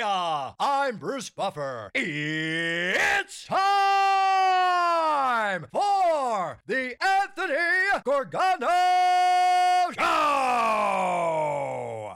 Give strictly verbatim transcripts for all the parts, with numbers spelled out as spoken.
Hiya! I'm Bruce Buffer. It's time for the Anthony Gorgano Show!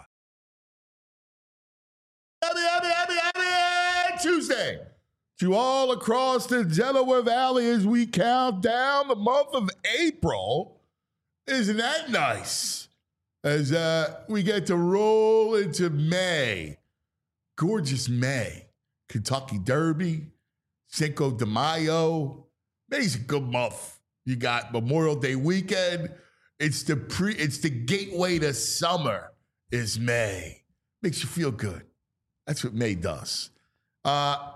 Happy, happy, happy, happy Tuesday to all across the Delaware Valley as we count down the month of April. Isn't that nice? As uh, we get to roll into May. Gorgeous May. Kentucky Derby, Cinco de Mayo. May's a good month. You got Memorial Day weekend. It's the pre. It's the gateway to summer is May. Makes you feel good. That's what May does. Uh,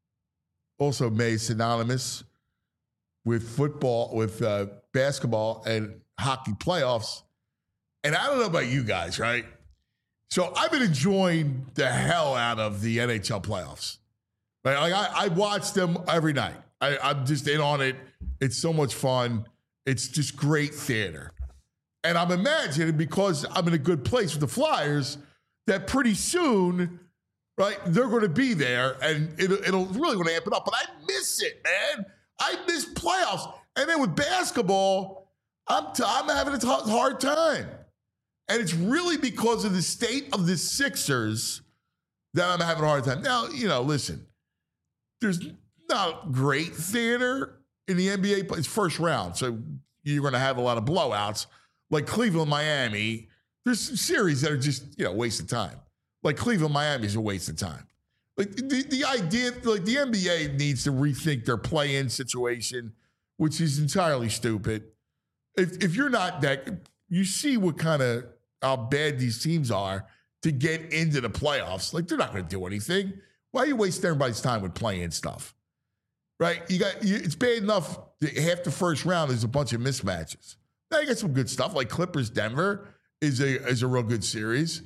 also, May is synonymous with football, with uh, basketball and hockey playoffs. And I don't know about you guys, right? So I've been enjoying the hell out of the N H L playoffs. Right? Like I, I watch them every night. I, I'm just in on it. It's so much fun. It's just great theater. And I'm imagining, because I'm in a good place with the Flyers, that pretty soon, right, they're going to be there, and it'll, it'll really going to amp it up. But I miss it, man. I miss playoffs. And then with basketball, I'm, t- I'm having a t- hard time. And it's really because of the state of the Sixers that I'm having a hard time. Now, you know, listen, there's not great theater in the N B A, but it's first round. So you're going to have a lot of blowouts. Like Cleveland, Miami, there's some series that are just, you know, waste of time. Like Cleveland, Miami is a waste of time. Like the, the idea, like the N B A needs to rethink their play-in situation, which is entirely stupid. If if you're not that, you see what kind of, how bad these teams are to get into the playoffs. Like, they're not going to do anything. Why are you wasting everybody's time with playing stuff? Right? You got you, it's bad enough that half the first round is a bunch of mismatches. Now you got some good stuff, like Clippers Denver is a is a real good series.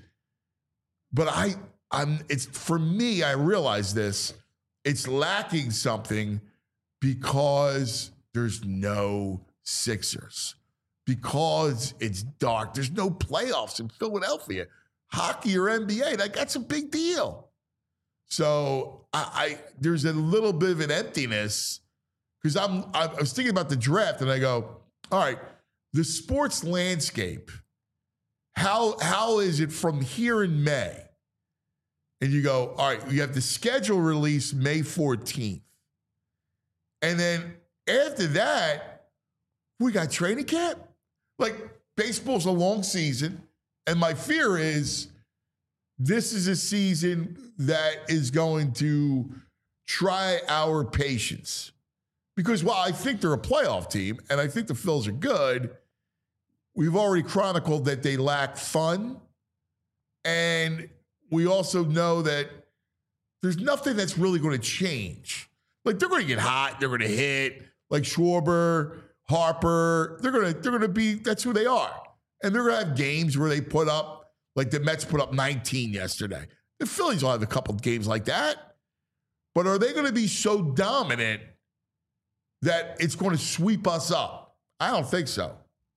But I I'm it's for me, I realize this, it's lacking something because there's no Sixers. Because it's dark. There's no playoffs in Philadelphia. Hockey or N B A, like, that's a big deal. So I, I there's a little bit of an emptiness because I'm I was thinking about the draft and I go, all right, the sports landscape, how how is it from here in May? And you go, all right, you have the schedule release May fourteenth. And then after that, we got training camp. Like, baseball's a long season, and my fear is this is a season that is going to try our patience. Because while I think they're a playoff team, and I think the Phils are good, we've already chronicled that they lack fun, and we also know that there's nothing that's really going to change. Like, they're going to get hot, they're going to hit, like Schwarber, Harper, they're gonna they're gonna be, that's who they are. And they're gonna have games where they put up, like the Mets put up nineteen yesterday. The Phillies will have a couple of games like that. But are they gonna be so dominant that it's gonna sweep us up? I don't think so.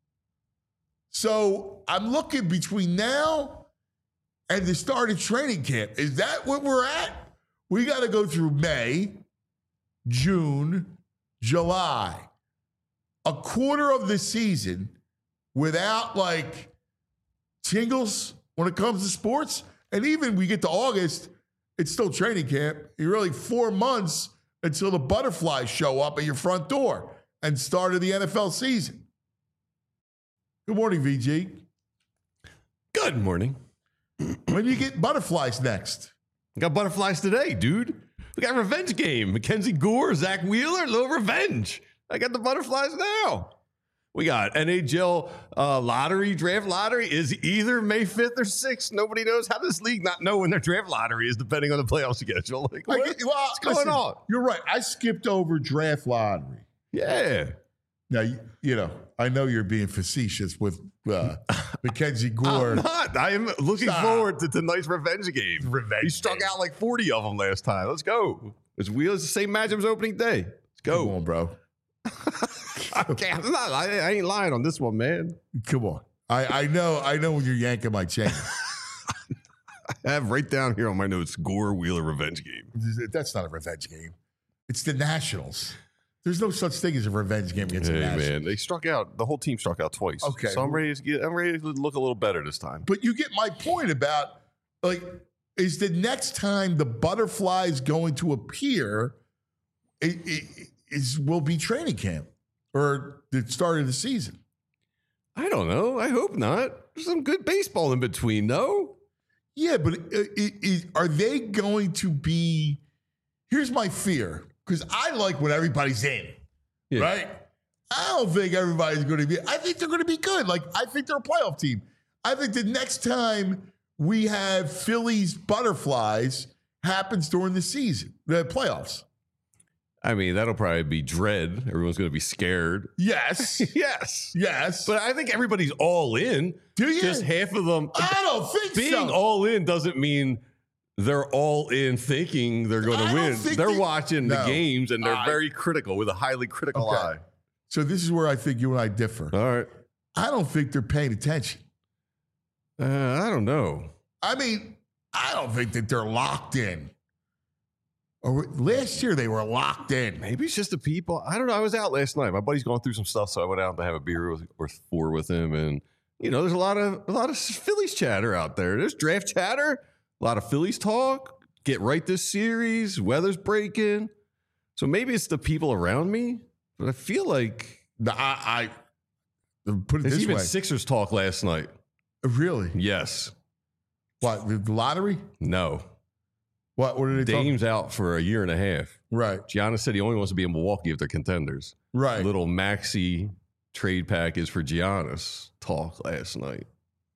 So I'm looking between now and the start of training camp. Is that what we're at? We gotta go through May, June, July. A quarter of the season without, like, tingles when it comes to sports. And even we get to August, it's still training camp. You're really four months until the butterflies show up at your front door and start of the N F L season. Good morning, V G. Good morning. When you get butterflies next? We got butterflies today, dude. We got revenge game. Mackenzie Gore, Zach Wheeler, little revenge. I got the butterflies now. We got N H L uh, lottery, draft lottery is either May fifth or sixth. Nobody knows. How does this league not know when their draft lottery is depending on the playoff schedule? Like, what, Get, well, what's going listen, on? You're right. I skipped over draft lottery. Yeah. Now, you, you know, I know you're being facetious with uh, Mackenzie Gore. I'm not. I am looking Stop. forward to tonight's revenge game. Revenge He struck game. out like forty of them last time. Let's go. It's Wheeler's the same matchup's opening day. Let's go. Come on, bro. Okay, I'm not, I, I ain't lying on this one, man. Come on. I, I know I know when you're yanking my chain. I have right down here on my notes, Gore Wheeler revenge game. That's not a revenge game. It's the Nationals. There's no such thing as a revenge game against Hey the Nationals. man, they struck out. The whole team struck out twice. Okay. So I'm ready to get. I'm ready to look a little better this time. But you get my point about, like, is the next time the butterflies going to appear it, it, is will be training camp or the start of the season? I don't know. I hope not. There's some good baseball in between, though. Yeah, but it, it, it, are they going to be? Here's my fear, because I like when everybody's in, Yeah. right? I don't think everybody's going to be. I think they're going to be good. Like, I think they're a playoff team. I think the next time we have Phillies butterflies happens during the season, the playoffs. I mean, that'll probably be dread. Everyone's going to be scared. Yes. Yes. Yes. But I think everybody's all in. Do you? Just half of them. I don't think Being so. all in doesn't mean they're all in thinking they're going I to don't win. think They're they- watching the No. games and they're I- very critical with a highly critical Okay. eye. So this is where I think you and I differ. All right. I don't think they're paying attention. Uh, I don't know. I mean, I don't think that they're locked in. Or last year they were locked in. Maybe it's just the people. I don't know. I was out last night. My buddy's going through some stuff, so I went out to have a beer with, or four with him. And you know, there's a lot of a lot of Phillies chatter out there. There's draft chatter, a lot of Phillies talk. Get right this series. Weather's breaking. So maybe it's the people around me, but I feel like No, I, I put it there's this even way. Sixers talk last night. Really? Yes. What, the lottery? No. What? What are they talking? Dame's out for a year and a half. Right. Giannis said he only wants to be in Milwaukee if they're contenders. Right. Little maxi trade package for Giannis talk last night.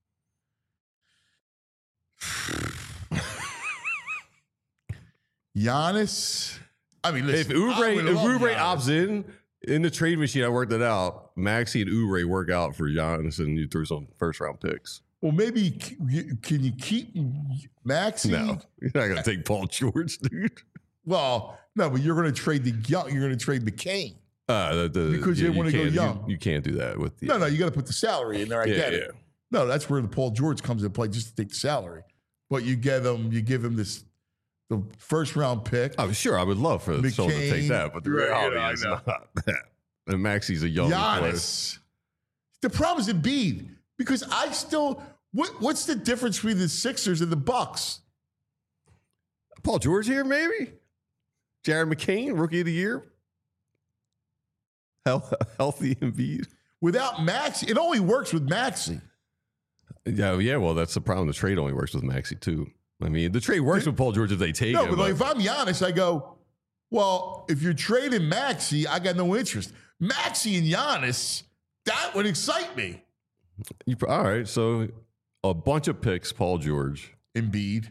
Giannis. I mean, listen. If Oubre, I would if love Oubre Giannis. opts in, in the trade machine, I worked it out. Maxi and Oubre work out for Giannis, and you threw some first round picks. Well, maybe c- can you keep Maxi? No, you're not going to take Paul George, dude. Well, no, but you're going to trade the young. You're going to trade McCain. Uh, the, the, Because they you wanna go can't- you- young. You, can't do that with the. No, no, you got to put the salary in there. I Yeah, get yeah. it. No, that's where the Paul George comes into play, just to take the salary. But you get him, you give him this the first round pick. I'm sure I would love for someone to take McCain. that, but the Right, reality yeah, I is know. not that. And Maxi's a young player. Giannis. The problem is Embiid, because I still. What, what's the difference between the Sixers and the Bucks? Paul George here, maybe. Jared McCain, rookie of the year. Health, healthy Embiid. Without Maxi, it only works with Maxi. Yeah, yeah. Well, that's the problem. The trade only works with Maxi too. I mean, the trade works with Paul George if they take No, him. but like if I'm Giannis, I go, well, if you're trading Maxi, I got no interest. Maxi and Giannis, that would excite me. You, all right, so a bunch of picks, Paul George. Embiid.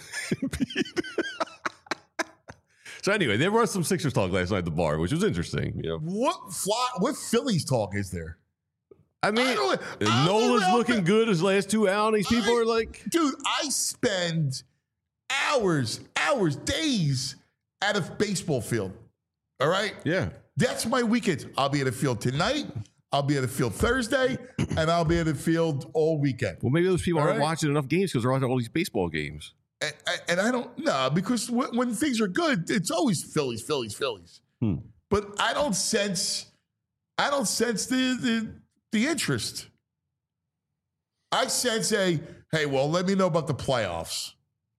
So anyway, there was some Sixers talk last night at the bar, which was interesting. You know, What fly, what Phillies talk is there? I mean, I don't- I don't Nola's know. looking good his last two outings. People I- are like, Dude, I spend hours, hours, days at a baseball field. All right? yeah. That's my weekend. I'll be at a field tonight. I'll be at a field Thursday, and I'll be at a field all weekend. Well, maybe those people All aren't right. watching enough games because they're watching all these baseball games. And, and I don't know, because when, when things are good, it's always Phillies, Phillies, Phillies. Hmm. But I don't sense, I don't sense the, the the interest. I sense a, hey, well, let me know about the playoffs.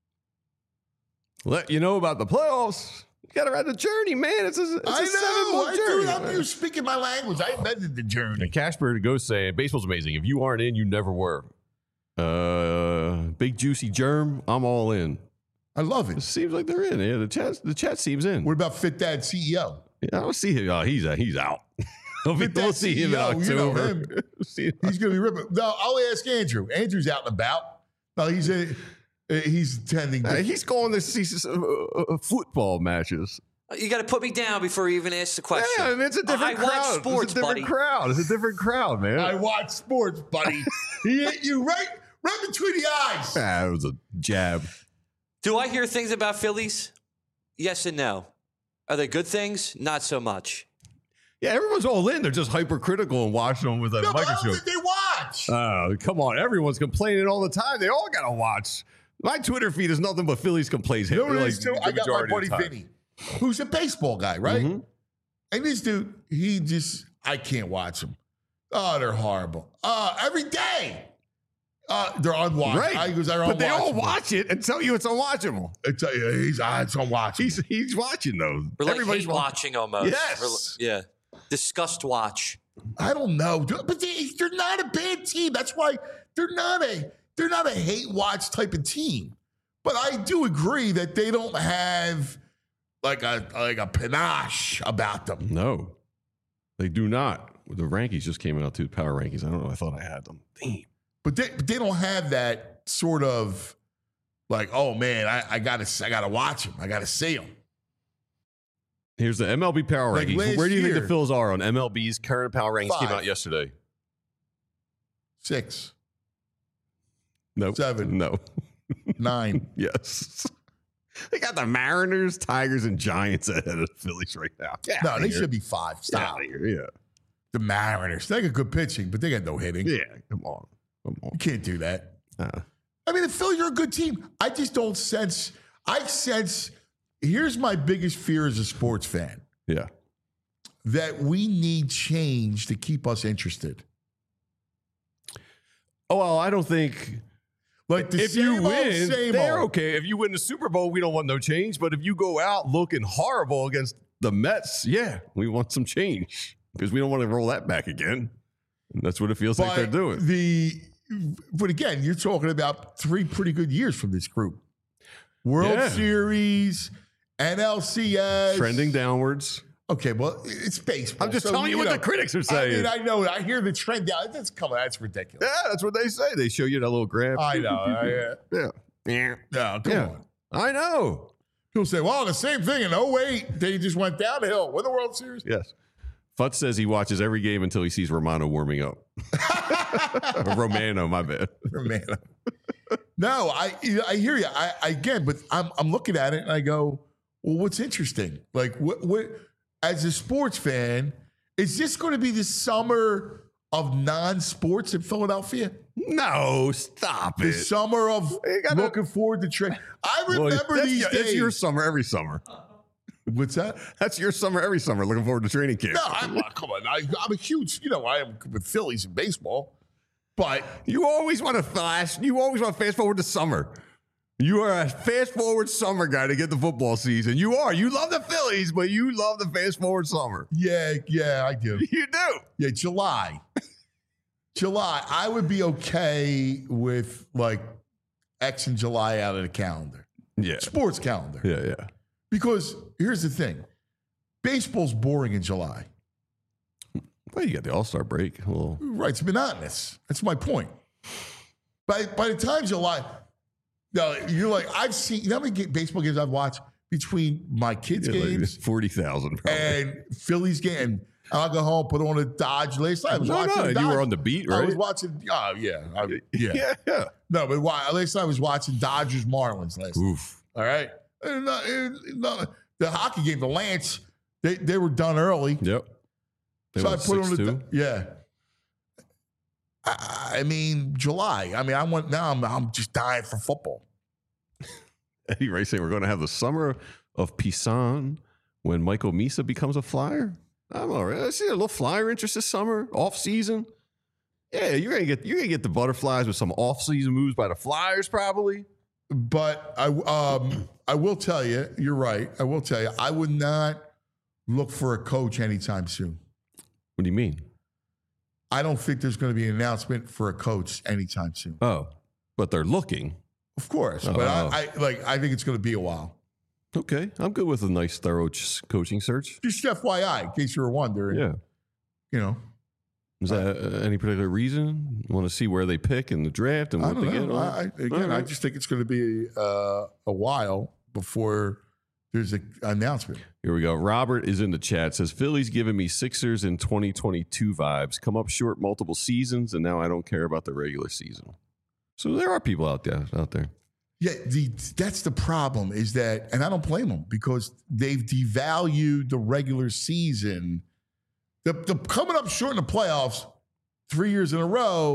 Let you know about the playoffs. You got to ride the journey, man. It's a, it's a I know, seven-month I, journey. dude, I'm, man. you're speaking my language. I invented the journey. And Casper goes saying, baseball's amazing. If you aren't in, you never were. Uh, big juicy germ. I'm all in. I love It it. seems like they're in. Yeah, the chat. The chat seems in. What about Fit Dad C E O? Yeah, I don't see him. Oh, he's uh, he's out. we'll Fit we'll Dad see him in C E O, you know October. him. See him. He's going to be ripping. No, I'll ask Andrew. Andrew's out and about. No, he's a, he's attending. Uh, The, he's going to see some, uh, uh, football matches. You got to put me down before you even ask the question. Yeah, I mean, it's a different I crowd. watch sports, it's a different buddy. crowd. It's a different crowd, man. I watch sports, buddy. He hit you right, right between the eyes. Ah, it was a jab. Do I hear things about Phillies? Yes and no. Are they good things? Not so much. Yeah, everyone's all in. They're just hypercritical and watching them with a No, but I don't microscope. think they watch. Oh, come on. Everyone's complaining all the time. They all got to watch. My Twitter feed is nothing but Phillies complaints. You know what it like, is, too? the I got my majority of buddy the time. Vinny, who's a baseball guy, right? Mhm. And this dude, he just, I can't watch him. Oh, they're horrible. Uh, every day. Uh, they're unwatchable. Right. I goes, they're But they all unwatchable. watch it and tell you it's unwatchable. I tell you, he's, uh, it's unwatchable. He's he's watching those. We're like Everybody's hate watching almost. Yes. We're- yeah. Disgust watch. I don't know, dude, but they, they're not a bad team. That's why they're not a they're not a hate watch type of team. But I do agree that they don't have like a like a panache about them. No, they do not. The rankings just came out too. Power rankings. I don't know. I thought I had them. Damn. But they but they don't have that sort of like, oh man, I, I gotta I gotta watch them. I gotta see them. Here's the M L B power Like rankings. last Where do you think year- the Phils are on M L B's current power rankings? Came Five. out yesterday. Six, No. Seven. No. nine. Yes. They got the Mariners, Tigers, and Giants ahead of the Phillies right now. Get No, outta they here. should be five. Get Stop. outta here. Yeah. The Mariners. They got good pitching, but they got no hitting. Yeah. Come on. Come on. You can't do that. Uh, I mean, the Phillies are a good team. I just don't sense. I sense. Here's my biggest fear as a sports fan: yeah. that we need change to keep us interested. Oh, well, I don't think Like the if same you old, win, same they're old. okay. If you win the Super Bowl, we don't want no change. But if you go out looking horrible against the Mets, yeah, we want some change because we don't want to roll that back again. And that's what it feels like they're But doing. The, but again, you're talking about three pretty good years from this group: World Yeah. Series, N L C S, Trending downwards. Okay, well, it's baseball. I'm just so, telling you what know, the critics are I saying. mean, I know. I hear the trend down. That's coming. That's ridiculous. Yeah, that's what they say. They show you that little graph. I know. I, uh, Yeah. Yeah. no, come Yeah. on. I know. People say, well, the same thing in oh eight. They just went downhill. Win the World Series. Yes. Futz says he watches every game until he sees Romano warming up. Romano, my bad. Man. No, I I hear you. I, I again, but I'm I'm looking at it and I go, well, what's interesting? Like, what what as a sports fan, is this going to be the summer of non-sports in Philadelphia? No, stop The it. summer of You gotta- looking forward to trade. I Well, remember that's, these your, days. that's your summer every summer. What's that? That's your summer every summer. Looking forward to training camp. No, I'm not. Come on. I, I'm a huge, you know, I am with Phillies in baseball, but You always want to flash. You always want to fast forward to summer. You are a fast forward summer guy to get the football season. You are. You love the Phillies, but you love the fast forward summer. yeah, yeah, I do. You do. Yeah, July. July. I would be okay with like X in July out of the calendar, Yeah. sports calendar. Yeah, yeah. Because here's the thing baseball's boring in July. Well, you got the All Star break. A little. Right. It's monotonous. That's my point. By, by the time July, no, you're like, I've seen, you know how many ga- baseball games I've watched between my kids' Yeah, like games forty thousand probably. and Phillies game? And I'll go home, put on a Dodge last night. I was no, watching no, the and you were Dodge- on the beat, I right? was watching, oh, yeah. I, yeah. yeah, yeah. No, but why? At least I was watching Dodgers Marlins last night. Oof. All right. And, uh, and, uh, the hockey game, the Lance, they, they were done early. Yep. They so I went put on the, six two. yeah. I, I mean, July. I mean, I want, now I'm, I'm just dying for football. Eddie Ray saying we're going to have the summer of Pisan when Michael Misa becomes a Flyer. I'm all right. I see a little Flyer interest this summer, off season. Yeah, you're gonna get you're gonna get the butterflies with some off season moves by the Flyers, probably. But I, um, I will tell you, you're right. I will tell you, I would not look for a coach anytime soon. What do you mean? I don't think there's going to be an announcement for a coach anytime soon. Oh, but they're looking. Of course, Oh. but I, I like. I think it's going to be a while. Okay, I'm good with a nice, thorough ch- coaching search. Just F Y I, in case you were wondering. Yeah. You know, Is that uh, any particular reason? You want to see where they pick in the draft and I what don't they get? know. on? I, again, All I right. just think it's going to be uh, a while before there's an announcement. Here we go. Robert is in the chat. Says Phillies giving me Sixers in twenty twenty-two vibes. Come up short multiple seasons, and now I don't care about the regular season. So there are people out there. Out there. Yeah, the, that's the problem is that, and I don't blame them because they've devalued the regular season. The, the coming up short in the playoffs three years in a row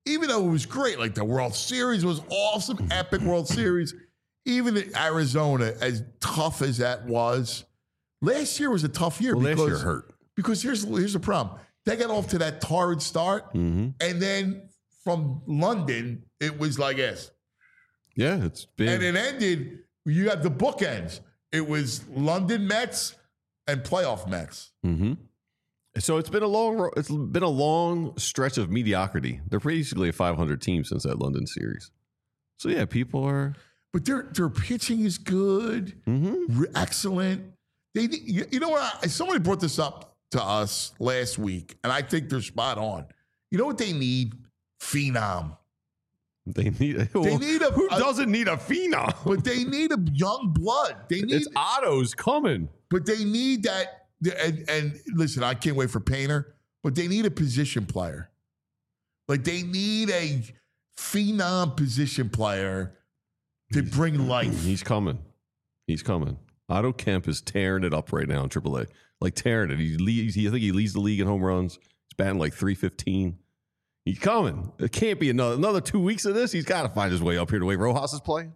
even though it was great, like the World Series was awesome, epic World Series. Even in Arizona, as tough as that was, last year was a tough year. Well, because, last year hurt. Because here's, here's the problem. They got off to that torrid start, Mm-hmm. and then from London, it was like this. Yeah, it's been. And it ended, you had the bookends. It was London Mets and playoff Mets. Mm-hmm. So it's been a long, ro- it's been a long stretch of mediocrity. They're basically a five hundred team since that London series. So yeah, people are. But their their pitching is good, Mm-hmm. re- excellent. They, you, you know what? I, somebody brought this up to us last week, and I think they're spot on. You know what they need? Phenom. They need. They need a. Who a- doesn't need a phenom? But they need a young blood. They need. It's Otto's coming. But they need that. And, and listen, I can't wait for Painter. But they need a position player. Like they need a phenom position player to bring life. He's coming. He's coming. Otto Kemp is tearing it up right now in triple A. Like tearing it. He leads. He, I think he leads the league in home runs. He's batting like three fifteen. He's coming. It can't be another another two weeks of this. He's got to find his way up here the way Rojas is playing.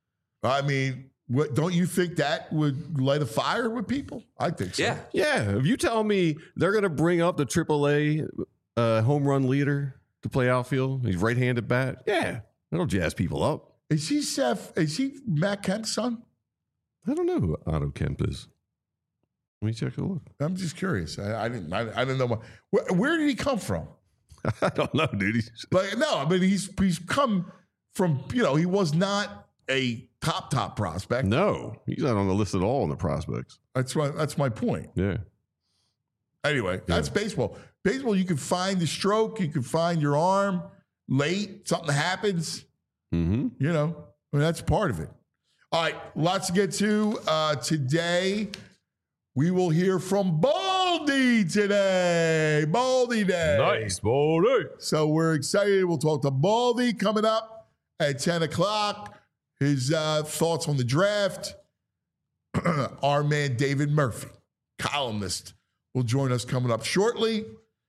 I mean, what, don't you think that would light a fire with people? I think so. Yeah. Yeah. If you tell me they're going to bring up the triple A uh, home run leader to play outfield, he's right-handed bat. Yeah, that'll jazz people up. Is he Seth? Is he Matt Kemp's son? I don't know who Otto Kemp is. Let me check a look. I'm just curious. I, I didn't. I, I didn't know. What, where, where did he come from? I don't know, dude. He's, Like, no, I mean, he's he's come from. You know, he was not a top top prospect. no, he's not on the list at all in the prospects. That's my that's my point. Yeah. Anyway, that's baseball. Baseball, you can find the stroke, you can find your arm late, something happens. Mm-hmm. You know, I mean, that's part of it. All right, lots to get to uh, today. We will hear from Baldy today. Baldy Day. Baldy. So we're excited. We'll talk to Baldy coming up at ten o'clock. His uh, thoughts on the draft. Our man David Murphy, columnist, will join us coming up shortly.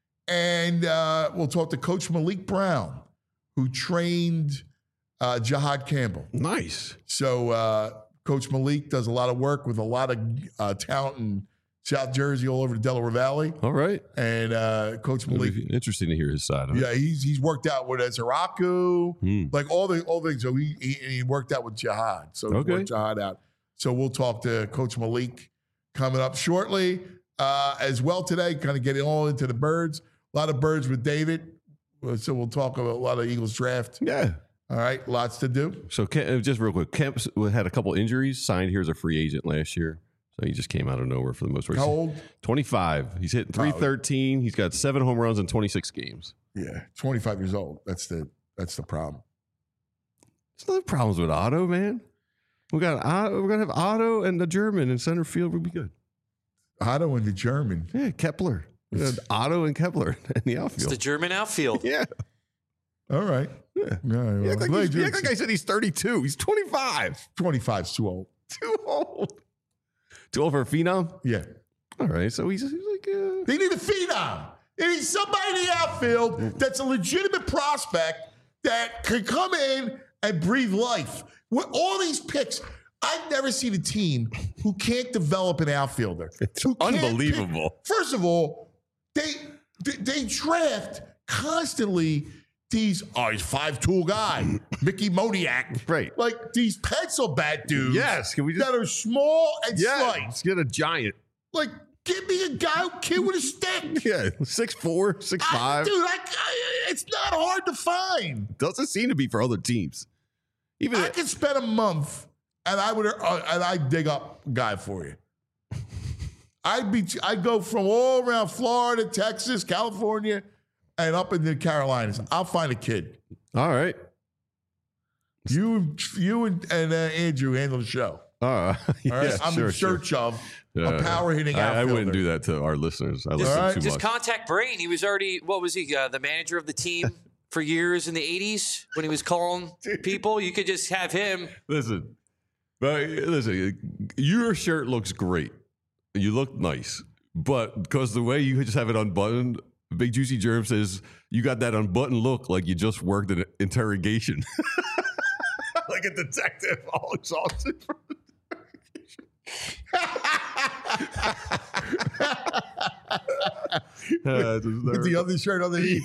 And uh, we'll talk to Coach Malik Brown, who trained uh, Jihad Campbell. Nice. So uh, Coach Malik does a lot of work with a lot of uh, talent in South Jersey, all over the Delaware Valley. All right. And uh, Coach It'll Malik, be interesting to hear his side of it. yeah, he's he's worked out with Ezeraku, Hmm. like all the all the things. So he, he he worked out with Jihad. So he Okay. worked Jihad out. So we'll talk to Coach Malik coming up shortly uh, as well today. Kind of getting all into the birds. A lot of birds with David. So we'll talk about a lot of Eagles draft. Yeah. All right, lots to do. So Kemp, uh, just real quick, Kemp had a couple injuries, signed here as a free agent last year. So he just came out of nowhere for the most part. How old? twenty-five. He's hitting three thirteen. He's got seven home runs in twenty-six games. Yeah, twenty-five years old. That's the that's the problem. There's no problems with Otto, man. We got Otto, we're gonna have Otto and the German in center field. We'll be good. Otto and the German. Yeah, Kepler. We got Otto and Kepler in the It's outfield. the German outfield. yeah. All right. Yeah. All right, well, You act like, glad he's- you you're- act like I said he's thirty-two. He's twenty-five. twenty-five's too old. Too old. Too old for a phenom? Yeah. All right. So he's, he's like, uh, They need a phenom. They need somebody in the outfield that's a legitimate prospect that can come in and breathe life. With all these picks, I've never seen a team who can't develop an outfielder. It's Who can't unbelievable. pick- First of all, they, they they draft constantly these, oh, he's five-tool guy, Mickey Moniak. Right. Like these pencil bat dudes. Yes, can we just- that are small and yeah, slight. let's get a giant. Like, give me a guy, kid with a stick. Yeah, six four, six I- five. dude, I, I, it's not hard to find. Doesn't seem to be for other teams. Even I could spend a month and I would uh, and I'd dig up a guy for you. I'd be I'd go from all around Florida, Texas, California, and up in the Carolinas. I'll find a kid. all right. You you and, and uh, Andrew handle the show. Uh, yeah, All right, I'm sure, in sure. search of Yeah, a power hitting I, I outfielder. wouldn't do that to our listeners. I listen right. too Just much. contact Brain. He was already, what was he, uh, the manager of the team for years in the eighties when he was calling people? You could just have him. Listen, but listen, your shirt looks great. You look nice, but because the way you just have it unbuttoned Big Juicy Germ says, you got that unbuttoned look like you just worked an interrogation. Like a detective, all exhausted from uh, With the other shirt on the heat.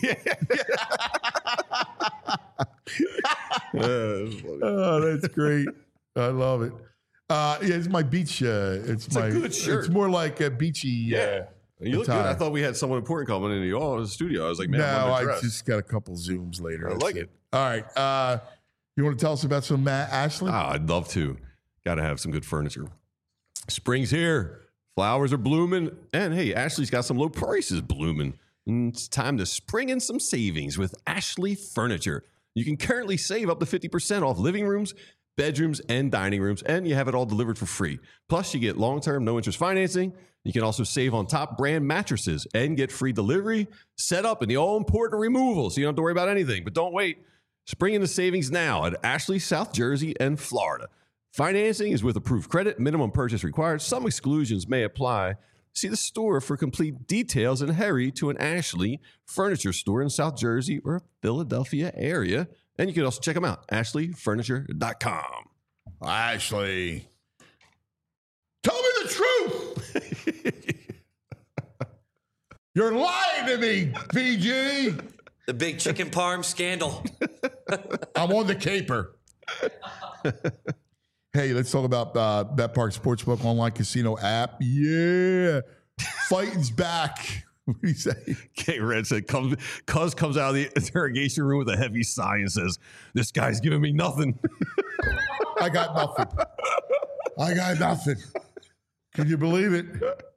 Yeah. Oh, that's great. I love it. Uh, yeah, it's my beach. Uh, it's, It's my. a good shirt. It's more like a beachy. Yeah. Uh, You look good. attire. I thought we had someone important coming into the, oh, the studio. I was like, man, no, I'm I underdressed. just got a couple zooms later. I That's like it. All right. Uh, you want to tell us about some Matt Ashley? Oh, I'd love to. Got to have some good furniture. Spring's here. Flowers are blooming. And hey, Ashley's got some low prices blooming. And it's time to spring in some savings with Ashley Furniture. You can currently save up to fifty percent off living rooms, bedrooms, and dining rooms, and you have it all delivered for free. Plus, you get long-term, no-interest financing. You can also save on top brand mattresses and get free delivery, set up, and the all-important removal, so you don't have to worry about anything. But don't wait. Spring into savings now at Ashley, South Jersey, and Florida. Financing is with approved credit. Minimum purchase required. Some exclusions may apply. See the store for complete details and hurry to an Ashley Furniture store in South Jersey or Philadelphia area. And you can also check them out, ashley furniture dot com. Ashley, tell me the truth. You're lying to me, P G. The big chicken parm scandal. I'm on the caper. Hey, let's talk about uh, BetPark Sportsbook online casino app. Yeah, fighting's back. What do you say? K Red said, "Comes, Cuz comes out of the interrogation room with a heavy sigh and says, 'This guy's giving me nothing.'" I got nothing. I got nothing. Can you believe it?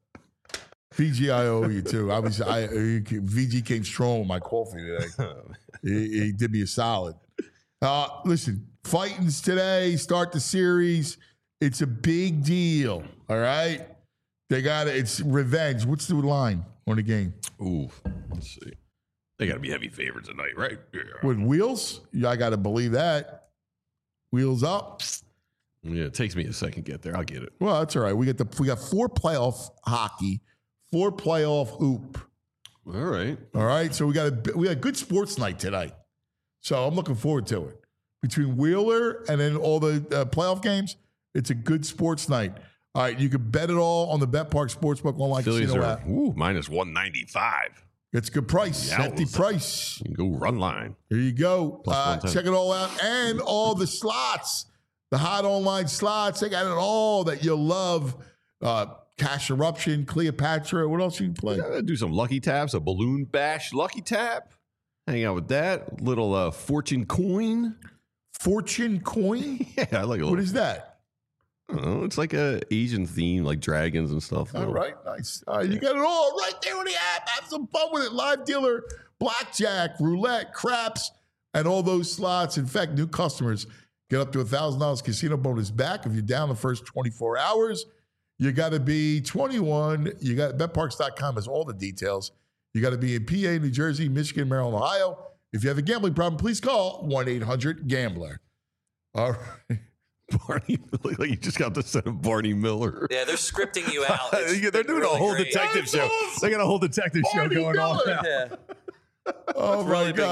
V G, I owe you too. I was, I V G came strong with my coffee today. he, he did me a solid. Uh, listen, fighting's today. Start the series. It's a big deal. All right, they got it. It's revenge. What's the line on the game? Ooh, let's see. They got to be heavy favorites tonight, right? Yeah. With wheels? Yeah, I got to believe that. Wheels up. Yeah, it takes me a second to get there. I'll get it. Well, that's all right. We get the we got four playoff hockey, four playoff hoop. All right. All right. So we got a we got a good sports night tonight. So I'm looking forward to it. Between Wheeler and then all the uh, playoff games, it's a good sports night. All right, you can bet it all on the BetPark Sportsbook online Phillies casino are app. ooh, minus one ninety-five. It's a good price, Yowza. hefty price. You can go run line. Here you go. Plus Uh, one ten. check it all out. And all the slots, the hot online slots. They got it all that you'll love. Uh, Cash Eruption, Cleopatra. What else you can play? Yeah, do some lucky taps, a balloon bash lucky tap. Hang out with that. Little uh, fortune coin. Fortune Coin? Yeah, I like a little. What is that? I don't know. It's like a Asian theme, like dragons and stuff. All right, nice. All right, you got it all right there on the app. Have some fun with it. Live dealer, blackjack, roulette, craps, and all those slots. In fact, new customers get up to one thousand dollars casino bonus back if you're down the first twenty-four hours. You got to be twenty-one. You got bet parks dot com has all the details. You got to be in P A, New Jersey, Michigan, Maryland, Ohio. If you have a gambling problem, please call one eight hundred gambler. All right. Barney, like you just got the set of Barney Miller. Yeah, they're scripting you out. It's They're doing really a whole great. detective That's show. awesome. They got a whole detective Barney show going on Miller. now. Yeah. Oh, my really been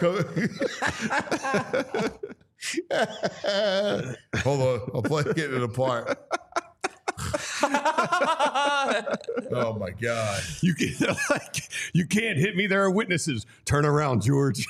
God. It's co- Hold on. I'll play getting it apart. Oh, my God. You can like you can't hit me. There are witnesses. Turn around, George.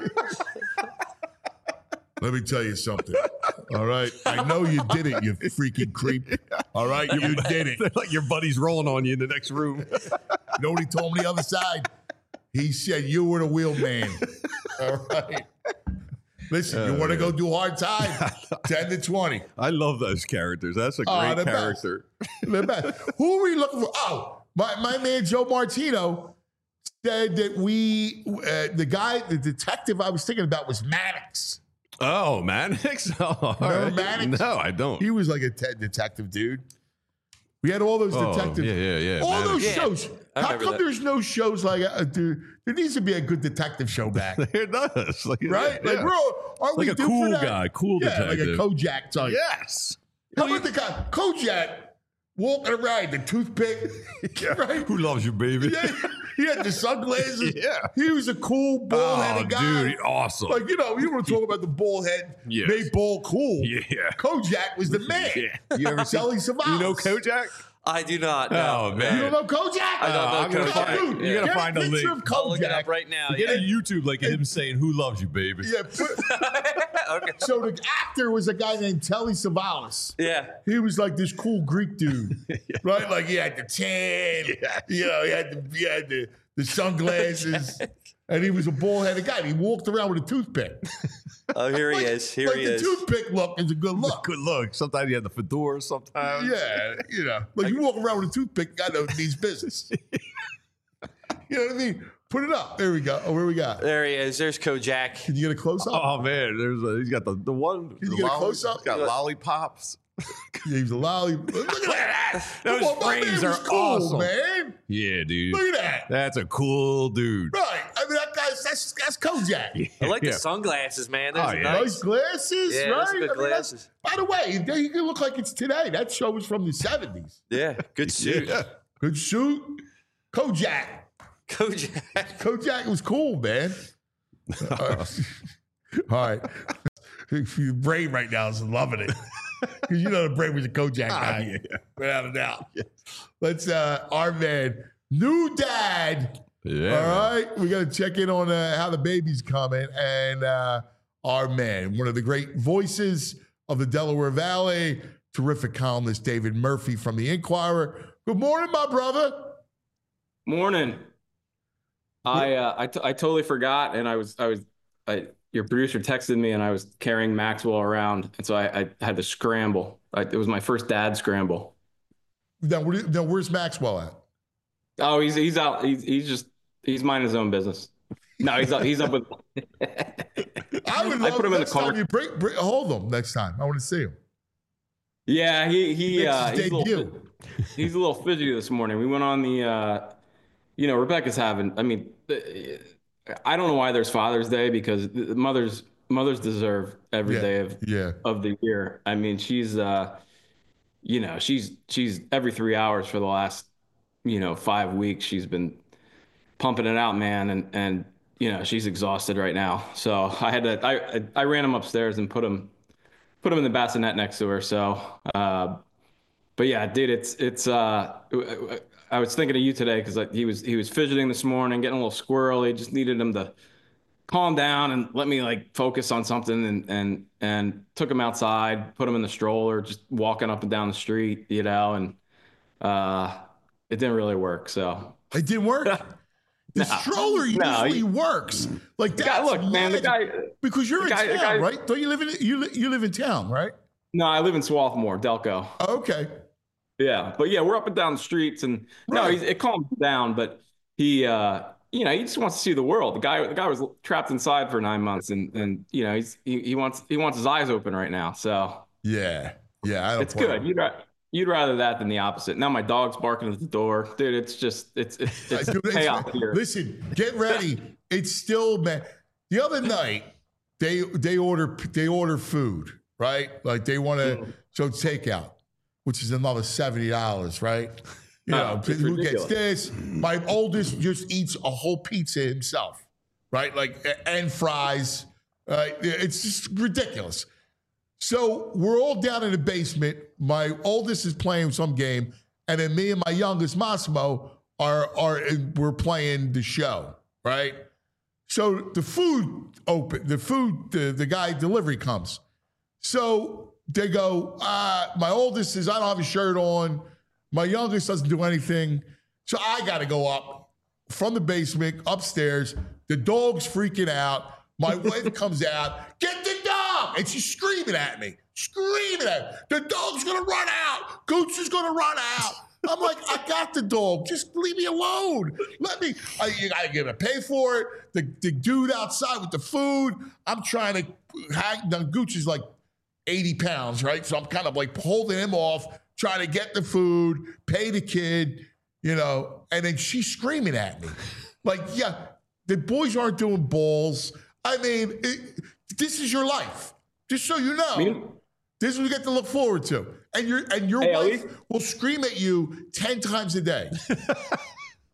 Let me tell you something. All right. I know you did it, you freaking creep. All right. You did it. They're like your buddy's rolling on you in the next room. Nobody told me the other side. He said you were the wheel man. All right. Listen, you want to go do hard time? ten to twenty. I love those characters. That's a Oh, great the best. character. The best. Who are we looking for? Oh, my, my man Joe Martino said that we, uh, the guy, the detective I was thinking about was Maddox. Oh, Mannix? Oh, all Remember right. Mannix? No, I don't. He was like a te- detective dude. We had all those Oh, detectives. yeah, yeah, yeah. All Mannix. those Yeah, shows. I How remember come that. there's no shows like uh, dude, there needs to be a good detective show back, It does. Like, right? yeah. Like we're all, aren't Like we a due cool for that? guy, cool yeah, detective. like a Kojak type. Yes. How about the guy Kojak walking around the toothpick, right? Who loves you, baby? Yeah, He had the sunglasses. Yeah. He was a cool bald-headed Oh, guy. dude, awesome. Like, you know, you want to talk about the bald head, Yes. made ball cool. Yeah. Kojak was the man. Yeah. You ever seen? Telly Savalas. You know Kojak? I do not. No, Oh, man. You don't know Kojak? I don't know Uh, I'm gonna Kojak. find- Dude, you gotta get find a picture link. of I'll look it up Kojak. right now. Get Yeah. a YouTube like him saying, "Who loves you, baby?" Yeah, put, Okay. so the actor was a guy named Telly Savalas. Yeah. He was like this cool Greek dude, right? Like he had the tan, you know, he had the he had the, the sunglasses, and he was a bald-headed guy. And he walked around with a toothpick. Oh, here he Like- is. Here like he the Uh, is. toothpick look is a good look. Good look. Sometimes you have the fedora. Sometimes. Yeah, you know, like you walk around with a toothpick, guy that needs business. You know what I mean? Put it up. There we go. Oh, where we got? There he is. There's Kojak. Can you get a close up? Oh man, there's a, he's got the the one. Can you the get a lolli- close-up? He's got lollipops. Yeah, he's a lolly. Look at that. Those Come on, my frames man was are cool, awesome. man. Yeah, dude. Look at that. That's a cool dude. Right. I mean, that guy's that's that's Kojak. I like Yeah. the sunglasses, man. Those Oh, are yeah. nice. Nice glasses, Yeah, right? those are good I mean, that's- glasses. by the way, they you can look like it's today. That show was from the seventies. Yeah, good suit. Yeah. Good suit. Kojak. Kojak. Kojak was cool, man. All right. All right. Your brain right now is loving it. Because you know the brain was a Kojak guy. yeah. Without a doubt. Let's, uh, our man, new dad. Yeah. All right. We got to check in on uh, how the baby's coming. And uh, our man, one of the great voices of the Delaware Valley, terrific columnist David Murphy from the Inquirer. Good morning, my brother. Morning. I uh, I, t- I totally forgot, and I was I was I, your producer texted me, and I was carrying Maxwell around, and so I, I had to scramble. I, it was my first dad scramble. Now, where, now, where's Maxwell at? Oh, he's he's out. He's he's just he's minding his own business. No, he's up. He's up with. I would I love put him in the next time car. you bring, bring, hold him next time. I want to see him. Yeah, he he Makes uh, his he's, a little, debut. he's a little fidgety this morning. We went on the, uh, you know, Rebecca's having. I mean, I don't know why there's Father's Day, because the mothers mothers deserve every Yeah, day of yeah. of the year. I mean, she's uh, you know, she's she's every three hours for the last, you know, five weeks. She's been pumping it out, man, and and you know, she's exhausted right now. So I had to I I ran him upstairs and put him put him in the bassinet next to her. So, uh, but yeah, dude, it's it's. Uh, I was thinking of you today because like, he was he was fidgeting this morning, getting a little squirrely. Just needed him to calm down and let me like focus on something. And and and took him outside, put him in the stroller, just walking up and down the street, you know. And uh, it didn't really work. So It didn't work. The stroller no, usually he- works. Like the guy, that's look, man, the magic. guy. because you're the in guy- the town, guy- right? Don't you live in you li- you live in town, right? No, I live in Swarthmore, Delco. Okay. Yeah, but yeah, we're up and down the streets, and no, Right. he's, it calmed down. But he, uh, you know, he just wants to see the world. The guy, the guy was trapped inside for nine months, and and you know, he's he, he wants he wants his eyes open right now. So Yeah. Yeah. I don't it's blame good. him. You'd ra- you'd rather that than the opposite. Now my dog's barking at the door, dude. It's just it's it's, it's Dude, it's- chaos here. Listen, get ready. It's still man. The other night, they they order they order food, right? Like they want to Mm. so takeout, which is another seventy dollars, right? You Oh, know, it's who gets ridiculous. this? My oldest just eats a whole pizza himself, right? Like and fries. Right? It's just ridiculous. So we're all down in the basement. My oldest is playing some game, and then me and my youngest Massimo are are we're playing the show, right? So the food open, the food, the, the guy delivery comes. So they go, uh, my oldest says, I don't have a shirt on. My youngest doesn't do anything. So I got to go up from the basement upstairs. The dog's freaking out. My wife comes out, get the dog. And she's screaming at me, screaming at me. The dog's going to run out. Gooch is going to run out. I'm like, I got the dog. Just leave me alone. Let me, I, you got to give it, pay for it. The, the dude outside with the food, I'm trying to hang, now Gooch is like eighty pounds, right? So I'm kind of like holding him off, trying to get the food, pay the kid, you know, and then she's screaming at me. Like, yeah, the boys aren't doing balls. I mean, it, this is your life. Just so you know. Me- This is what you get to look forward to. And your and your Hey, at wife least- will scream at you ten times a day.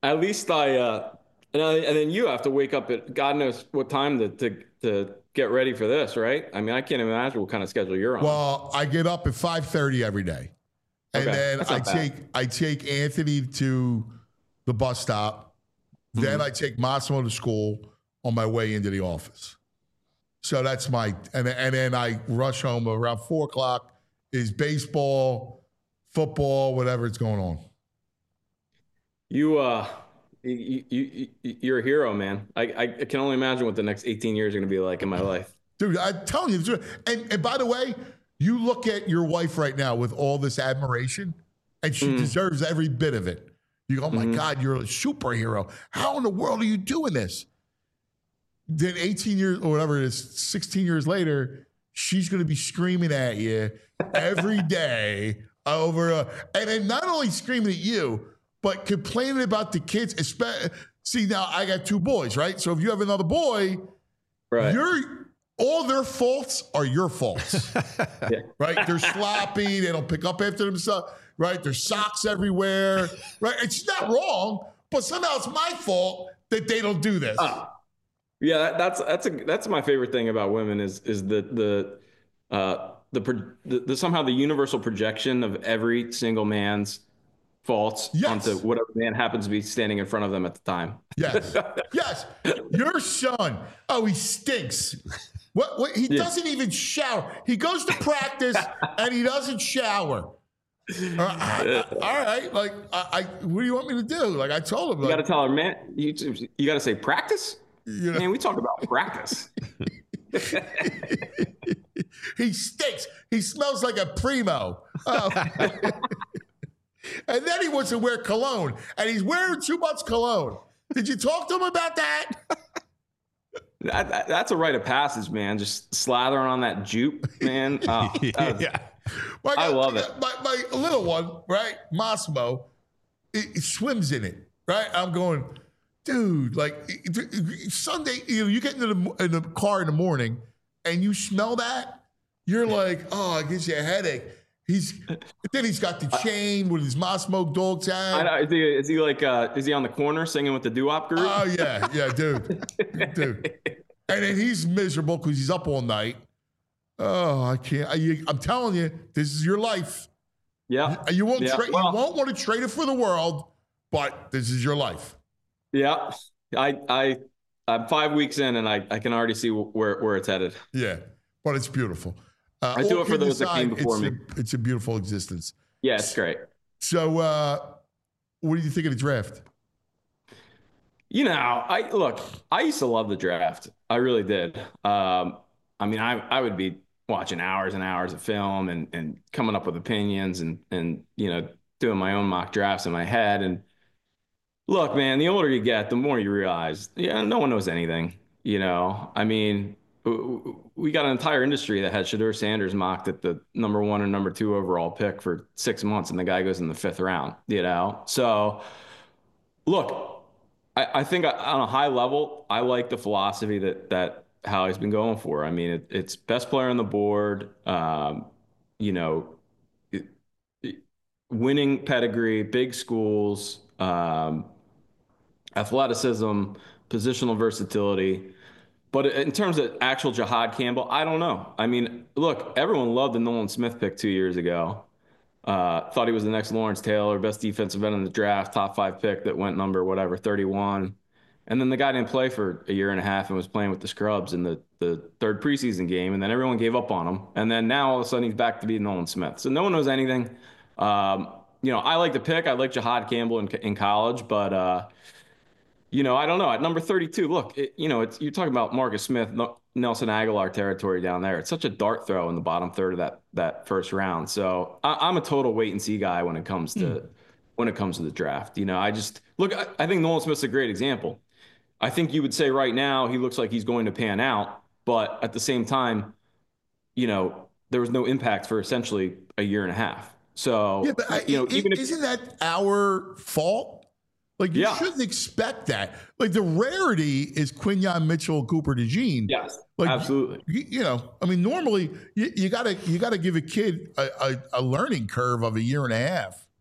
at least I, uh, and, I, and then you have to wake up at God knows what time to, to, to get ready for this, right? I mean, I can't imagine what kind of schedule you're on. Well, I get up at five thirty every day. And Okay, then that's I not bad. take I take Anthony to the bus stop. Then Mm-hmm. I take Massimo to school on my way into the office. So that's my and and then I rush home around four o'clock. Is baseball, football, whatever it's going on. You, uh, you, you, you, you're a hero, man. I, I can only imagine what the next eighteen years are going to be like in my life. Dude, I'm telling you. the truth. And, and by the way, you look at your wife right now with all this admiration, and she Mm. deserves every bit of it. You go, oh my Mhm. God, you're a superhero. How in the world are you doing this? Then eighteen years or whatever it is, sixteen years later, she's going to be screaming at you every day over, uh, and then not only screaming at you, but complaining about the kids. Espe- See, now I got two boys, right? So if you have another boy, Right. you're all their faults are your faults, Yeah. right? They're sloppy. They don't pick up after themselves, right? There's socks everywhere, right? It's not wrong, but somehow it's my fault that they don't do this. Ah. Yeah, that, that's that's a that's my favorite thing about women is is the the uh the, pro- the, the somehow the universal projection of every single man's faults Yes. onto whatever man happens to be standing in front of them at the time. Yes, yes. Your son, oh, he stinks. What? what he Yeah. doesn't even shower. He goes to practice and he doesn't shower. Uh, I- I- all right, like, I, I, what do you want me to do? Like, I told him, You like, got to tell her, man. You you got to say practice. you know, Man, we talk about practice. he stinks. He smells like a primo. Oh. And then he wants to wear cologne, and he's wearing too much cologne. Did you talk to him about that? That, that- that's a rite of passage, man. Just slathering on that jupe, man. Oh, that was- yeah. My, I love it. My, my little one, right, Massimo, he, he swims in it, right? I'm going, dude, like Sunday, you know, you get into the, in the car in the morning and you smell that, you're like, oh, it gives you a headache. He's then he's got the chain with his Massimo dog I tag. know, is, he, is he like uh, is he on the corner singing with the doo-wop group? Oh yeah, yeah, dude, dude. And then he's miserable because he's up all night. Oh, I can't. I, I'm telling you, this is your life. yeah, You won't Yeah, trade. well- you won't want to trade it for the world, but this is your life. yeah. I I I'm five weeks in, and I, I can already see where where it's headed. Yeah, but it's beautiful. Uh, I do all it for kidding those that came before it's me. A, it's a beautiful existence. Yeah, it's great. So, uh, what do you think of the draft? You know, I look. I used to love the draft. I really did. Um, I mean, I I would be watching hours and hours of film and and coming up with opinions and and you know doing my own mock drafts in my head. And look, man, the older you get, the more you realize, yeah, no one knows anything. You know, I mean, w- w- we got an entire industry that had Shedeur Sanders mocked at the number one and number two overall pick for six months, and the guy goes in the fifth round. You know, so look, I, I think on a high level, I like the philosophy that that Howie's been going for. I mean, it, it's best player on the board. Um, you know, it, it- winning pedigree, big schools, um, athleticism, positional versatility. But in terms of actual Jahad Campbell, I don't know. I mean, look, everyone loved the Nolan Smith pick two years ago. Uh, thought he was the next Lawrence Taylor, best defensive end in the draft, top five pick that went number whatever, thirty-one. And then the guy didn't play for a year and a half and was playing with the scrubs in the, the third preseason game. And then everyone gave up on him. And then now all of a sudden he's back to be Nolan Smith. So no one knows anything. Um, you know, I like the pick. I like Jahad Campbell in, in college, but uh, you know, I don't know. At number thirty-two, look, it, you know, it's you're talking about Marcus Smith, no, Nelson Aguilar territory down there. It's such a dart throw in the bottom third of that that first round. So I, I'm a total wait and see guy when it comes to mm. when it comes to the draft. You know, I just look. I, I think Nolan Smith's a great example. I think you would say right now he looks like he's going to pan out, but at the same time, you know, there was no impact for essentially a year and a half. So yeah, but I, you know, it, even if isn't that our fault? Like, you Yeah. shouldn't expect that. Like, the rarity is Quinyon Mitchell, Cooper DeJean. yes, Like, absolutely. You, you know, I mean, normally you, you gotta you gotta give a kid a, a, a learning curve of a year and a half.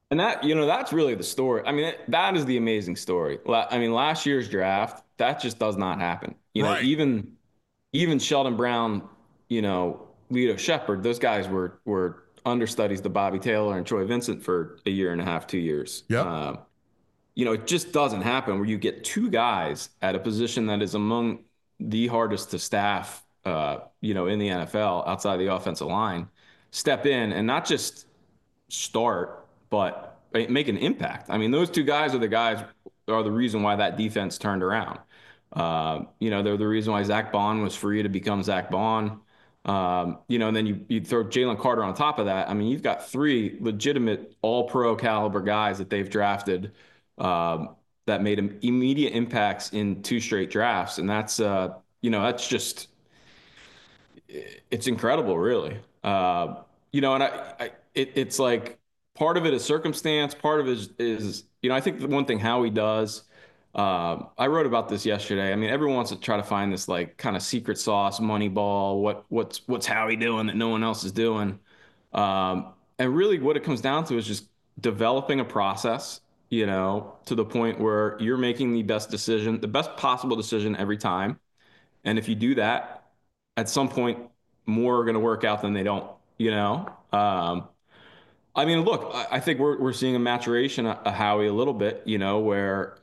And that, you know, that's really the story. I mean, that is the amazing story. La- I mean, last year's draft, that just does not happen. You know, Right. even even Sheldon Brown, you know, Lito Shepard, those guys were were understudies to Bobby Taylor and Troy Vincent for a year and a half, two years. Yep. Uh, you know, it just doesn't happen where you get two guys at a position that is among the hardest to staff, uh, you know, in the N F L outside the offensive line, step in and not just start, but make an impact. I mean, those two guys are the guys are the reason why that defense turned around. Uh, you know, they're the reason why Zach Bond was free to become Zach Bond. Um, you know, and then you, you throw Jalen Carter on top of that. I mean, you've got three legitimate all pro caliber guys that they've drafted um, that made immediate impacts in two straight drafts. And that's, uh, you know, that's just, it's incredible, really. Uh, you know, and I, I it, it's like part of it is circumstance, part of it is, is you know, I think the one thing Howie does, uh, I wrote about this yesterday. I mean, everyone wants to try to find this like kind of secret sauce, money ball, what what's what's Howie doing that no one else is doing. Um, and really what it comes down to is just developing a process, you know, to the point where you're making the best decision, the best possible decision every time. And if you do that, at some point, more are going to work out than they don't, you know? Um, I mean, look, I, I think we're, we're seeing a maturation of Howie a little bit, you know, where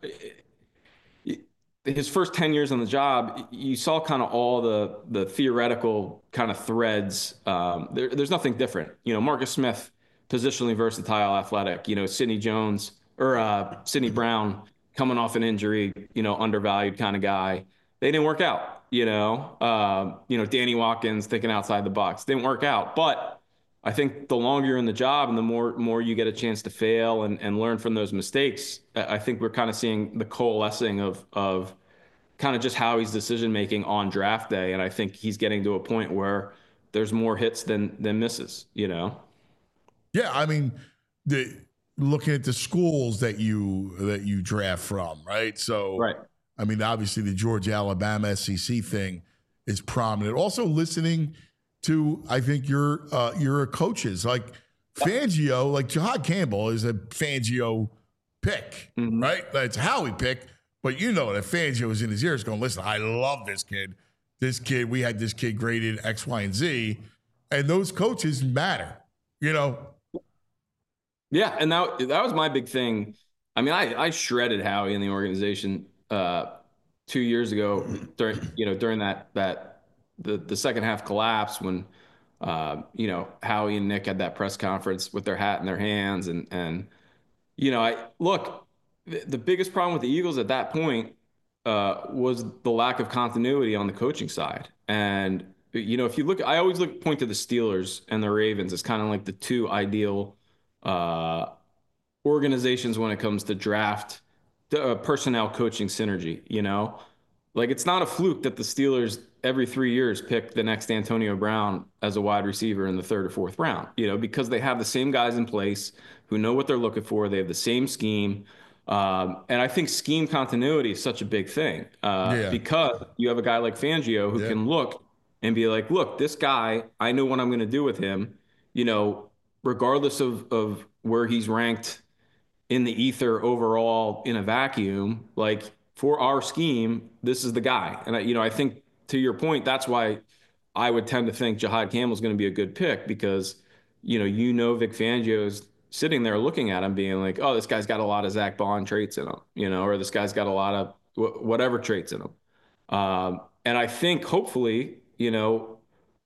his first ten years on the job, you saw kind of all the the theoretical kind of threads. Um, there, there's nothing different. You know, Marcus Smith, positionally versatile, athletic. You know, Sidney Jones or uh, Sidney Brown coming off an injury, you know, undervalued kind of guy. They didn't work out. You know, uh, you know, Danny Watkins thinking outside the box didn't work out. But I think the longer you're in the job and the more more you get a chance to fail and, and learn from those mistakes, I think we're kind of seeing the coalescing of of kind of just Howie's decision making on draft day. And I think he's getting to a point where there's more hits than than misses, you know? Yeah, I mean, the looking at the schools that you that you draft from, right? So, Right. I mean, obviously the Georgia Alabama S E C thing is prominent. Also, listening to I think your uh, your coaches like Fangio, like Jahad Campbell is a Fangio pick, Mhm. right? That's Howie pick, but you know that Fangio is in his ears going, "Listen, I love this kid. This kid, we had this kid graded X, Y, and Z," and those coaches matter, you know. Yeah, and that that was my big thing. I mean, I I shredded Howie in the organization uh, two years ago during you know during that that the the second half collapse when uh, you know Howie and Nick had that press conference with their hat in their hands and and you know I look the, the biggest problem with the Eagles at that point uh, was the lack of continuity on the coaching side. And you know if you look, I always look point to the Steelers and the Ravens as kind of like the two ideal uh, organizations when it comes to draft uh, personnel coaching synergy. You know, like it's not a fluke that the Steelers every three years pick the next Antonio Brown as a wide receiver in the third or fourth round. You know, because they have the same guys in place who know what they're looking for. They have the same scheme. Um, and I think scheme continuity is such a big thing uh, Yeah. because you have a guy like Fangio who Yeah. can look and be like, look, this guy, I know what I'm going to do with him, you know, regardless of, of where he's ranked in the ether overall in a vacuum, like for our scheme, this is the guy. And I, you know, I think to your point, that's why I would tend to think Jahad Campbell's going to be a good pick because, you know, you know, Vic Fangio's sitting there looking at him being like, oh, this guy's got a lot of Zach Bond traits in him, you know, or this guy's got a lot of wh- whatever traits in him. Um, and I think hopefully, you know,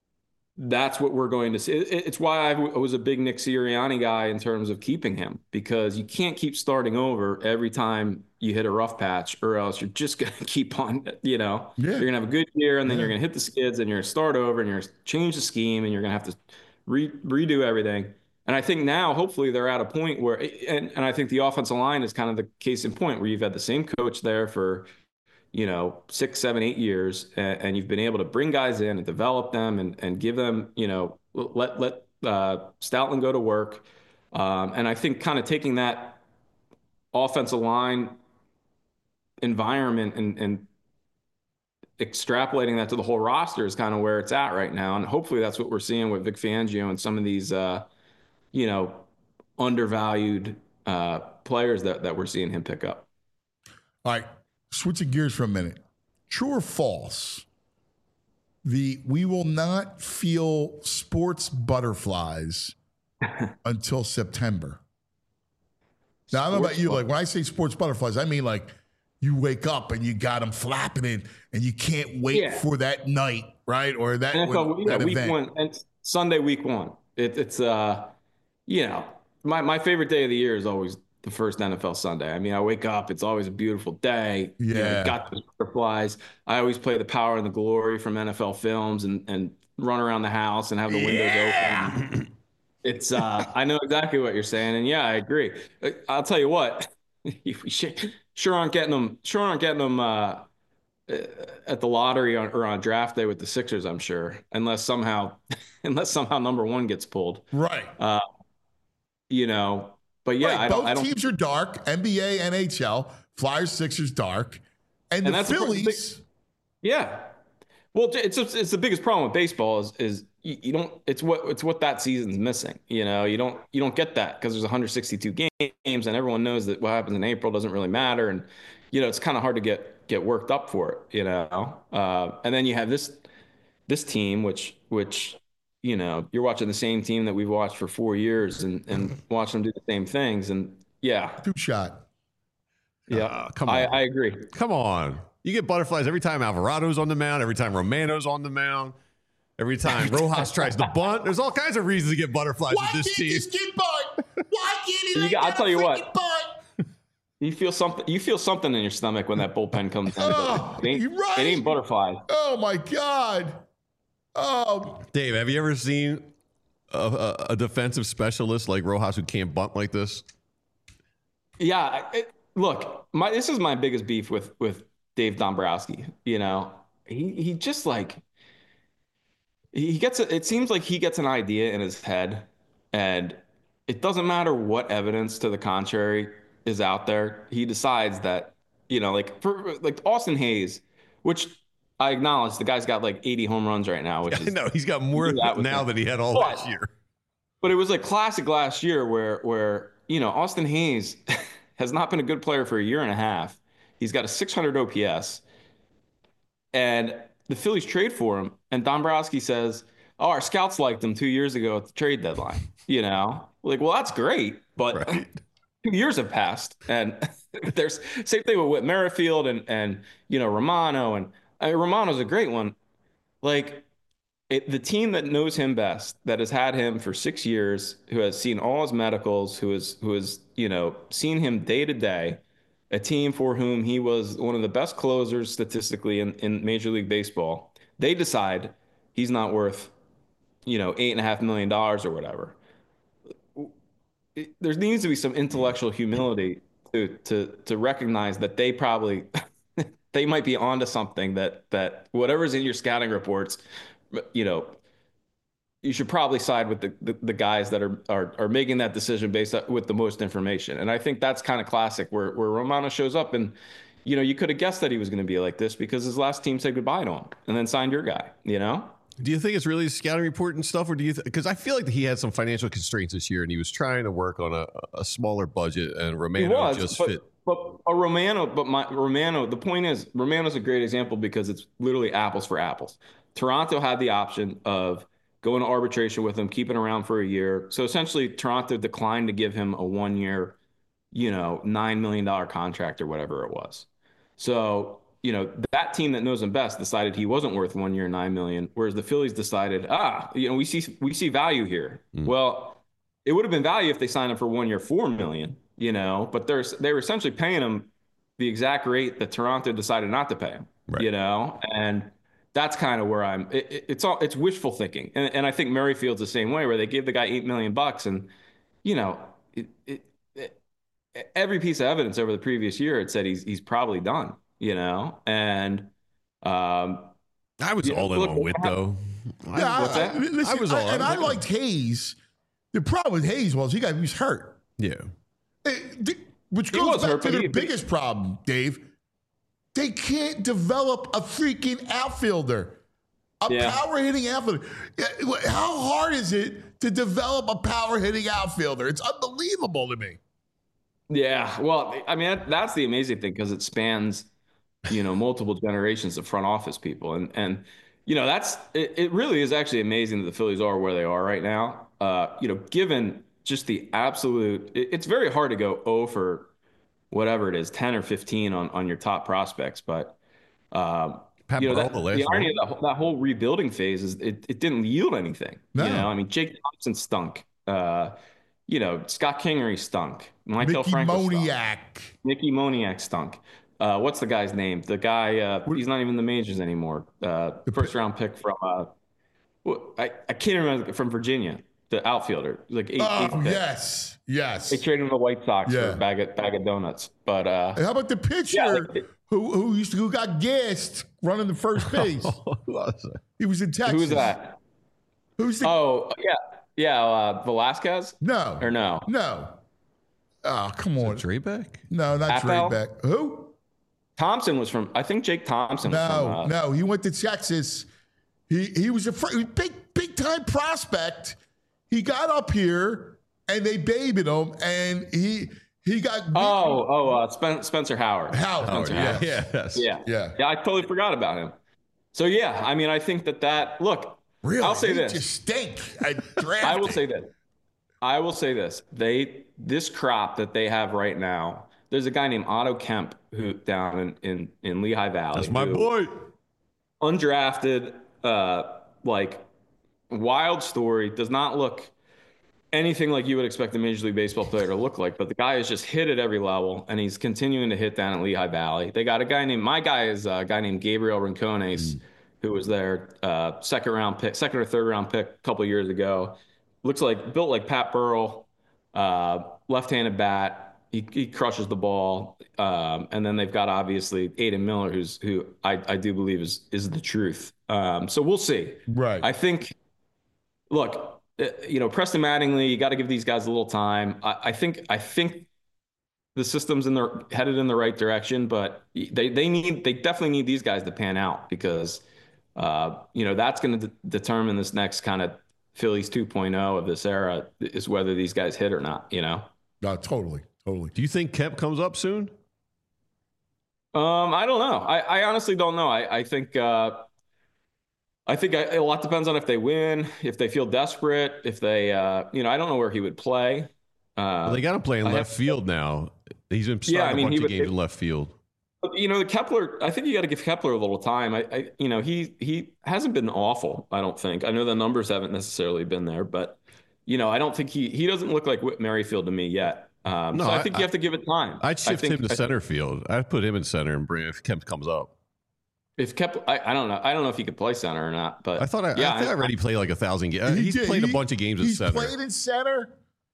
that's what we're going to see. It, it's why I w- was a big Nick Sirianni guy in terms of keeping him, because you can't keep starting over every time you hit a rough patch, or else you're just going to keep on, you know, Yeah. you're going to have a good year and then Yeah. you're going to hit the skids and you're going to start over and you're going to change the scheme and you're going to have to re- redo everything. And I think now, hopefully, they're at a point where, and, and I think the offensive line is kind of the case in point where you've had the same coach there for, you know, six, seven, eight years, and, and you've been able to bring guys in and develop them and, and give them, you know, let let uh, Stoutland go to work. Um, and I think kind of taking that offensive line environment and, and extrapolating that to the whole roster is kind of where it's at right now. And hopefully that's what we're seeing with Vic Fangio and some of these, uh, you know, undervalued uh, players that, that we're seeing him pick up. All right, switching gears for a minute. True or false? The we will not feel sports butterflies until September. Now, I don't know about you. Like when I say sports butterflies, I mean like you wake up and you got them flapping in, and you can't wait yeah. for that night, right? Or that, N F L, that yeah, week event. One, and Sunday, week one. It, it's uh, you know, my my favorite day of the year is always the first N F L Sunday. I mean, I wake up, it's always a beautiful day. Yeah. You know, got the butterflies. I always play the Power and the Glory from N F L Films and and run around the house and have the windows yeah. open. It's uh, I know exactly what you're saying, and yeah, I agree. I'll tell you what, we sure aren't getting them. Sure aren't getting them uh, at the lottery on, or on draft day with the Sixers. I'm sure, unless somehow, unless somehow number one gets pulled. Right. Uh, you know, but yeah, right. I don't, both I don't, teams are dark. N B A, N H L, Flyers, Sixers, dark, and, and the that's Phillies. Big, yeah. Well, it's it's the biggest problem with baseball is is you, you don't it's what it's what that season's missing. You know, you don't you don't get that because there's one hundred sixty-two games and everyone knows that what happens in April doesn't really matter, and you know it's kind of hard to get get worked up for it. You know, uh, and then you have this this team which which you know you're watching the same team that we've watched for four years and and watch them do the same things, and yeah, two shot. Yeah, uh, come on, I, I agree. Come on. You get butterflies every time Alvarado's on the mound, every time Romano's on the mound, every time Rojas tries to bunt. There's all kinds of reasons to get butterflies Why with this can't team. this kid bunt? Why can't he? You got, I'll tell you what. Bunt? You feel something. You feel something in your stomach when that bullpen comes in. Oh, it ain't, you're right. It ain't butterflies. Oh my God. Oh, Dave, have you ever seen a, a, a defensive specialist like Rojas who can't bunt like this? Yeah. It, look, my this is my biggest beef with with. Dave Dombrowski, you know, he he just like he gets a, it seems like he gets an idea in his head, and it doesn't matter what evidence to the contrary is out there. He decides that, you know, like for like Austin Hayes, which I acknowledge the guy's got like eighty home runs right now, which is no, he's got more that now than he had all but, last year. But it was like classic last year where where you know Austin Hayes has not been a good player for a year and a half. He's got a six hundred O P S, and the Phillies trade for him. And Dombrowski says, "Oh, our scouts liked him two years ago at the trade deadline." You know, like, well, that's great, but right. two years have passed, and there's same thing with Whit Merrifield and and you know Romano, and I mean, Romano's a great one. Like it, the team that knows him best, that has had him for six years, who has seen all his medicals, who has who has you know seen him day to day. A team for whom he was one of the best closers statistically in, in Major League Baseball. They decide he's not worth, you know, eight and a half million dollars or whatever. It, there needs to be some intellectual humility to to to recognize that they probably they might be onto something that that whatever's in your scouting reports, you know, you should probably side with the, the, the guys that are, are are making that decision based on, with the most information. And I think that's kind of classic where, where Romano shows up and, you know, you could have guessed that he was going to be like this because his last team said goodbye to him and then signed your guy, you know? Do you think it's really scouting report and stuff, or do you? Because th- I feel like he had some financial constraints this year, and he was trying to work on a, a smaller budget, and Romano was, just but, fit. But a Romano, but my Romano. The point is, Romano's a great example because it's literally apples for apples. Toronto had the option of going to arbitration with him, keeping around for a year. So essentially, Toronto declined to give him a one-year, you know, nine million dollar contract or whatever it was. So, you know, that team that knows him best decided he wasn't worth one year, nine million, whereas the Phillies decided, ah, you know, we see we see value here. Mm. Well, it would have been value if they signed him for one year, four million, you know, but there's they were essentially paying him the exact rate that Toronto decided not to pay him, right. you know, and that's kind of where I'm. It, it's all it's wishful thinking, and, and I think Merrifield's the same way, where they gave the guy eight million bucks, and you know, it, it, it, every piece of evidence over the previous year had said he's he's probably done, you know, and um, I was all in on Whit though. Yeah, I, I, listen, I was all I, and I liked Hayes. The problem with Hayes was he got he was hurt. Yeah, it, which goes back hurt, to their he, biggest problem, Dave. They can't develop a freaking outfielder, a yeah. power hitting outfielder. How hard is it to develop a power hitting outfielder? It's unbelievable to me. Yeah, well, I mean that, that's the amazing thing because it spans, you know, multiple generations of front office people, and and you know that's it, it. Really is actually amazing that the Phillies are where they are right now. Uh, you know, given just the absolute, it, it's very hard to go oh for whatever it is, ten or fifteen on on your top prospects, but um, Pat you know Burrell, that, the last the irony one. of that, that whole rebuilding phase is it, it didn't yield anything. No. You know, I mean Jake Thompson stunk. Uh, you know, Scott Kingery stunk. Maikel Mickey Franco stunk. Moniak. Nicky Moniak stunk. Uh, what's the guy's name? The guy, uh, he's not even in the majors anymore. Uh, first round pick from, uh, well, I, I can't remember, from Virginia, the outfielder. Like eight, Oh, eighth pick. yes. Yes. They traded him to the White Sox Yeah. for a bag of, bag of donuts. But uh, And how about the pitcher Yeah, like- who who used to who got gassed running the first base? He was in Texas. who's that? Who's the Oh, yeah. Yeah, uh, Velasquez? no Or no? no? Oh, come on. Drebeck? No, not Appel? Draybeck. Who? Thompson was from, I think Jake Thompson was No, from. Uh, no. He went to Texas. He he was a fr- big big time prospect. He got up here and they babied him, and he he got Oh, oh, uh, Spen- Spencer Howard. Howard. Spencer yeah. Howard. Yeah. Yes. Yeah. Yeah. Yeah, I totally forgot about him. So, yeah, I mean, I think that that, look, Really? I'll say They this. just stink. I, I will say this. I will say this. They, this crop that they have right now, there's a guy named Otto Kemp who down in, in, in Lehigh Valley. That's my who- boy. Undrafted, uh, like wild story, does not look anything like you would expect a Major League Baseball player to look like, but the guy has just hit at every level, and he's continuing to hit down at Lehigh Valley. They got a guy named, my guy is a guy named Gabriel Rincones, mm. who was their uh, second round pick, second or third round pick a couple of years ago. Looks like, built like Pat Burrell, uh, left-handed bat. He, he crushes the ball. Um, and then they've got obviously Aiden Miller, who's who I, I do believe is is the truth. Um, so we'll see. Right. I think, look, you know, Preston Mattingly, you got to give these guys a little time. I, I think I think the system's in the headed in the right direction, but they they need they definitely need these guys to pan out because uh, you know that's going to de- determine this next kind of Phillies two point oh of this era is whether these guys hit or not. You know. No, totally, totally. Do you think Kemp comes up soon? Um, I don't know. I, I honestly don't know. I I think. Uh, I think I, a lot depends on if they win, if they feel desperate, if they, uh, you know, I don't know where he would play. Uh, Well, they got him playing I left have- field now. He's been starting Yeah, I mean, a bunch he of would- games in left field. But, you know, Kepler, I think you got to give Kepler a little time. I, I, you know, he he hasn't been awful, I don't think. I know the numbers haven't necessarily been there, but, you know, I don't think he he doesn't look like Whit Merrifield to me yet. Um, No, so I I- think you have to give it time. I'd shift I think, him to I think center field. I'd put him in center and bring if Kemp comes up. If Kepler, I, I don't know. I don't know if he could play center or not, but I thought I, yeah, I think I already played like a thousand games. He He's did. played a He- bunch of games at He's center. played in center.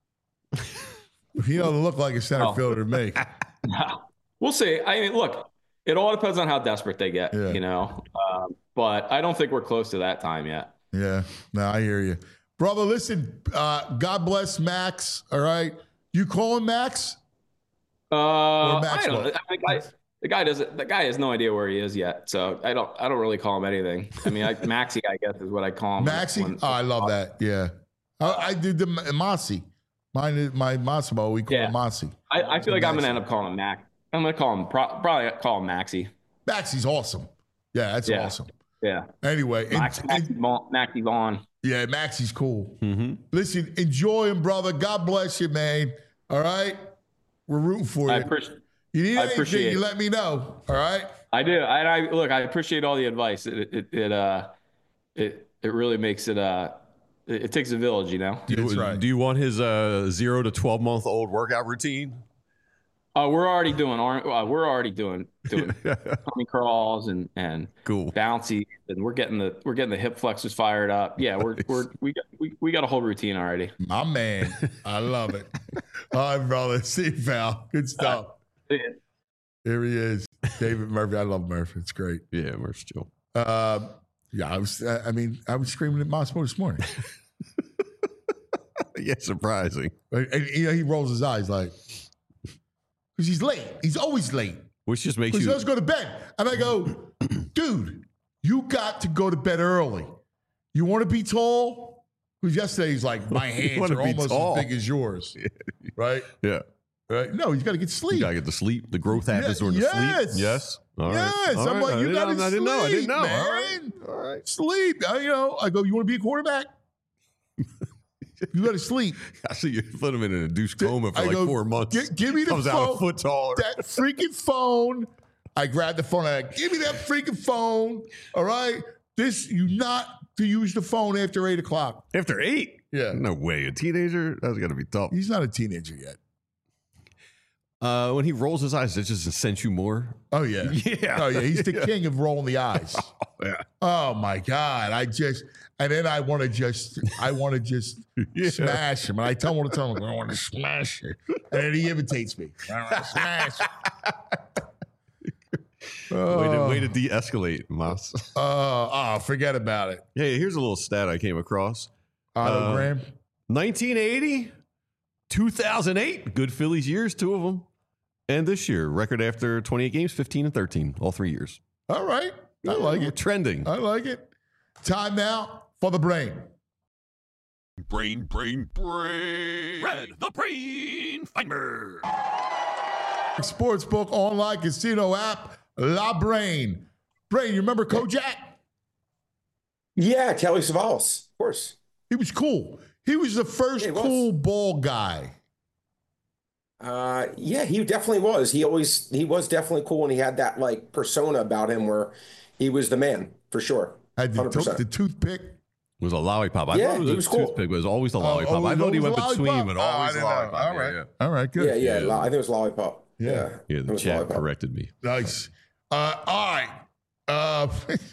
He doesn't look like a center Oh. fielder to me. We'll see. I mean, look, it all depends on how desperate they get, Yeah. you know. Um, but I don't think we're close to that time yet. Yeah, no, I hear you, brother. Listen, uh, God bless Max. All right, you call him Max? Uh, I Maxwell. don't know. I mean, the, guy, the guy doesn't. The guy has no idea where he is yet, so I don't. I don't really call him anything. I mean, I, Maxie, I guess, is what I call him. Maxie? when- Oh, I love that. Yeah, I, I did the Mossy. Mine is my Massimo. We call Yeah. him Mossy. I, I feel like I'm Maxie. gonna end up calling him Mac. I'm gonna call him pro, probably call him Maxie. Maxie's awesome. Yeah, that's Yeah. awesome. Yeah, Anyway, and- Max, Maxie and- Vaughn. Maxie Vaughn. yeah, Maxie's cool. Mm-hmm. Listen, enjoy him, brother. God bless you, man. All right, we're rooting for I you. appreciate. You need I anything, appreciate you it. let me know. All right. I do. And I look. I appreciate all the advice. It it, it uh it it really makes it uh it, it takes a village, you know. Do you, That's right. do you want his uh, zero to twelve month old workout routine? Uh, we're already doing. aren't- Uh, we're already doing doing tummy crawls and and Cool. bouncy, and we're getting the we're getting the hip flexors fired up. Yeah, we're we're we got we, we got a whole routine already. My man. I love it. All right, brother. See you, pal. Good stuff. Here he is. David Murphy. I love Murphy. It's great. Yeah, Murph's chill. Um, yeah, I was, I mean, I was screaming at Massimo this morning. Yeah, surprising. Right? And, you know, he rolls his eyes like, because he's late. He's always late. Which just makes Because he you. doesn't go to bed. And I go, dude, you got to go to bed early. You want to be tall? Because yesterday he's like, my hands wanna are be almost tall. as big as yours. Right? Yeah. Right? No, he's got to get sleep. You gotta get the sleep. The growth happens Yeah, during the yes. sleep. Yes. All right. Yes, All I'm right. like, I you didn't got to know. sleep, I didn't know. I didn't know. man. All right. All right. Sleep. I, you know, I go, you want to be a quarterback? You got to sleep. I see you put him in an induced coma for I like go, four months. "Gi- give me the Comes out a phone." foot taller. That freaking phone. I grabbed the phone. I like, give me that freaking phone. All right. This, you not to use the phone after eight o'clock. After eight? Yeah. No way. A teenager? That's got to be tough. He's not a teenager yet. Uh, when he rolls his eyes, it just sends you more. Oh, yeah. Yeah. Oh, yeah. He's the king of rolling the eyes. Yeah. Oh, my God. I just, and then I want to just, I want to just Yeah. smash him. And I tell him all the time, I want to smash it. And then he imitates me. I want to smash it. Way to, way to de-escalate, Moss. Uh, oh, forget about it. Hey, here's a little stat I came across. Autogram. nineteen eighty, two thousand eight, good Phillies years, two of them. And this year, record after twenty-eight games, fifteen and thirteen, all three years. All right. I like We're it. trending. I like it. Time now for the brain. Brain, brain, brain. Red, the brain finder. Sportsbook online casino app, La Brain. Brain, you remember Kojak? Yeah, Kelly Savalas, of course. He was cool. He was the first Yeah, he was. cool ball guy. Uh, yeah, he definitely was. He always he was definitely cool, and he had that like persona about him where he was the man for sure. Had the, one hundred percent. the toothpick. It was a lollipop. I Yeah, thought it was he a was cool. toothpick, but it was always the Oh, lollipop. always- I thought he always went between, lollipop? but Oh, I always didn't know. lollipop. All Yeah, right. yeah. All right, good. Yeah, yeah, Yeah. lo- I think it was lollipop. Yeah. Yeah, Yeah, it the was chat lollipop. corrected me. Nice. Uh, all right. Uh,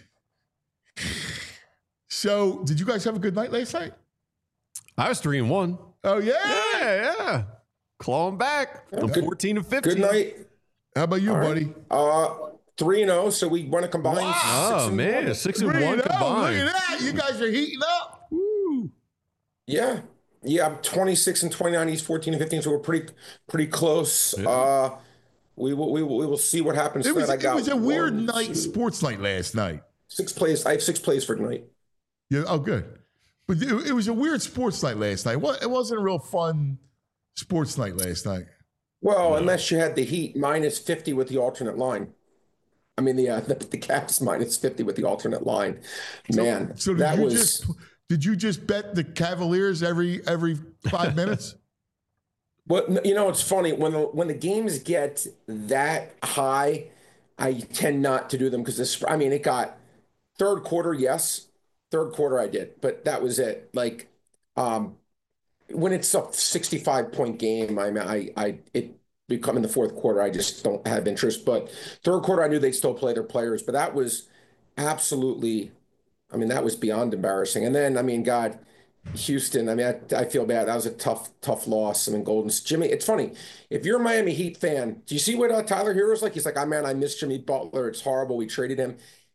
so, did you guys have a good night last night? I was three and one. Oh, yeah? Yeah, yeah. Clawing back. I'm Good- fourteen and fifteen. Good night. How about you, All right. buddy? Uh, three and zero. So we want to combine. Wow. six Oh, and man. one. Six and Three one and oh, combined. Look at that. You guys are heating up. Woo. Yeah, yeah. I'm twenty-six and twenty-nine. He's fourteen and fifteen. So we're pretty pretty close. Yeah. Uh, we will we will we will see what happens. It was, tonight. I it got was a weird one, night, two, sports night last night. Six plays. I have six plays for tonight. Yeah. Oh, good. But it, it was a weird sports night last night. Well, it wasn't a real fun sports night last night. Well, unless you had the Heat minus fifty with the alternate line. I mean, the uh, the, the Caps minus fifty with the alternate line. Man, So did that you was just did you just bet the Cavaliers every every five minutes? well. You know, it's funny when the when the games get that high, I tend not to do them because this. I mean, it got third quarter, yes, third quarter I did, but that was it. Like, um, when it's a sixty-five point game, I mean, I I it become in the fourth quarter, I just don't have interest. But third quarter, I knew they'd still play their players, but that was absolutely, I mean, that was beyond embarrassing. And then, I mean, God, Houston, I mean, I, I feel bad. That was a tough, tough loss. I mean, Golden, Jimmy, it's funny. If you're a Miami Heat fan, do you see what uh, Tyler Hero's like? He's like, oh man, I miss Jimmy Butler. It's horrible. We traded him.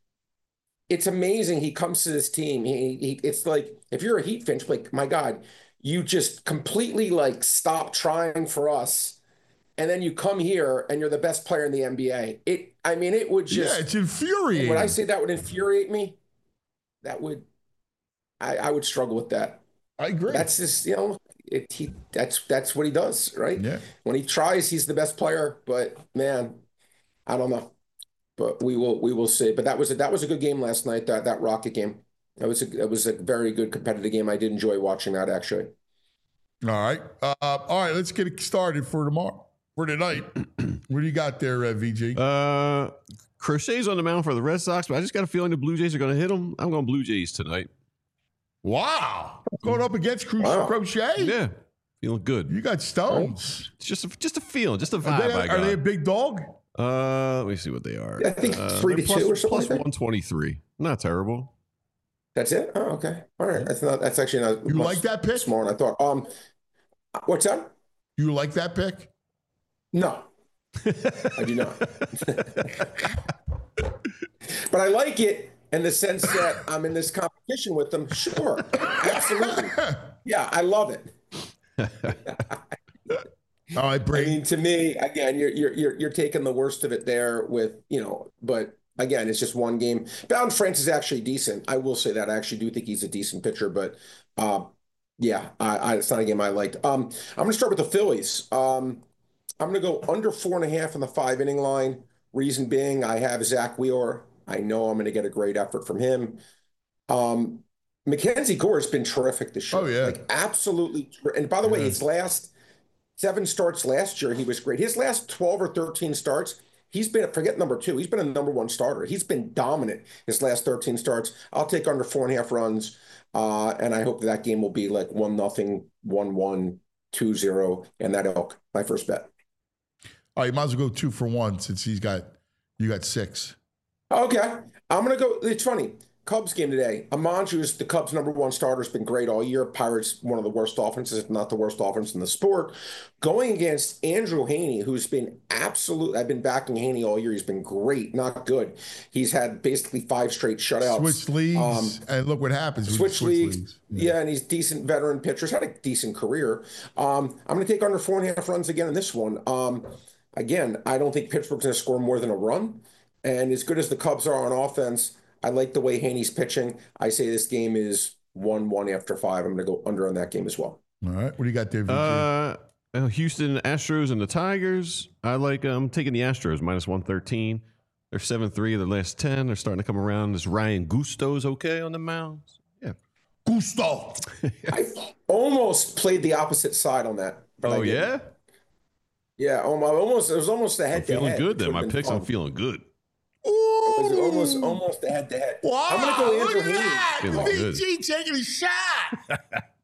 It's amazing. He comes to this team. He, he it's like, if you're a Heat fan, you're like, my God, you just completely like stop trying for us. And then you come here and you're the best player in the N B A. It, I mean, it would just, Yeah, it's infuriating. when I say that would infuriate me, that would, I, I would struggle with that. I agree. That's just, you know, it, he, that's, that's what he does, right? Yeah. When he tries, he's the best player, but man, I don't know, but we will, we will see. But that was a, that was a good game last night. That, that Rocket game. That was a, it was a very good competitive game. I did enjoy watching that actually. All right. Uh, all right. Let's get it started for tomorrow. For tonight. What do you got there, uh, V G? Uh, Crochet's on the mound for the Red Sox, but I just got a feeling the Blue Jays are going to hit them. I'm going Blue Jays tonight. Wow. Going up against Cro- Wow. Crochet? Yeah, feeling good. You got stones. It's just a, just a feeling, just a Are, vibe they, I got. are they a big dog? uh, let me see what they are. I think uh, three they're to plus- two or something plus like that. one twenty-three. Not terrible. That's it. Oh, okay. All right. That's not, that's actually not You much like that pick? smaller than I thought. Um, what's that? You like that pick? No, I do not. But I like it in the sense that I'm in this competition with them. Sure, absolutely. Yeah, I love it. All right, I Brady. mean, to me, again, you're you're you're you're taking the worst of it there with, you know, but again, it's just one game. Bowden France is actually decent. I will say that. I actually do think he's a decent pitcher, but uh, yeah, I, I, it's not a game I liked. Um, I'm going to start with the Phillies. Um, I'm going to go under four and a half on the five inning line. Reason being, I have Zach Wheeler. I know I'm going to get a great effort from him. Um, Mackenzie Gore has been terrific this year. Oh, yeah. Like, absolutely. And by the way, his last seven starts last year, he was great. His last twelve or thirteen starts, he's been, forget number two, he's been a number one starter. He's been dominant his last thirteen starts. I'll take under four and a half runs, uh, and I hope that, that game will be like one nothing, one one, two zero, and that ilk. My first bet. All right, you might as well go two for one since he's got, you got six. Okay. I'm going to go, it's funny. Cubs game today. Amanju is the Cubs' number one starter. Has been great all year. Pirates, one of the worst offenses, if not the worst offense in the sport. Going against Andrew Heaney, who's been absolute. I've been backing Heaney all year. He's been great, not good. He's had basically five straight shutouts. Switch leagues, Um, and look what happens. with Switch, switch leagues. leagues. Yeah. and he's decent veteran pitcher. He's had a decent career. Um, I'm going to take under four and a half runs again in this one. Um, again, I don't think Pittsburgh's going to score more than a run. And as good as the Cubs are on offense, I like the way Haney's pitching. I say this game is one one after five. I'm going to go under on that game as well. All right. What do you got there, V J? Uh, uh, Houston Astros and the Tigers. I like um taking the Astros minus one thirteen. They're seven three of their last ten. They're starting to come around. This Ryan Gusto's okay on the mound. Yeah. Gusto. I almost played the opposite side on that. But I Oh, didn't. yeah? Yeah. Almost. It was almost a I'm head to feeling head. good which then. would My have been picks, fun. I'm feeling good. It was almost almost a head to head. Wow, I'm going to go look Andrew at Heaney. that. Feeling V good. G taking a shot.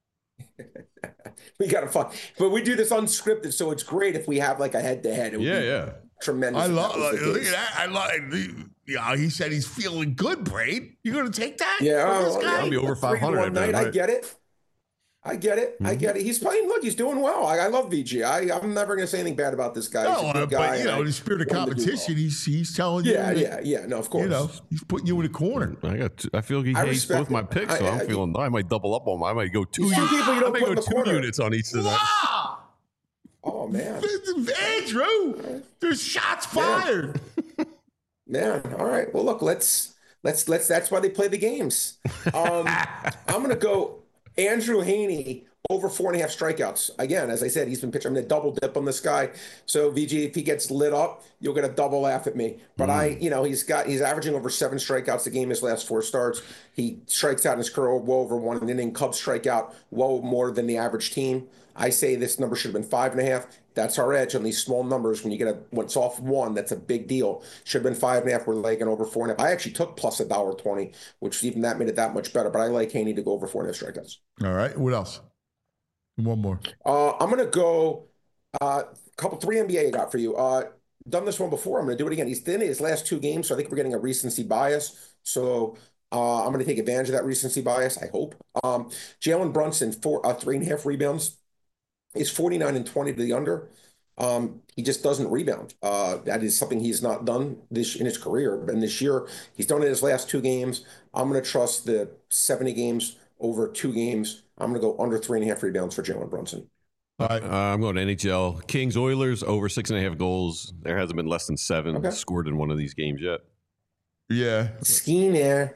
We got to fun, but we do this unscripted, so it's great if we have like a head to head. Yeah, yeah. Tremendous. I if love. that was the Look case. at that. I love. Yeah, he said he's feeling good, Braid. You gonna take that? Yeah, from this oh, guy? I'll be over a three to five hundred, one I bet, night. I right? get it. I get it. I get it. He's playing. Look, he's doing well. I, I love V G. I, I'm never going to say anything bad about this guy. He's No, a uh, good guy. but you know, and in the spirit of I want him to do competition, well. he's he's telling Yeah, you. yeah, yeah. No, of course. You know, he's putting you in a corner. I got. Two, I feel he I hates respect both my it. picks, so I- I'm I- feeling. I might double up on. them. I might go two. Some units. people you I don't might put go in the two corner. units on each of that. Wow, Oh man, Andrew, there's shots fired. man. All right. Well, look. Let's let's let's. That's why they play the games. Um, I'm going to go Andrew Heaney over four and a half strikeouts. Again, as I said, he's been pitching. I'm going to double dip on this guy. So V G, if he gets lit up, you'll get a double laugh at me. But I, you know, he's got he's averaging over seven strikeouts a game his last four starts. He strikes out in his career well over one inning. Cubs strike out well more than the average team. I say this number should have been five and a half. That's our edge on these small numbers. When you get a when it's off one, that's a big deal. Should have been five and a half. We're like an over four and a half. I actually took plus a dollar twenty, which even that made it that much better. But I like Haney to go over four and a half strikeouts. All right, what else? One more. Uh, I'm gonna go a uh, couple three N B A I got for you. Uh, done this one before. I'm gonna do it again. He's been in his last two games, so I think we're getting a recency bias. So uh, I'm gonna take advantage of that recency bias. I hope. Um, Jalen Brunson four uh, three and a half rebounds. He's forty-nine and twenty to the under. Um, he just doesn't rebound. Uh, that is something he's not done this in his career. And this year, he's done it in his last two games. I'm going to trust the seventy games over two games. I'm going to go under three and a half rebounds for Jalen Brunson. All right. Uh, I'm going to N H L. Kings Oilers over six and a half goals. There hasn't been less than seven Okay. scored in one of these games yet. Yeah. Skiing there.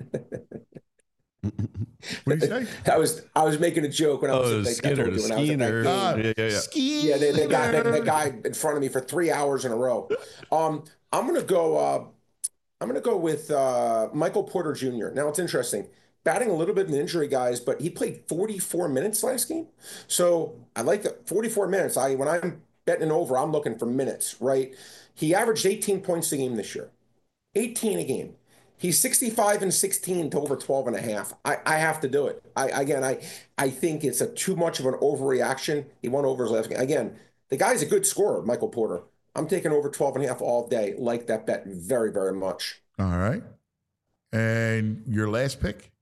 What do you say? I was I was making a joke when I was Oh, like, I Skinner, told the you when I was at that Skinner. game. Ah, Yeah, yeah, yeah. Ski. Yeah, they, they got that, that guy in front of me for three hours in a row. Um, I'm gonna go. Uh, I'm gonna go with uh, Michael Porter Junior Now it's interesting, batting a little bit of an injury, guys, but he played forty-four minutes last game. So I like the forty-four minutes. I when I'm betting an over, I'm looking for minutes, right? He averaged eighteen points a game this year, eighteen a game. He's sixty-five and sixteen to over twelve and a half. I, I have to do it. I again, I I think it's a too much of an overreaction. He won over his last game. Again, the guy's a good scorer, Michael Porter. I'm taking over twelve and a half all day. Like that bet very, very much. All right. And your last pick?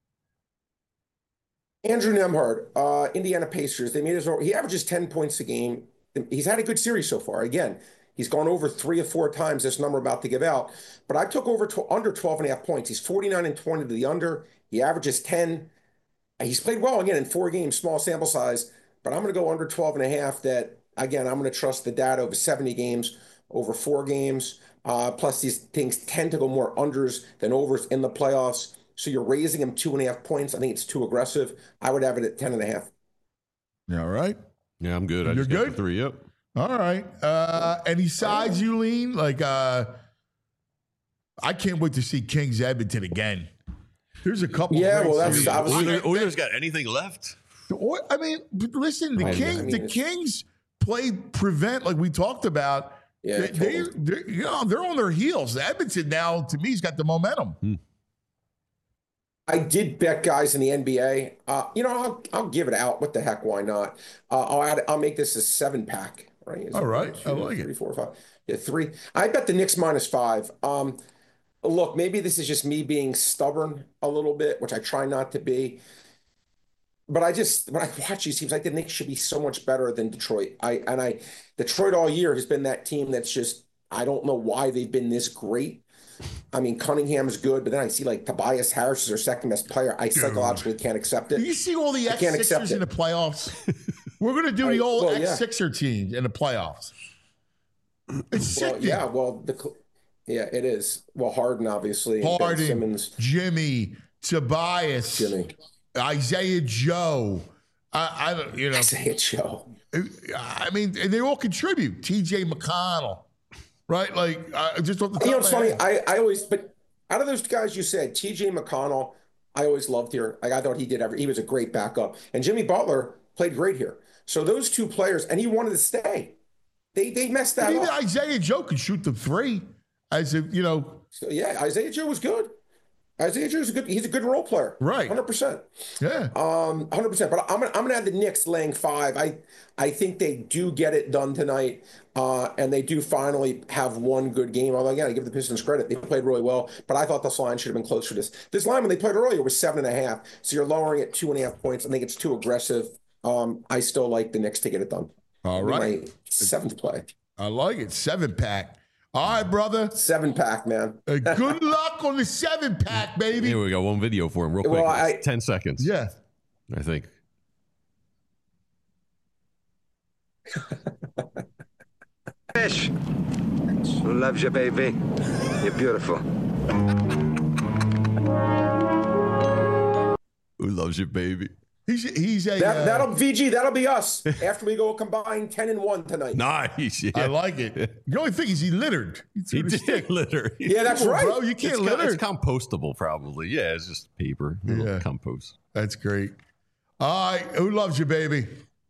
Andrew Nemhard, uh, Indiana Pacers. They made his. He averages ten points a game. He's had a good series so far. Again, he's gone over three or four times this number about to give out. But I took over tw- under twelve and a half points. He's forty-nine and twenty to the under. He averages ten. He's played well again in four games, small sample size. But I'm going to go under twelve and a half. That again, I'm going to trust the data over seventy games, over four games. Uh, plus, these things tend to go more unders than overs in the playoffs. So you're raising him two and a half points. I think it's too aggressive. I would have it at ten and a half. All right. Yeah, I'm good. I You're just got the good? three. Yep. All right. Uh, any sides you lean? Like, uh, I can't wait to see Kings Edmonton again. There's a couple. Yeah, great well, that's series. obviously- Oilers, Oilers got anything left? Or- I mean, listen, the I- Kings, I mean, the it's- Kings play prevent like we talked about. Yeah, they, they, totally. they're, you know, they're on their heels. Edmonton now, to me, has got the momentum. Hmm. I did bet guys in the N B A. Uh, you know, I'll I'll give it out. What the heck? Why not? Uh, I'll add, I'll make this a seven pack. Right? Is All it right. one, I two, like it. Three, four, five. Yeah, three. I bet the Knicks minus five. Um, look, maybe this is just me being stubborn a little bit, which I try not to be. But I just when I watch these teams, like the Knicks should be so much better than Detroit. I and I Detroit all year has been that team that's just I don't know why they've been this great. I mean, Cunningham is good, but then I see like Tobias Harris is their second best player. I psychologically can't accept Do it. you see all the I can't accept X Sixers in it. the playoffs? We're going to do I- the old well, yeah. X Sixer teams in the playoffs. It's Well, sickening. yeah, well, the yeah, it is. Well, Harden obviously, and Ben Harden, Simmons, Jimmy, Tobias, Jimmy, Isaiah Joe. I, I don't, you know, Isaiah Joe. I mean, and they all contribute. T J McConnell, right? Like, I just off the top You know, of it's my funny. head. I, I always, but out of those guys you said, T J McConnell, I always loved here. Like I thought he did every. He was a great backup, and Jimmy Butler played great here. So those two players, and he wanted to stay. They they messed that Even up. Isaiah Joe can shoot the three, as if you know, So, yeah, Isaiah Joe was good. Isaiah Joe's a good. He's a good role player. Right. hundred percent. yeah. Um, hundred percent. But I'm gonna I'm gonna have the Knicks laying five. I I think they do get it done tonight, uh, and they do finally have one good game. Although again, I give the Pistons credit; they played really well. But I thought this line should have been closer to this. This line when they played earlier was seven and a half. So you're lowering it two and a half points. I think it's too aggressive. Um, I still like the Knicks to get it done. All That'd be right. my seventh play. I like it. Seven pack. All right, brother. Seven pack, man. Uh, good luck on the seven pack, baby. Here we got one video for him, real quick. Well, I- It's ten seconds. Yeah. I think. Fish. Who loves you, baby? You're beautiful. Who loves you, baby? He's he's a. That uh, that'll V G. That'll be us after we go combine ten and one tonight. Nice. Yeah. I like it. The only thing is he littered. He threw He the stick. did litter. Yeah, that's Come on, right. bro. You can't it's, co- litter. it's compostable, probably. Yeah, it's just paper. Little Yeah. compost. That's great. All right. Who loves you, baby?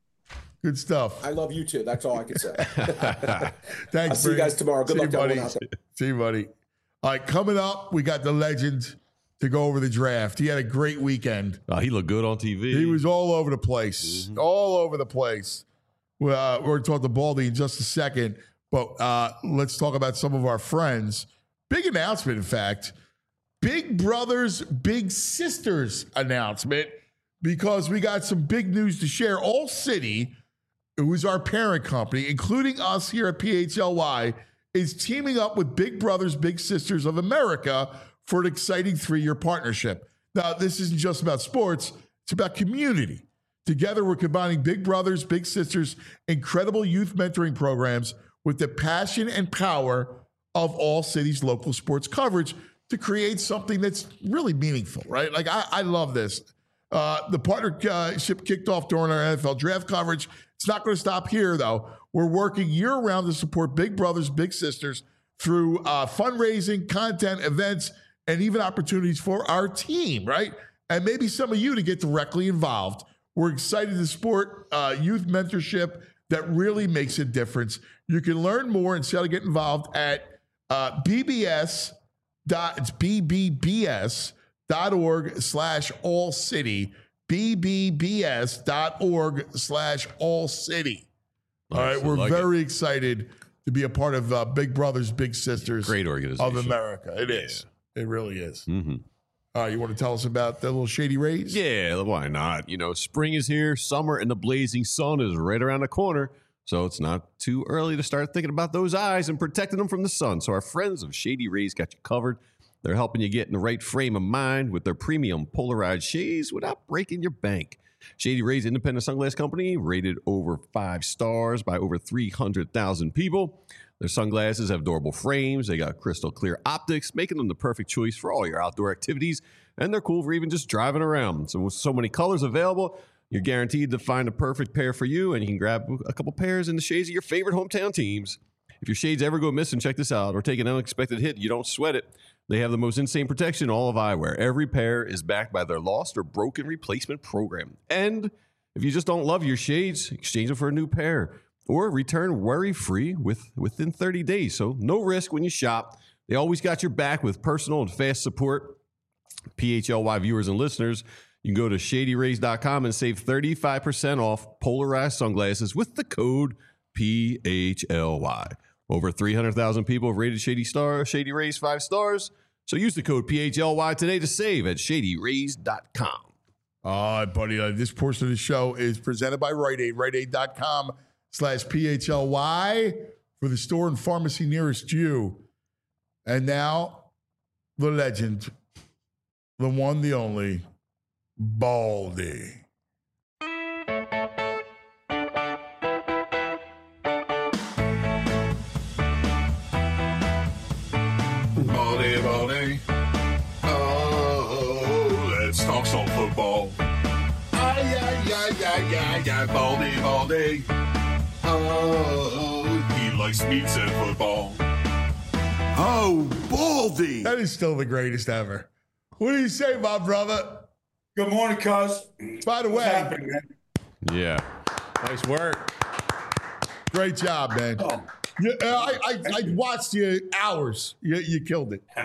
Good stuff. I love you too. That's all I can say. Thanks. I'll see you Brady. guys tomorrow. Good See luck you, to buddy. everyone out there. See you, buddy. All right. Coming up, we got the legend to go over the draft. He had a great weekend. Oh, he looked good on T V. He was all over the place, Mm-hmm. all over the place. Well, uh, we're going to talk to Baldy in just a second, but uh, let's talk about some of our friends. Big announcement, in fact. Big Brothers, Big Sisters announcement, because we got some big news to share. All City, who is our parent company, including us here at P H L Y, is teaming up with Big Brothers Big Sisters of America for an exciting three-year partnership. Now, this isn't just about sports, it's about community. Together, we're combining Big Brothers Big Sisters incredible youth mentoring programs with the passion and power of All City's local sports coverage to create something that's really meaningful, right? Like, I, I love this. Uh, the partnership kicked off during our N F L draft coverage. It's not going to stop here, though. We're working year-round to support Big Brothers Big Sisters through uh, fundraising, content, events, and even opportunities for our team, right? And maybe some of you to get directly involved. We're excited to support uh, youth mentorship that really makes a difference. You can learn more and see how to get involved at uh, B B S. Dot, it's B B B S dot org slash all city. B B B S dot org slash all city. All right, Nice, I we're like very excited to be a part of uh, Big Brothers Big Sisters Great organization. of America. It is. It really is. Mm-hmm. All right, you want to tell us about the little Shady Rays? Yeah, why not? You know, spring is here, summer and the blazing sun is right around the corner. So it's not too early to start thinking about those eyes and protecting them from the sun. So our friends of Shady Rays got you covered. They're helping you get in the right frame of mind with their premium polarized shades without breaking your bank. Shady Rays Independent Sunglass Company, rated over five stars by over three hundred thousand people. Their sunglasses have durable frames. They got crystal clear optics, making them the perfect choice for all your outdoor activities. And they're cool for even just driving around. So with so many colors available, You're guaranteed to find a perfect pair for you, and you can grab a couple pairs in the shades of your favorite hometown teams. If your shades ever go missing, check this out, or take an unexpected hit, you don't sweat it. They have the most insane protection in all of eyewear. Every pair is backed by their lost or broken replacement program. And if you just don't love your shades, exchange them for a new pair or return worry-free with, within thirty days. So no risk when you shop. They always got your back with personal and fast support. P H L Y viewers and listeners, you can go to shady rays dot com and save thirty-five percent off polarized sunglasses with the code P H L Y. Over three hundred thousand people have rated Shady Star, Shady Rays five stars. So use the code P H L Y today to save at shady rays dot com. All right, buddy. Uh, this portion of the show is presented by Rite Aid. Rite Aid dot com slash P H L Y for the store and pharmacy nearest you. And now, the legend, the one, the only, Baldy. Baldy, Baldy. Oh, let's talk some football. Ay, ay, ay, ay, ay, ay, Baldy, Baldy. Oh, he likes pizza and football. Oh, Baldy. That is still the greatest ever. What do you say, my brother? Good morning, cuz. By the What's way, happening, man? Yeah. Nice work. great job, man. Oh, You, uh, I, I, I watched you hours. You, you killed it.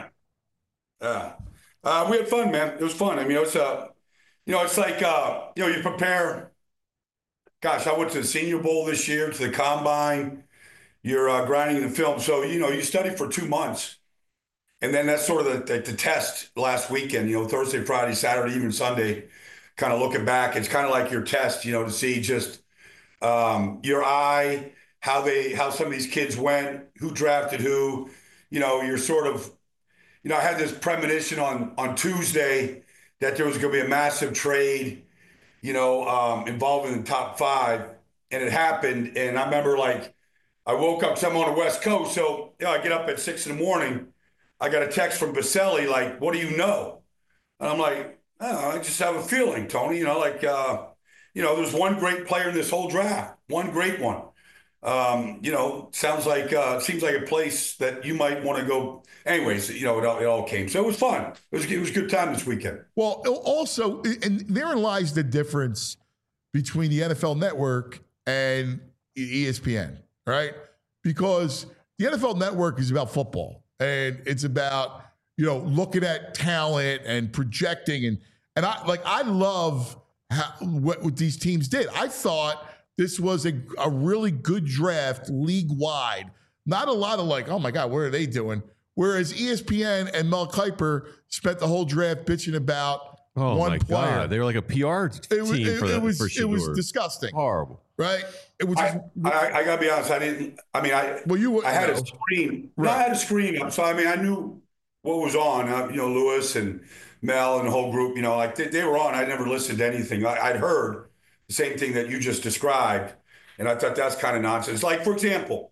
yeah. Uh, we had fun, man. It was fun. I mean, it was, uh, you know, it's like, uh, you know, you prepare. Gosh, I went to the Senior Bowl this year, to the Combine. You're uh, grinding the film. So, you know, you study for two months. And then that's sort of the, the, the test last weekend, you know, Thursday, Friday, Saturday, even Sunday, kind of looking back. It's kind of like your test, you know, to see just um, your eye, how they, how some of these kids went, who drafted who, you know, you're sort of, you know, I had this premonition on, on Tuesday that there was going to be a massive trade, you know, um, involving the top five, and it happened. And I remember, like, I woke up, so I'm on the West Coast. So, you know, I get up at six in the morning. I got a text from Baselli, like, what do you know? And I'm like, oh, I just have a feeling, Tony, you know, like, uh, you know, there's one great player in this whole draft, one great one. Um, you know, sounds like, uh, seems like a place that you might want to go. Anyways, you know, it all, it all came. So it was fun. It was, it was a good time this weekend. Well, also, and therein lies the difference between the N F L Network and E S P N, right? Because the N F L Network is about football, and it's about, you know, looking at talent and projecting. And, and I, like, I love how, what, what these teams did. I thought this was a, a really good draft league-wide. Not a lot of, like, oh, my God, what are they doing? Whereas E S P N and Mel Kiper spent the whole draft bitching about Oh one my player. God, they were like a P R team It was, it, for it that. was, for it was Shador. disgusting, Horrible. right? It was just, I, I, I gotta be honest. I didn't, I mean, I, well, you I had know. a screen. Right. No, I had a screen up. So, I mean, I knew what was on, uh, you know, Lewis and Mel and the whole group, you know, like they, they were on. I never listened to anything. I, I'd heard the same thing that you just described. And I thought that's kind of nonsense. Like, for example,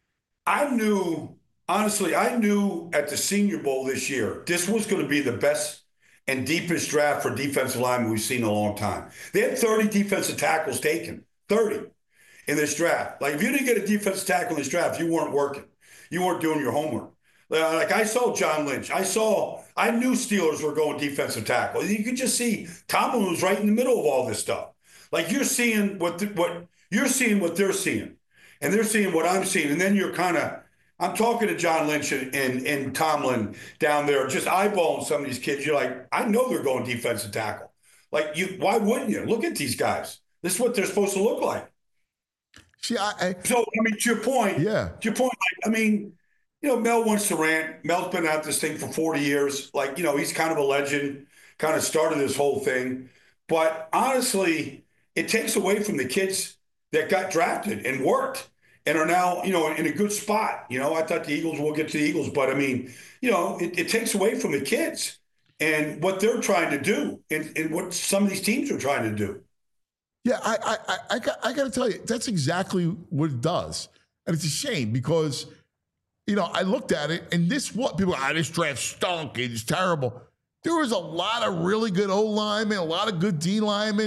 I knew, honestly, I knew at the Senior Bowl this year, this was going to be the best and deepest draft for defensive linemen we've seen in a long time. They had thirty defensive tackles taken, thirty in this draft. Like, if you didn't get a defensive tackle in this draft, you weren't working. You weren't doing your homework. Like, I saw John Lynch. I saw, I knew Steelers were going defensive tackle. You could just see Tomlin was right in the middle of all this stuff. Like, you're seeing what, the, what you're seeing what they're seeing, and they're seeing what I'm seeing. And then you're kind of, I'm talking to John Lynch and, and, and Tomlin down there, just eyeballing some of these kids. You're like, I know they're going defensive tackle. Like, you, why wouldn't you? Look at these guys. This is what they're supposed to look like. See, I, I, So, I mean, to your point, yeah. to your point, like, I mean, you know, Mel wants to rant. Mel's been at this thing for forty years. Like, you know, he's kind of a legend, kind of started this whole thing. But honestly, it takes away from the kids that got drafted and worked and are now, you know, in a good spot. You know, I thought the Eagles will get to the Eagles, but I mean, you know, it, it takes away from the kids and what they're trying to do and, and what some of these teams are trying to do. Yeah, I, I, I, got, I got to tell you, that's exactly what it does, and it's a shame because, you know, I looked at it, and this what people, ah, this draft stunk, it's terrible. There was a lot of really good O linemen, a lot of good D linemen,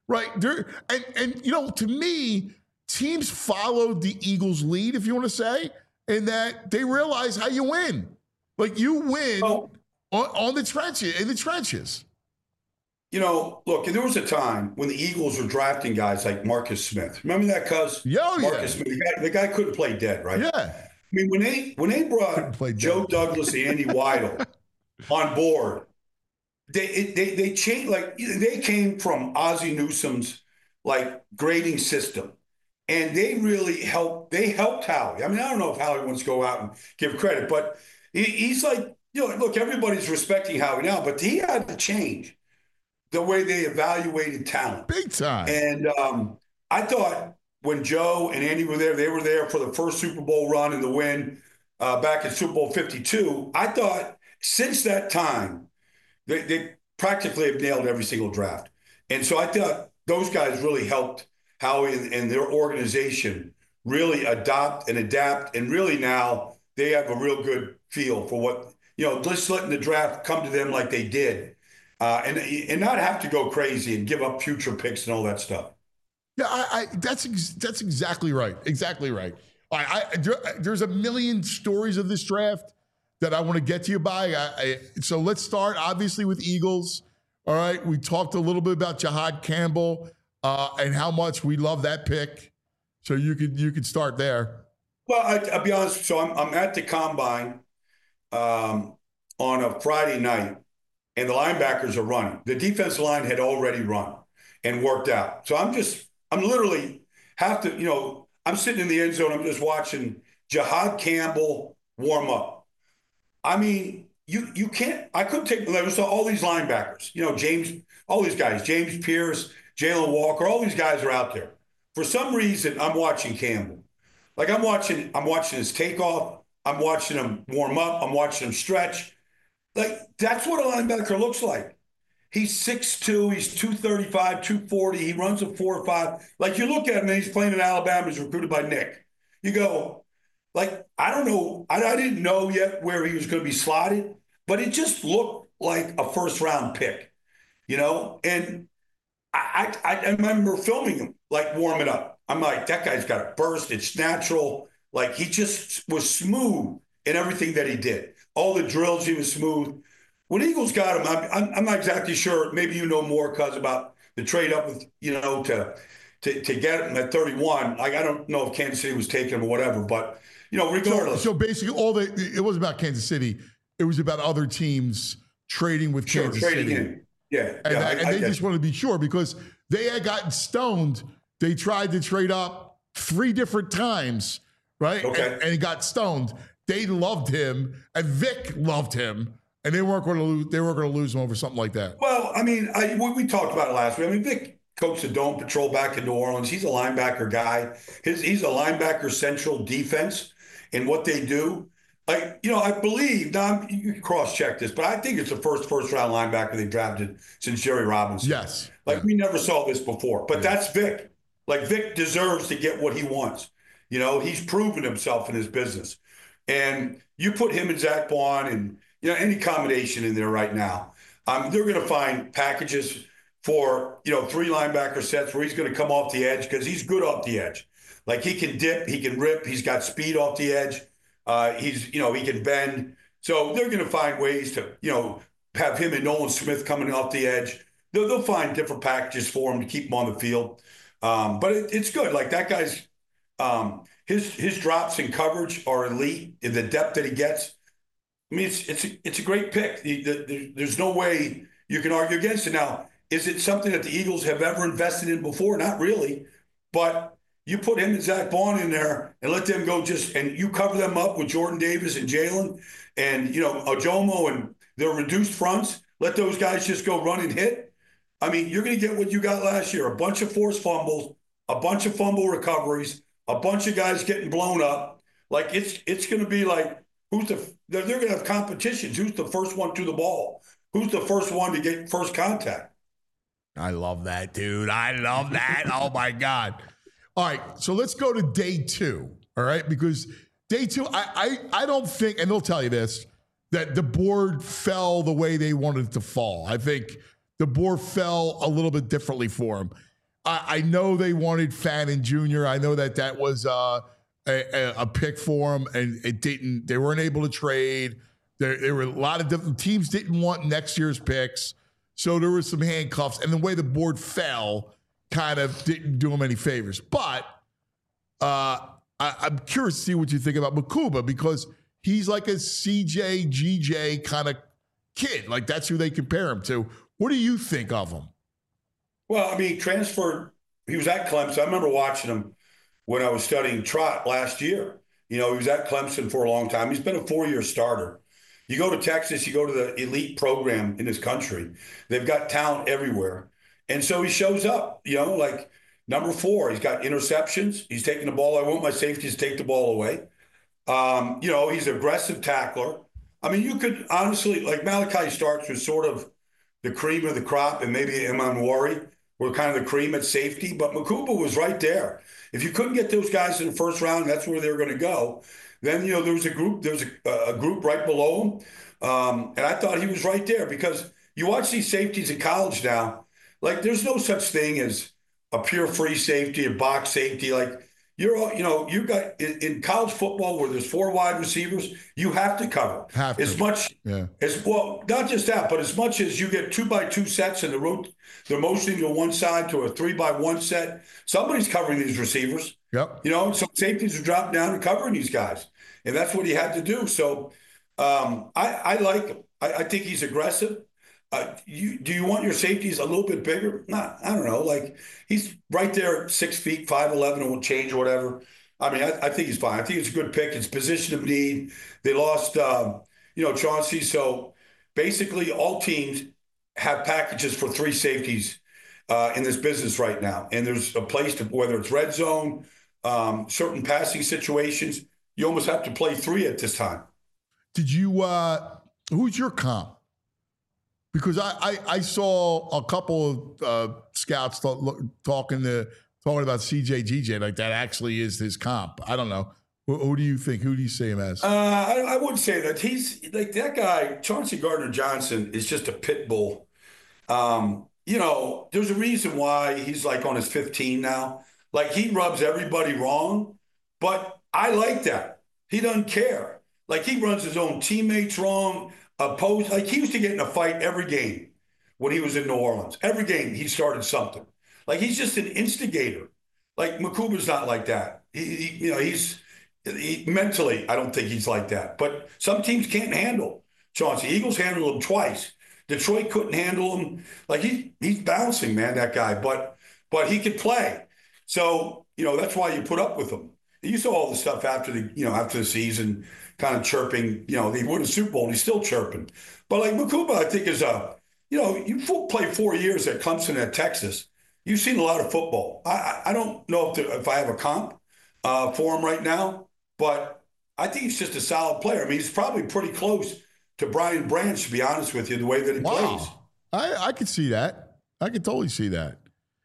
right? There, and, and, you know, to me, teams followed the Eagles' lead, if you want to say, in that they realize how you win. Like, you win Oh. on, on the trenches, in the trenches. You know, look, there was a time when the Eagles were drafting guys like Marcus Smith. Remember that, cuz? Yeah, oh, Marcus yeah. Smith. The guy, the guy couldn't play dead, right? Yeah. I mean, when they when they brought play Joe dead. Douglas and Andy Weidel on board, they it, they they changed. Like, they came from Ozzie Newsome's like grading system, and they really helped. They helped Howie. I mean, I don't know if Howie wants to go out and give credit, but he, he's like, you know, look, everybody's respecting Howie now, but he had to change the way they evaluated talent. Big time. And um, I thought when Joe and Andy were there, they were there for the first Super Bowl run and the win uh, back in Super Bowl fifty-two. I thought since that time, they, they practically have nailed every single draft. And so I thought those guys really helped Howie and, and their organization really adopt and adapt. And really now they have a real good feel for what, you know, just letting the draft come to them like they did. Uh, and and not have to go crazy and give up future picks and all that stuff. Yeah, I, I that's ex- that's exactly right. Exactly right. I, I there, there's a million stories of this draft that I want to get to you by. I, I, so let's start obviously with Eagles. All right, we talked a little bit about Jahad Campbell uh, and how much we love that pick. So you could you could start there. Well, I, I'll be honest. So I'm I'm at the combine um, on a Friday night. And the linebackers are running. The defensive line had already run and worked out. So I'm just, I'm literally have to, you know, I'm sitting in the end zone. I'm just watching Jahad Campbell warm up. I mean, you you can't, I couldn't take, there was all these linebackers, you know, James, all these guys, James Pierce, Jalen Walker, all these guys are out there. For some reason, I'm watching Campbell. Like I'm watching, I'm watching his takeoff. I'm watching him warm up. I'm watching him stretch. Like, that's what a linebacker looks like. He's six two, he's two thirty-five, two forty, he runs a four five. Like, you look at him and he's playing in Alabama, he's recruited by Nick. You go, like, I don't know, I, I didn't know yet where he was going to be slotted, but it just looked like a first-round pick, you know? And I, I, I remember filming him, like, warming up. I'm like, that guy's got a burst, it's natural. Like, he just was smooth in everything that he did. All the drills, he was smooth. When Eagles got him, I'm, I'm not exactly sure. Maybe you know more, cuz, about the trade up with, you know, to, to to get him at thirty-one. Like, I don't know if Kansas City was taking him or whatever, but, you know, regardless. So, so basically, all the it wasn't about Kansas City. It was about other teams trading with sure, Kansas trading City. in. Yeah. And, yeah, I, I, and I they guess. just wanted to be sure because they had gotten stoned. They tried to trade up three different times, right? Okay. And, and he got stoned. They loved him, and Vic loved him, and they weren't going to lose. They weren't going to lose him over something like that. Well, I mean, I, we, we talked about it last week. I mean, Vic coached the Dome Patrol back in New Orleans. He's a linebacker guy. His, he's a linebacker central defense in what they do. Like, you know, I believe, now I'm, you can cross-check this, but I think it's the first first-round linebacker they drafted since Jerry Robinson. Yes. Like, yeah. we never saw this before. But yeah. that's Vic. Like, Vic deserves to get what he wants. You know, he's proven himself in his business. And you put him and Zach Bond and, you know, any combination in there right now, um, they're going to find packages for, you know, three linebacker sets where he's going to come off the edge because he's good off the edge. Like, he can dip, he can rip, he's got speed off the edge. Uh, he's, you know, he can bend. So they're going to find ways to, you know, have him and Nolan Smith coming off the edge. They'll, they'll find different packages for him to keep him on the field. Um, but it, it's good. Like, that guy's, um, his his drops in coverage are elite in the depth that he gets. I mean, it's it's a, it's a great pick. The, the, there's no way you can argue against it. Now, is it something that the Eagles have ever invested in before? Not really. But you put him and Zach Bond in there and let them go just, and you cover them up with Jordan Davis and Jalen and, you know, Ojomo and their reduced fronts. Let those guys just go run and hit. I mean, you're going to get what you got last year, a bunch of forced fumbles, a bunch of fumble recoveries, a bunch of guys getting blown up. Like, it's it's going to be like, who's the they're, they're going to have competitions. Who's the first one to the ball? Who's the first one to get first contact? I love that, dude. I love that. Oh, my God. All right, so let's go to day two, all right? Because day two, I, I, I don't think, and they'll tell you this, that the board fell the way they wanted it to fall. I think the board fell a little bit differently for him. I, I know they wanted Fannin Junior I know that that was uh, a, a pick for him, and it didn't. They weren't able to trade. There, there were a lot of different teams didn't want next year's picks, so there were some handcuffs, and the way the board fell kind of didn't do him any favors. But uh, I, I'm curious to see what you think about Mukuba, because he's like a C J, G J kind of kid. Like, that's who they compare him to. What do you think of him? Well, I mean, he transferred. He was at Clemson. I remember watching him when I was studying trot last year. You know, he was at Clemson for a long time. He's been a four-year starter. You go to Texas, you go to the elite program in this country. They've got talent everywhere. And so he shows up, you know, like number four. He's got interceptions. He's taking the ball. I want my safeties to take the ball away. Um, you know, he's an aggressive tackler. I mean, you could honestly, like Malachi Starks was sort of the cream of the crop, and maybe Emanwari were kind of the cream at safety, but Mukuba was right there. If you couldn't get those guys in the first round, that's where they were going to go. Then, you know, there was a group, there was a, a group right below him. Um, and I thought he was right there, because you watch these safeties in college now, like there's no such thing as a pure free safety, a box safety. Like you're, all, you know, you got in, in college football where there's four wide receivers, you have to cover have to. as much yeah. as well, not just that, but as much as you get two by two sets and the road, they're motioning to one side to a three by one set. Somebody's covering these receivers. Yep. You know, so safeties are dropping down and covering these guys. And that's what he had to do. So um, I, I like him. I, I think he's aggressive. Uh, you, do you want your safeties a little bit bigger? Nah, I don't know. Like he's right there at six feet, five eleven, and will change or whatever. I mean, I, I think he's fine. I think it's a good pick. It's position of need. They lost, um, you know, Chauncey. So basically all teams have packages for three safeties uh, in this business right now. And there's a place to, whether it's red zone, um, certain passing situations, you almost have to play three at this time. Did you, uh, who's your comp? Because I, I, I saw a couple of uh, scouts talk, look, talking to talking about C J G J, like that actually is his comp. I don't know. Who, who do you think? Who do you see him as? Uh, I, I wouldn't say that. He's like that guy, Chauncey Gardner-Johnson, is just a pit bull. Um, you know, there's a reason why he's like on his fifteen now. Like he rubs everybody wrong, but I like that. He doesn't care. Like he runs his own teammates wrong. Opposed, like he used to get in a fight every game when he was in New Orleans. Every game he started something. Like he's just an instigator. Like Mukuba's not like that. He, he you know, he's he, mentally. I don't think he's like that. But some teams can't handle Chauncey. Eagles handled him twice. Detroit couldn't handle him. Like he he's bouncing, man, that guy. But but he could play. So you know that's why you put up with him. You saw all the stuff after the you know after the season. Kind of chirping, you know, they won a Super Bowl and he's still chirping. But like Mukuba, I think is a, you know, you played four years at Clemson at Texas. You've seen a lot of football. I I don't know if there, if I have a comp uh, for him right now, but I think he's just a solid player. I mean, he's probably pretty close to Brian Branch, to be honest with you, the way that he wow. plays. I I could see that. I could totally see that.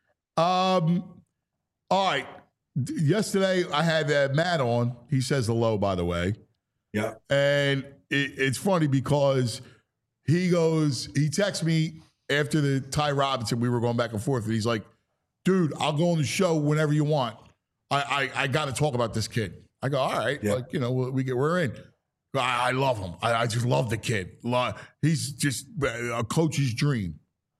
Um, all right. Yesterday I had uh, Matt on. He says hello, by the way. Yeah. And it, it's funny because he goes, he texts me after the Ty Robinson, we were going back and forth, and he's like, dude, I'll go on the show whenever you want. I I, I got to talk about this kid. I go, all right. Yeah. Like, you know, we get, we're in. I, I love him. I, I just love the kid. He's just a coach's dream.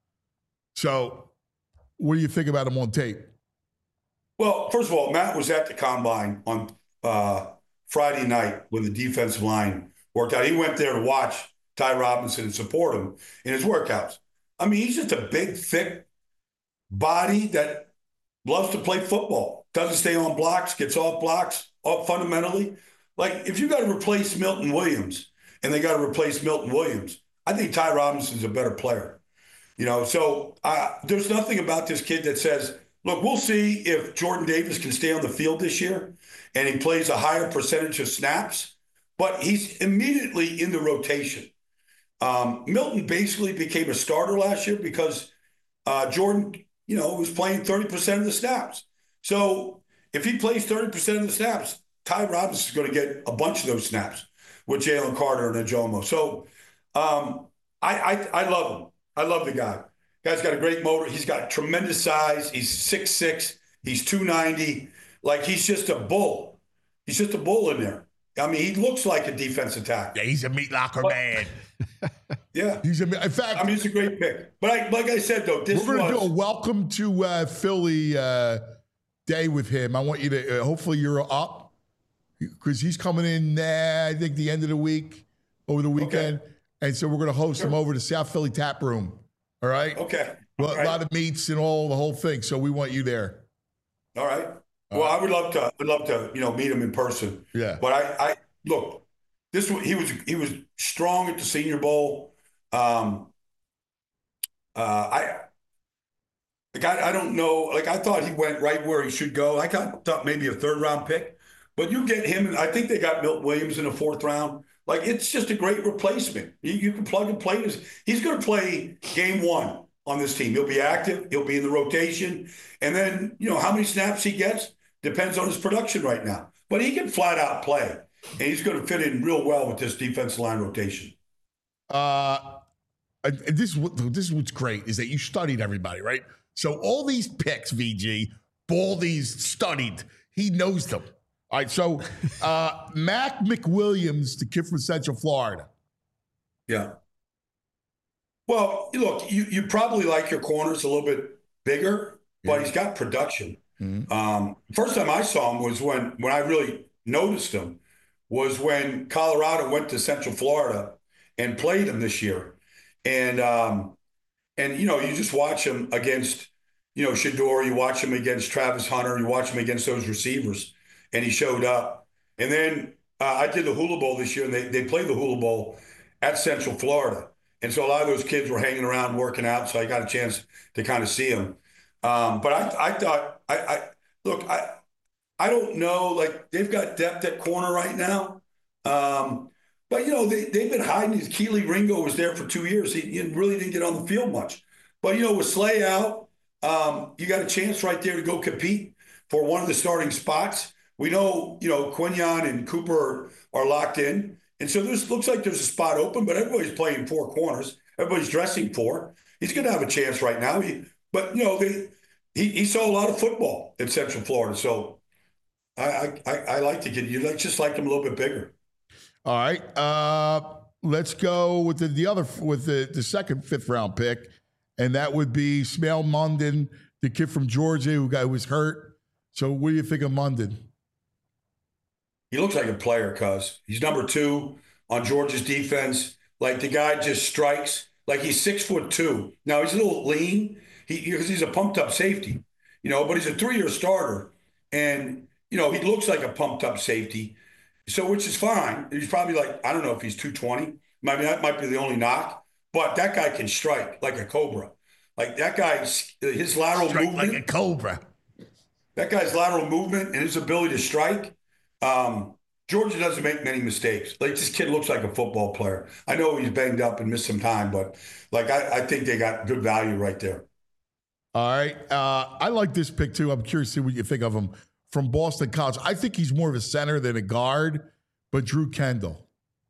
So what do you think about him on tape? Well, first of all, Matt was at the combine on uh, Friday night when the defensive line worked out. He went there to watch Ty Robinson and support him in his workouts. I mean, he's just a big, thick body that loves to play football, doesn't stay on blocks, gets off blocks, off fundamentally. Like, if you got to replace Milton Williams and they got to replace Milton Williams, I think Ty Robinson's a better player. You know, so uh, there's nothing about this kid that says, look, we'll see if Jordan Davis can stay on the field this year and he plays a higher percentage of snaps, but he's immediately in the rotation. Um, Milton basically became a starter last year because uh, Jordan, you know, was playing thirty percent of the snaps. So if he plays thirty percent of the snaps, Ty Robinson is going to get a bunch of those snaps with Jalen Carter and Ajomo. So um, I, I I love him. I love the guy. Guy's got a great motor. He's got tremendous size. He's six six. He's two ninety. Like, he's just a bull. He's just a bull in there. I mean, he looks like a defensive tackle. Yeah, he's a meat locker but, man. Yeah. He's a, in fact, I mean, it's a great pick. But I, like I said, though, this we're going to was, do a welcome to uh, Philly uh, day with him. I want you to, uh, hopefully you're up because he's coming in, uh, I think, the end of the week, over the weekend. Okay. And so we're going to host sure. him over to South Philly Tap Room. All right? Okay. All a right. lot of meats and all, the whole thing. So we want you there. All right. Well, I would love to. I'd love to, you know, meet him in person. Yeah. But I, I look. This he was he was strong at the Senior Bowl. Um. Uh, I. Like I, I don't know. Like I thought he went right where he should go. I got thought maybe a third round pick, but you get him. And I think they got Milton Williams in the fourth round. Like it's just a great replacement. You, you can plug and play this. He's going to play game one on this team. He'll be active. He'll be in the rotation, and then you know how many snaps he gets. Depends on his production right now. But he can flat out play. And he's going to fit in real well with this defensive line rotation. Uh, this, this is what's great is that you studied everybody, right? So all these picks, V G, Baldy's studied. He knows them. All right, so uh, Mac McWilliams, the kid from Central Florida. Yeah. Well, look, you, you probably like your corners a little bit bigger, but yeah. he's got production. Mm-hmm. Um, first time I saw him was when when I really noticed him was when Colorado went to Central Florida and played him this year, and um, and you know you just watch him against you know Shedeur, you watch him against Travis Hunter, you watch him against those receivers, and he showed up. And then uh, I did the Hula Bowl this year, and they they played the Hula Bowl at Central Florida, and so a lot of those kids were hanging around working out, so I got a chance to kind of see him. Um, but I, I thought, I, I look, I, I don't know, like they've got depth at corner right now. Um, but you know, they, they've been hiding. Keely Ringo was there for two years. He, he really didn't get on the field much, but you know, with Slay out, um, you got a chance right there to go compete for one of the starting spots. We know, you know, Quinyon and Cooper are, are locked in. And so this looks like there's a spot open, but everybody's playing four corners. Everybody's dressing four. He's going to have a chance right now. He, But, you know, they, he, he saw a lot of football in Central Florida. So I I, I like to get you like just like him a little bit bigger. All right. Uh, let's go with the, the other with the, the second fifth round pick. And that would be Smael Mondon, the kid from Georgia who got who was hurt. So what do you think of Mondon? He looks like a player, cuz he's number two on Georgia's defense. Like the guy just strikes. Like he's six foot two. Now he's a little lean. He because he's a pumped up safety, you know, but he's a three year starter, and you know he looks like a pumped up safety, so which is fine. He's probably like I don't know if he's two twenty. I mean that might be the only knock, but that guy can strike like a cobra. Like that guy's his lateral strike movement like a cobra. That guy's lateral movement and his ability to strike. Um, Georgia doesn't make many mistakes. Like this kid looks like a football player. I know he's banged up and missed some time, but like I, I think they got good value right there. All right. Uh, I like this pick, too. I'm curious to see what you think of him from Boston College. I think he's more of a center than a guard, but Drew Kendall.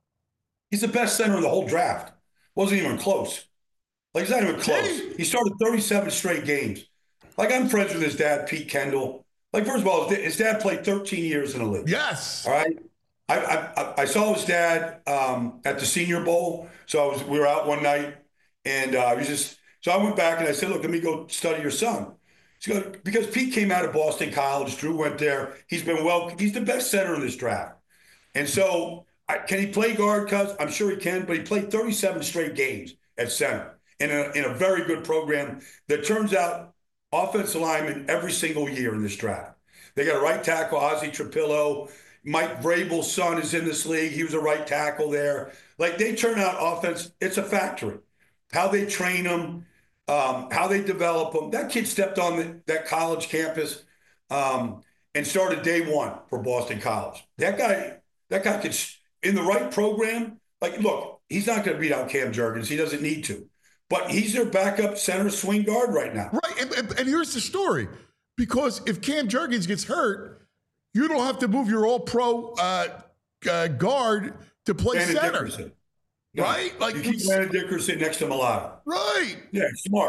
He's the best center in the whole draft. Wasn't even close. Like, he's not even close. He started thirty-seven straight games. Like, I'm friends with his dad, Pete Kendall. Like, first of all, his dad played thirteen years in the league. Yes. All right. I I, I saw his dad um, at the Senior Bowl. So I was, we were out one night, and uh, he was just – so I went back and I said, look, let me go study your son. Goes, because Pete came out of Boston College. Drew went there. He's been well. He's the best center in this draft. And so I, can he play guard, cuz? I'm sure he can, but he played thirty-seven straight games at center in a, in a very good program that turns out offensive linemen every single year in this draft. They got a right tackle, Ozzie Trapillo. Mike Vrabel's son is in this league. He was a right tackle there. Like, they turn out offense. It's a factory. How they train them. Um, how they develop them. That kid stepped on the, that college campus um, and started day one for Boston College. That guy, that guy could, in the right program, like, look, he's not going to beat out Cam Jurgens. He doesn't need to. But he's their backup center swing guard right now. Right, and, and, and here's the story. Because if Cam Jurgens gets hurt, you don't have to move your all-pro uh, uh, guard to play Brandon center. Dickerson. Right? Like, you keep Brandon Dickerson next to Malata. Right. Yeah, smart.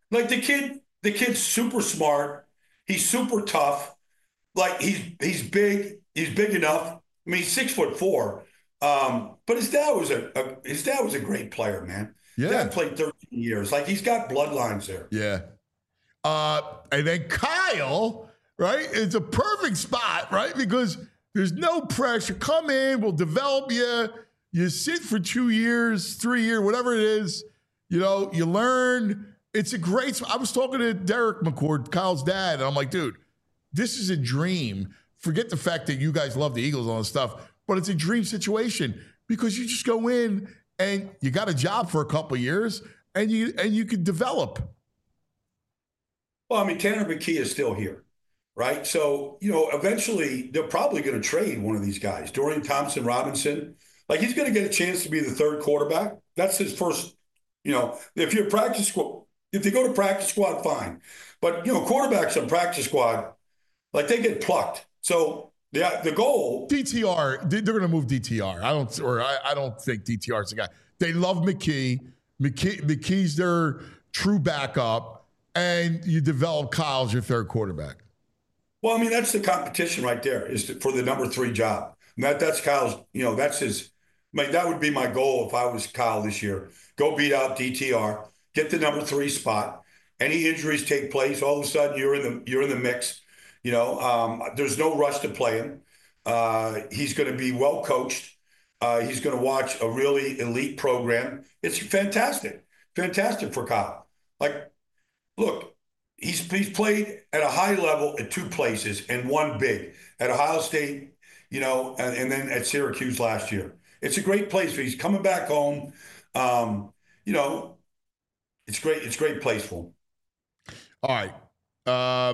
Like the kid, the kid's super smart. He's super tough. Like he's he's big. He's big enough. I mean, he's six foot four. Um, but his dad was a, a his dad was a great player, man. Yeah. Dad played thirteen years. Like he's got bloodlines there. Yeah. Uh, and then Kyle, right? It's a perfect spot, right? Because there's no pressure. Come in, we'll develop you. You sit for two years, three years, whatever it is. You know, you learn. It's a great. I was talking to Derek McCord, Kyle's dad, and I'm like, dude, this is a dream. Forget the fact that you guys love the Eagles and all this stuff, but it's a dream situation because you just go in and you got a job for a couple of years, and you and you can develop. Well, I mean, Tanner McKee is still here, right? So, you know, eventually they're probably going to trade one of these guys, Dorian Thompson Robinson. Like he's going to get a chance to be the third quarterback. That's his first, you know, if you're practice squad, if they go to practice squad, fine. But, you know, quarterbacks on practice squad, like they get plucked. So the, the goal. D T R, they're going to move D T R. I don't, or I, I don't think D T R is the guy. They love McKee. McKee. McKee's their true backup, and you develop Kyle as your third quarterback. Well, I mean, that's the competition right there is to, for the number three job. And that that's Kyle's, you know, that's his. I mean, that would be my goal if I was Kyle this year. Go beat out D T R, get the number three spot. Any injuries take place, all of a sudden you're in the you're in the mix. You know, um, there's no rush to play him. Uh, he's going to be well coached. Uh, he's going to watch a really elite program. It's fantastic, fantastic for Kyle. Like, look, he's he's played at a high level at two places and one big at Ohio State, you know, and, and then at Syracuse last year. It's a great place for he's coming back home. Um, you know, it's great. It's a great place for him. All right. Uh,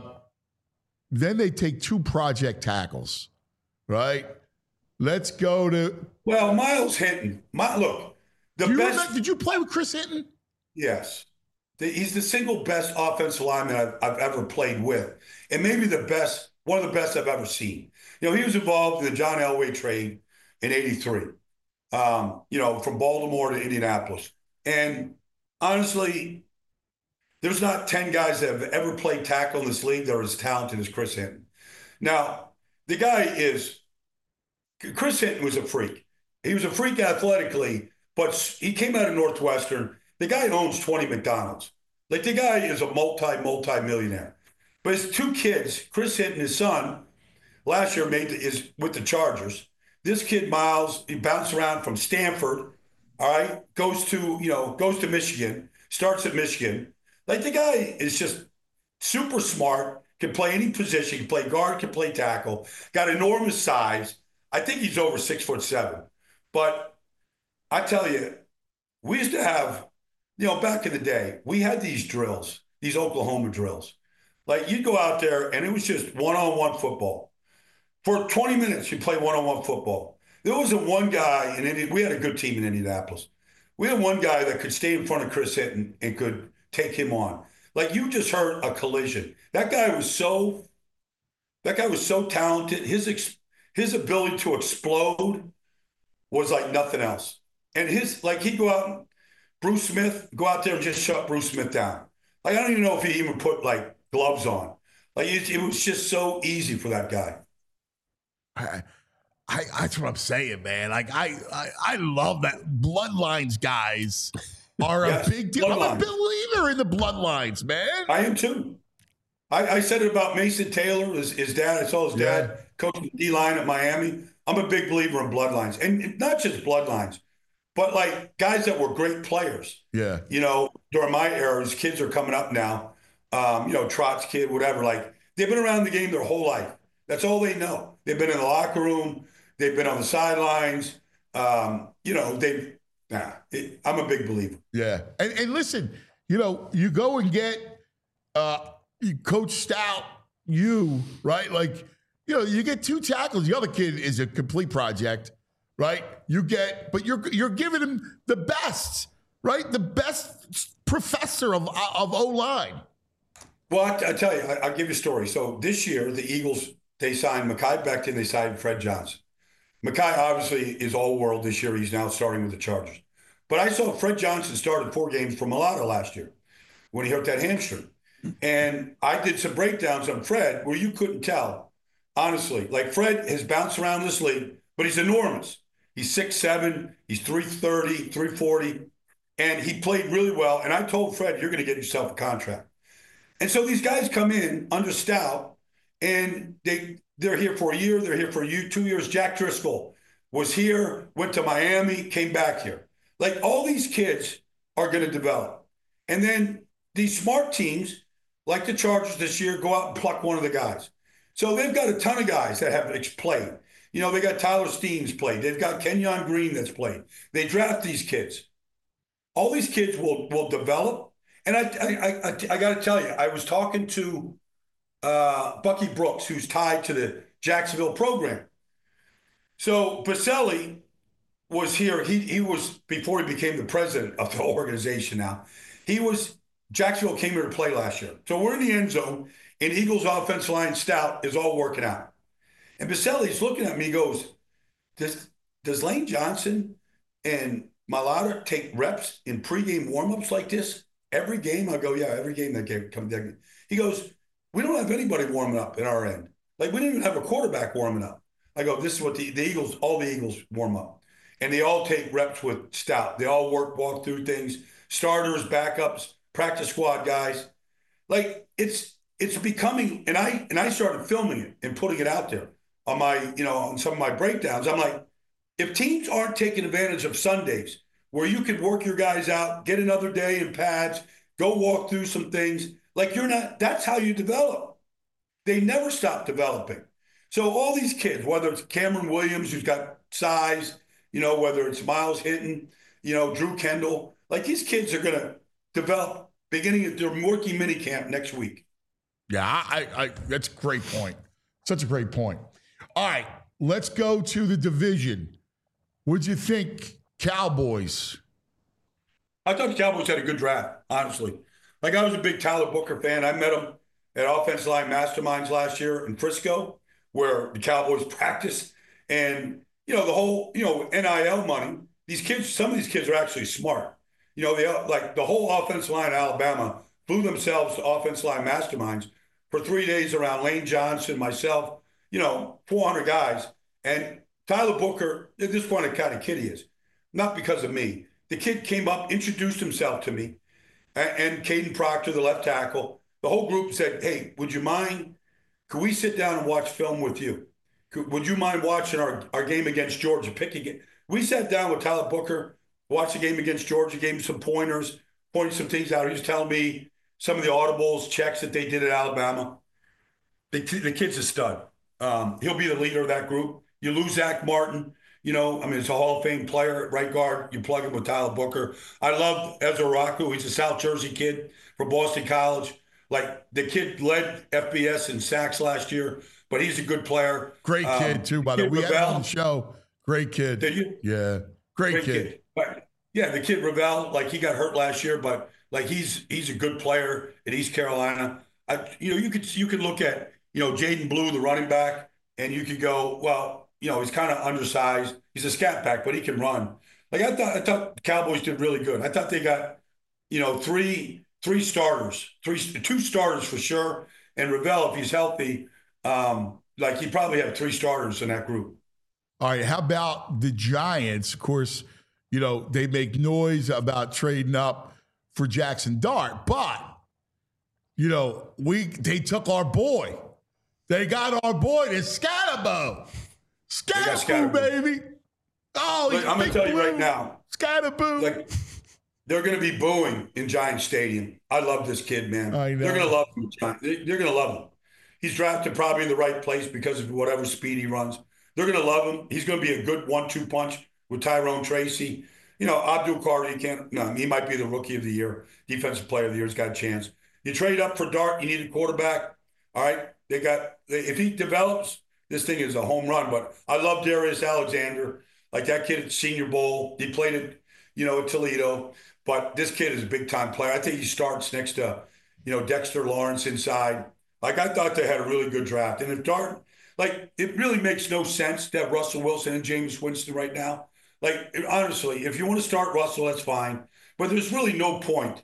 then they take two project tackles, right? Let's go to. Well, Miles Hinton. My, look, the Do you best. remember, did you play with Chris Hinton? Yes. The, he's the single best offensive lineman I've, I've ever played with, and maybe the best, one of the best I've ever seen. You know, he was involved in the John Elway trade in eighty-three. Um, you know, from Baltimore to Indianapolis. And honestly, there's not ten guys that have ever played tackle in this league that are as talented as Chris Hinton. Now, the guy is, Chris Hinton was a freak. He was a freak athletically, but he came out of Northwestern. The guy owns twenty McDonald's. Like the guy is a multi, multi-millionaire. But his two kids, Chris Hinton, his son, last year made the, is with the Chargers. This kid, Miles, he bounced around from Stanford, all right, goes to, you know, goes to Michigan, starts at Michigan. Like the guy is just super smart, can play any position, can play guard, can play tackle, got enormous size. I think he's over six foot seven. But I tell you, we used to have, you know, back in the day, we had these drills, these Oklahoma drills. Like you'd go out there and it was just one-on-one football. For twenty minutes, you play one-on-one football. There wasn't one guy in Indi- we had a good team in Indianapolis. We had one guy that could stay in front of Chris Hinton and could take him on. Like you just heard a collision. That guy was so, that guy was so talented. His ex, his ability to explode was like nothing else. And his, like he'd go out, and Bruce Smith, go out there and just shut Bruce Smith down. Like I don't even know if he even put like gloves on. Like it, it was just so easy for that guy. I, I, that's what I'm saying, man. Like I, I, I love that bloodlines guys are Yes, a big deal. I'm a bloodlines. believer in the bloodlines, man. I am too. I, I said it about Mason Taylor, his, his dad. I saw his dad Yeah. coaching D-line at Miami. I'm a big believer in bloodlines. And not just bloodlines, but like guys that were great players. Yeah. You know, during my era, his kids are coming up now. Um, you know, Trott's kid, whatever. Like they've been around the game their whole life. That's all they know. They've been in the locker room. They've been on the sidelines. Um, you know, they. Nah, it, I'm a big believer. Yeah. And, and listen, you know, you go and get uh, Coach Stout, you, right? Like, you know, you get two tackles. The other kid is a complete project, right? You get, but you're you're giving him the best, right? The best professor of of O-line. Well, I, I tell you, I, I'll give you a story. So this year, the Eagles, they signed Mekhi Becton, they signed Fred Johnson. Mekhi obviously is all-world this year. He's now starting with the Chargers. But I saw Fred Johnson started four games for Mulata last year. when he hurt that hamstring. And I did some breakdowns on Fred where you couldn't tell, honestly. Like Fred has bounced around this league, but he's enormous. He's six seven, he's three thirty, three forty, and he played really well. And I told Fred, you're going to get yourself a contract. And so these guys come in under Stout, and they, they're here for a year, they're here for a year, two years. Jack Driscoll was here, went to Miami, came back here. Like all these kids are going to develop. And then these smart teams, like the Chargers this year, go out and pluck one of the guys. So they've got a ton of guys that have played. You know, they got Tyler Steens played. They've got Kenyon Green that's played. They draft these kids. All these kids will will develop. And I I I, I got to tell you, I was talking to uh, Bucky Brooks, who's tied to the Jacksonville program. So Baselli was here. He he was, before he became the president of the organization now, he was, Jacksonville came here to play last year. So we're in the end zone, and Eagles offensive line Stout is all working out. And Baselli's looking at me, he goes, does, does Lane Johnson and Mailata take reps in pregame warmups like this every game? I go, yeah, every game that game comes down. He goes, we don't have anybody warming up in our end. Like, we didn't even have a quarterback warming up. I go, this is what the, the Eagles, all the Eagles warm up. And they all take reps with Stout. They all work, walk through things, starters, backups, practice squad guys. Like, it's it's becoming, and I and I started filming it and putting it out there on my, you know, on some of my breakdowns. I'm like, if teams aren't taking advantage of Sundays where you can work your guys out, get another day in pads, go walk through some things, like you're not, that's how you develop. They never stop developing. So all these kids, whether it's Cameron Williams, who's got size, you know, whether it's Miles Hinton, you know, Drew Kendall, like these kids are going to develop beginning at their rookie mini camp next week. Yeah, I, I, that's a great point. Such a great point. All right, let's go to the division. What'd you think, Cowboys? I thought the Cowboys had a good draft, honestly. Like, I was a big Tyler Booker fan. I met him at Offensive Line Masterminds last year in Frisco, where the Cowboys practice. And, you know, the whole, you know, N I L money, these kids, some of these kids are actually smart. You know, they like the whole offensive line in Alabama flew themselves to Offensive Line Masterminds for three days around Lane Johnson, myself, you know, four hundred guys. And Tyler Booker, at this point, the kind of kid he is. Not because of me. The kid came up, introduced himself to me, and, and Caden Proctor, the left tackle. The whole group said, hey, would you mind, could we sit down and watch film with you? Could, would you mind watching our, our game against Georgia? Picking it. We sat down with Tyler Booker, watched the game against Georgia, gave him some pointers, pointed some things out. He was telling me some of the audibles, checks that they did at Alabama. The, the kid's a stud. Um, he'll be the leader of that group. You lose Zach Martin. You know, I mean, it's a Hall of Fame player at right guard. You plug him with Tyler Booker. I love Ezra Rocco. He's a South Jersey kid from Boston College. Like, the kid led F B S in sacks last year, but he's a good player. Great kid, um, too, by the way. We had him on the show. Great kid. Did you? Yeah. Great, Great kid. kid. But, yeah, the kid Ravel, like, he got hurt last year, but, like, he's he's a good player at East Carolina. I, you know, you could you could look at, you know, Jaden Blue, the running back, and you could go, well, you know, he's kind of undersized. He's a scat back, but he can run. Like, I thought I thought the Cowboys did really good. I thought they got, you know, three three starters, three two starters for sure. And Ravel, if he's healthy, um, like, he probably have three starters in that group. All right, how about the Giants? Of course, you know, they make noise about trading up for Jackson Dart, but, you know, we they took our boy. They got our boy, the Scatterboo. Scatterboo, baby. Oh, Look, I'm going to tell you right now. Scatterboo. Like, they're going to be booing in Giant Stadium. I love this kid, man. I know. They're going to love him. They're going to love him. He's drafted probably in the right place because of whatever speed he runs. They're going to love him. He's going to be a good one two punch with Tyrone Tracy. You know, Abdul Carter, he can't, no, he might be the rookie of the year, defensive player of the year. He's got a chance. You trade up for Dart, you need a quarterback. All right. They got, if he develops, this thing is a home run. But I love Darius Alexander. Like, that kid at Senior Bowl. He played at, you know, at Toledo. But this kid is a big-time player. I think he starts next to, you know, Dexter Lawrence inside. Like, I thought they had a really good draft. And if Dart, like, it really makes no sense to have Russell Wilson and Jameis Winston right now. Like, honestly, if you want to start Russell, that's fine. But there's really no point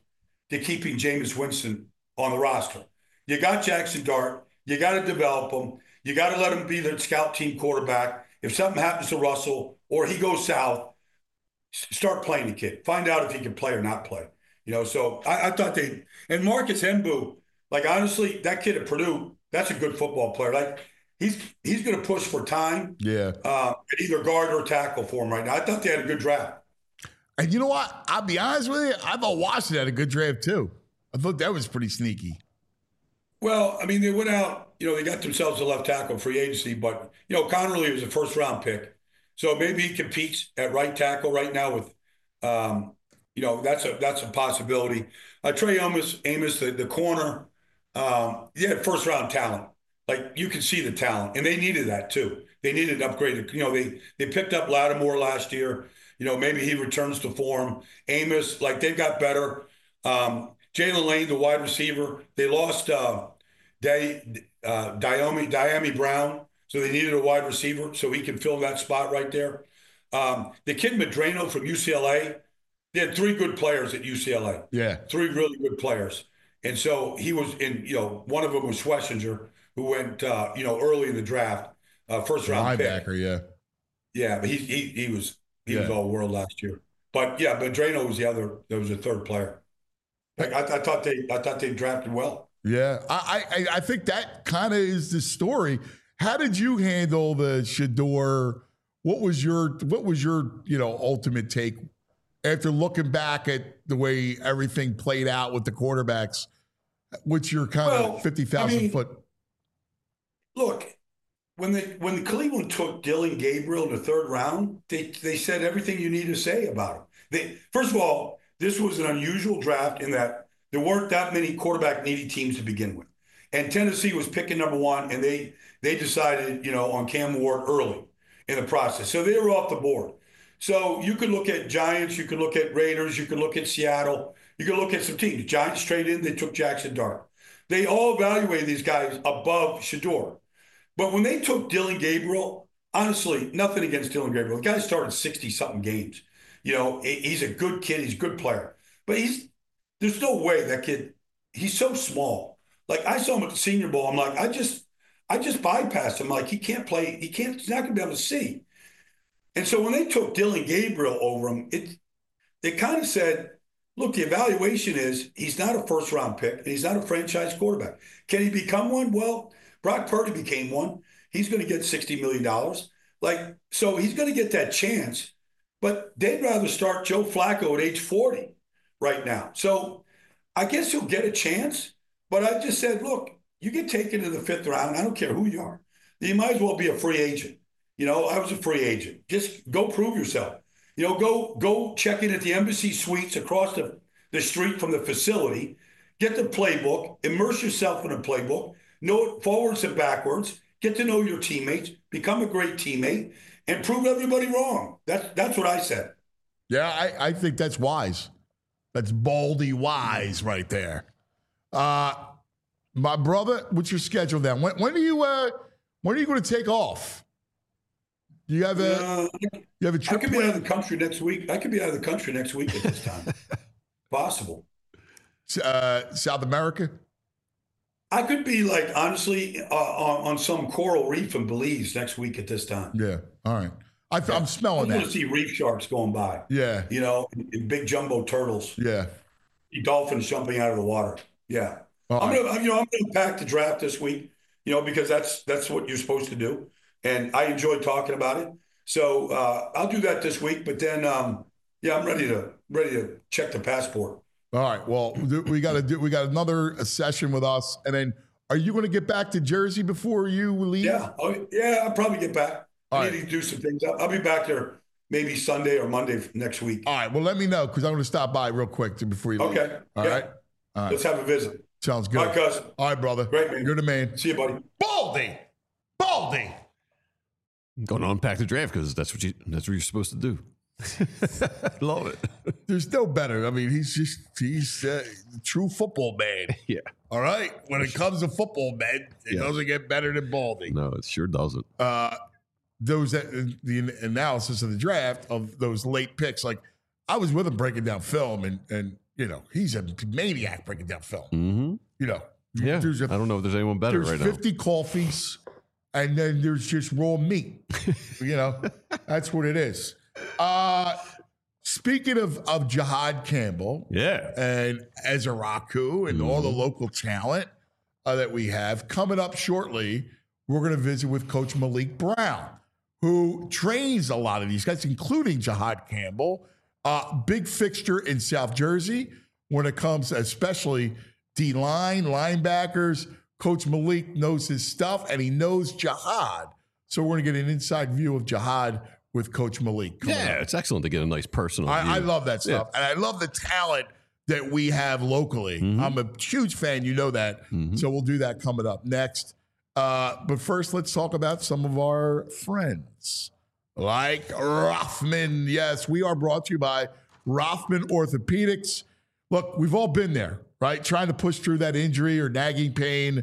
to keeping Jameis Winston on the roster. You got Jackson Dart. You got to develop him. You got to let him be the scout team quarterback. If something happens to Russell or he goes south, start playing the kid. Find out if he can play or not play. You know, so I, I thought they – and Marcus Hembu, like, honestly, that kid at Purdue, that's a good football player. Like, he's he's going to push for time. Yeah. Uh, at either guard or tackle for him right now. I thought they had a good draft. And you know what? I'll be honest with you. I thought Washington had a good draft, too. I thought that was pretty sneaky. Well, I mean, they went out, you know, they got themselves a left tackle free agency, but, you know, Connerly was a first round pick. So maybe he competes at right tackle right now with, um, you know, that's a that's a possibility. Uh, Trey Amos, Amos, the, the corner, um, he had first round talent. Like, you can see the talent, and they needed that too. They needed an upgrade. You know, they they picked up Lattimore last year. You know, maybe he returns to form. Amos, like, they've got better. Um, Jalen Lane, the wide receiver, they lost uh, Day, uh, Diami, Diami Brown, so they needed a wide receiver so he can fill that spot right there. Um, the kid Medrano from U C L A, they had three good players at U C L A. Yeah. Three really good players. And so he was in, you know, one of them was Schlesinger, who went, uh, you know, early in the draft, uh, first round pick. Linebacker, yeah. Yeah, but he he he was he yeah. was all world last year. But yeah, Medrano was the other. There was a third player. Like I, I thought they I thought they drafted well. Yeah, I I, I think that kind of is the story. How did you handle the Shedeur? What was your what was your you know ultimate take after looking back at the way everything played out with the quarterbacks? What's your kind well, of fifty thousand I mean, foot? Look, when the when the Cleveland took Dylan Gabriel in the third round, they they said everything you need to say about him. They first of all, this was an unusual draft in that there weren't that many quarterback needy teams to begin with, and Tennessee was picking number one, and they they decided you know on Cam Ward early in the process, so they were off the board. So you could look at Giants, you could look at Raiders, you could look at Seattle, you could look at some teams. The Giants traded in, they took Jackson Dart. They all evaluated these guys above Shedeur. But when they took Dylan Gabriel, honestly, nothing against Dylan Gabriel. The guy started sixty-something games. You know, he's a good kid. He's a good player. But he's there's no way that kid, he's so small. Like, I saw him at the Senior Bowl. I'm like, I just I just bypassed him. Like, he can't play. He can't. He's not going to be able to see. And so when they took Dylan Gabriel over him, it they kind of said, look, the evaluation is he's not a first-round pick, and he's not a franchise quarterback. Can he become one? Well, Brock Purdy became one. He's going to get sixty million dollars. Like, so he's going to get that chance. But they'd rather start Joe Flacco at age forty right now. So I guess he'll get a chance. But I just said, look, you get taken to the fifth round. I don't care who you are. You might as well be a free agent. You know, I was a free agent. Just go prove yourself. You know, go go check in at the Embassy Suites across the, the street from the facility. Get the playbook. Immerse yourself in the playbook. Know it forwards and backwards. Get to know your teammates. Become a great teammate. And prove everybody wrong. That's that's what I said. Yeah, I, I think that's wise. That's baldy wise right there. Uh, my brother, what's your schedule then? When, when are you uh, when are you going to take off? Do you have a Uh, you have a trip? I could be out of the country next week. I could be out of the country next week at this time. Possible. Uh, South America? I could be like, honestly, uh, on, on some coral reef in Belize next week at this time. Yeah. All right. I th- I'm smelling I'm going to that. see reef sharks going by. Yeah. You know, and, and big jumbo turtles. Yeah. Dolphins jumping out of the water. Yeah. All I'm right. gonna, you know, I'm gonna pack the draft this week. You know, because that's that's what you're supposed to do, and I enjoy talking about it. So uh, I'll do that this week. But then, um, yeah, I'm ready to ready to check the passport. All right. Well, we got to do. We got another session with us, and then are you going to get back to Jersey before you leave? Yeah. Oh, yeah. I'll probably get back. All I right. need to do some things. I'll, I'll be back there maybe Sunday or Monday next week. All right. Well, let me know because I'm going to stop by real quick to, before you leave. Okay. All Yeah. right. All right. Let's have a visit. Sounds good. All right, cuz. All right, brother. Great, man. You're the man. See you, buddy. Baldy. Baldy. Going to unpack the draft because that's what you that's what you're supposed to do. Love it. There's no better. I mean, he's just he's uh, a true football man. Yeah. All right. When it comes to football, man, it Yeah. doesn't get better than Baldy. No, it sure doesn't. Uh, those that the analysis of the draft of those late picks, like I was with him breaking down film, and and you know, he's a maniac breaking down film. Mm-hmm. You know, Yeah. there's a, I don't know if there's anyone better there's right now. fifty coffees, and then there's just raw meat. You know, that's what it is. Uh, speaking of, of Jihad Campbell, Yeah. and Ezraku and all the Mm-hmm. local talent uh, that we have coming up shortly, we're going to visit with Coach Malik Brown, who trains a lot of these guys, including Jihad Campbell, uh, big fixture in South Jersey when it comes, especially D-line, linebackers. Coach Malik knows his stuff, and he knows Jihad. So we're going to get an inside view of Jihad with Coach Malik. coming Yeah, up. it's excellent to get a nice personal view. I, I love that stuff. And I love the talent that we have locally. Mm-hmm. I'm a huge fan. You know that. So we'll do that coming up next. Uh, but first, let's talk about some of our friends like Rothman. Yes, we are brought to you by Rothman Orthopedics. Look, we've all been there, right? Trying to push through that injury or nagging pain,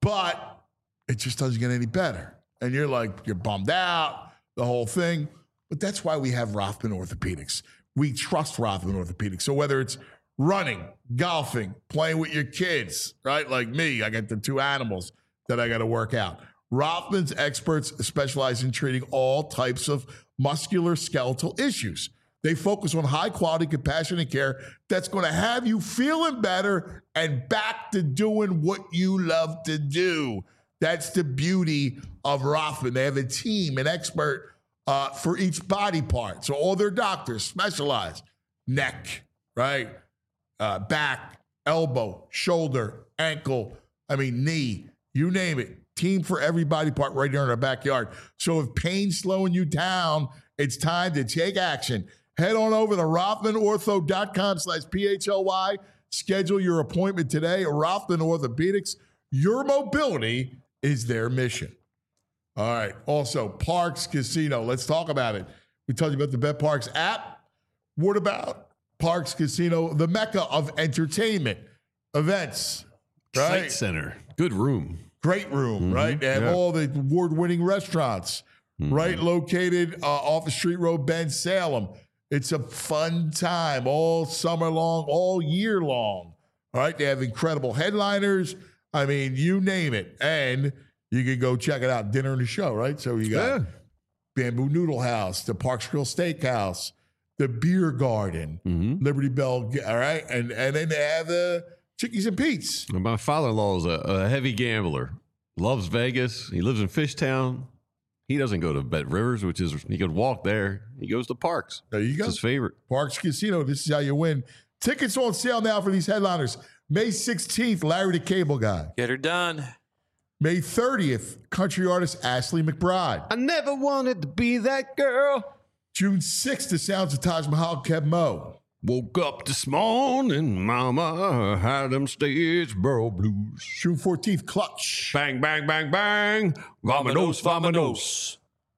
but it just doesn't get any better. And you're like, you're bummed out, the whole thing. But that's why we have Rothman Orthopedics. We trust Rothman Orthopedics. So whether it's running, golfing, playing with your kids, right? Like me, I got the two animals that I got to work out. Rothman's experts specialize in treating all types of musculoskeletal issues. They focus on high quality, compassionate care that's going to have you feeling better and back to doing what you love to do. That's the beauty of Rothman. They have a team, an expert uh, for each body part. So all their doctors specialize neck, right? Uh, back, elbow, shoulder, ankle, I mean, knee, you name it. Team for every body part right here in our backyard. So if pain's slowing you down, it's time to take action. Head on over to rothmanortho.com slash P-H-L-Y. Schedule your appointment today. Rothman Orthopedics. Your mobility is their mission. All right. Also, Parks Casino. Let's talk about it. We told you about the BetParks app. What about Parks Casino, the mecca of entertainment, events, right? Sight Center. Good room. Great room, mm-hmm. right? They have Yeah. all the award-winning restaurants, mm-hmm. right? Located uh, off of Street Road, Ben Salem. It's a fun time all summer long, all year long. All right, they have incredible headliners. I mean, you name it. And you can go check it out, dinner and the show, right? So you got Yeah. Bamboo Noodle House, the Parks Grill Steakhouse, the Beer Garden, Mm-hmm. Liberty Bell, all right? And and then they have the Chickies and Pete's. And my father-in-law is a, a heavy gambler. Loves Vegas. He lives in Fishtown. He doesn't go to Bet Rivers, which is, he could walk there. He goes to Parks. There you It's go. his favorite. Parks Casino, this is how you win. Tickets on sale now for these headliners. May sixteenth, Larry the Cable Guy. Get her done. May thirtieth, country artist Ashley McBride. I never wanted to be that girl. June sixth, the sounds of Taj Mahal, Kev Mo. Woke up this morning, mama, had them Statesboro blues. June fourteenth, Clutch. Bang, bang, bang, bang. Vamonos, vamonos.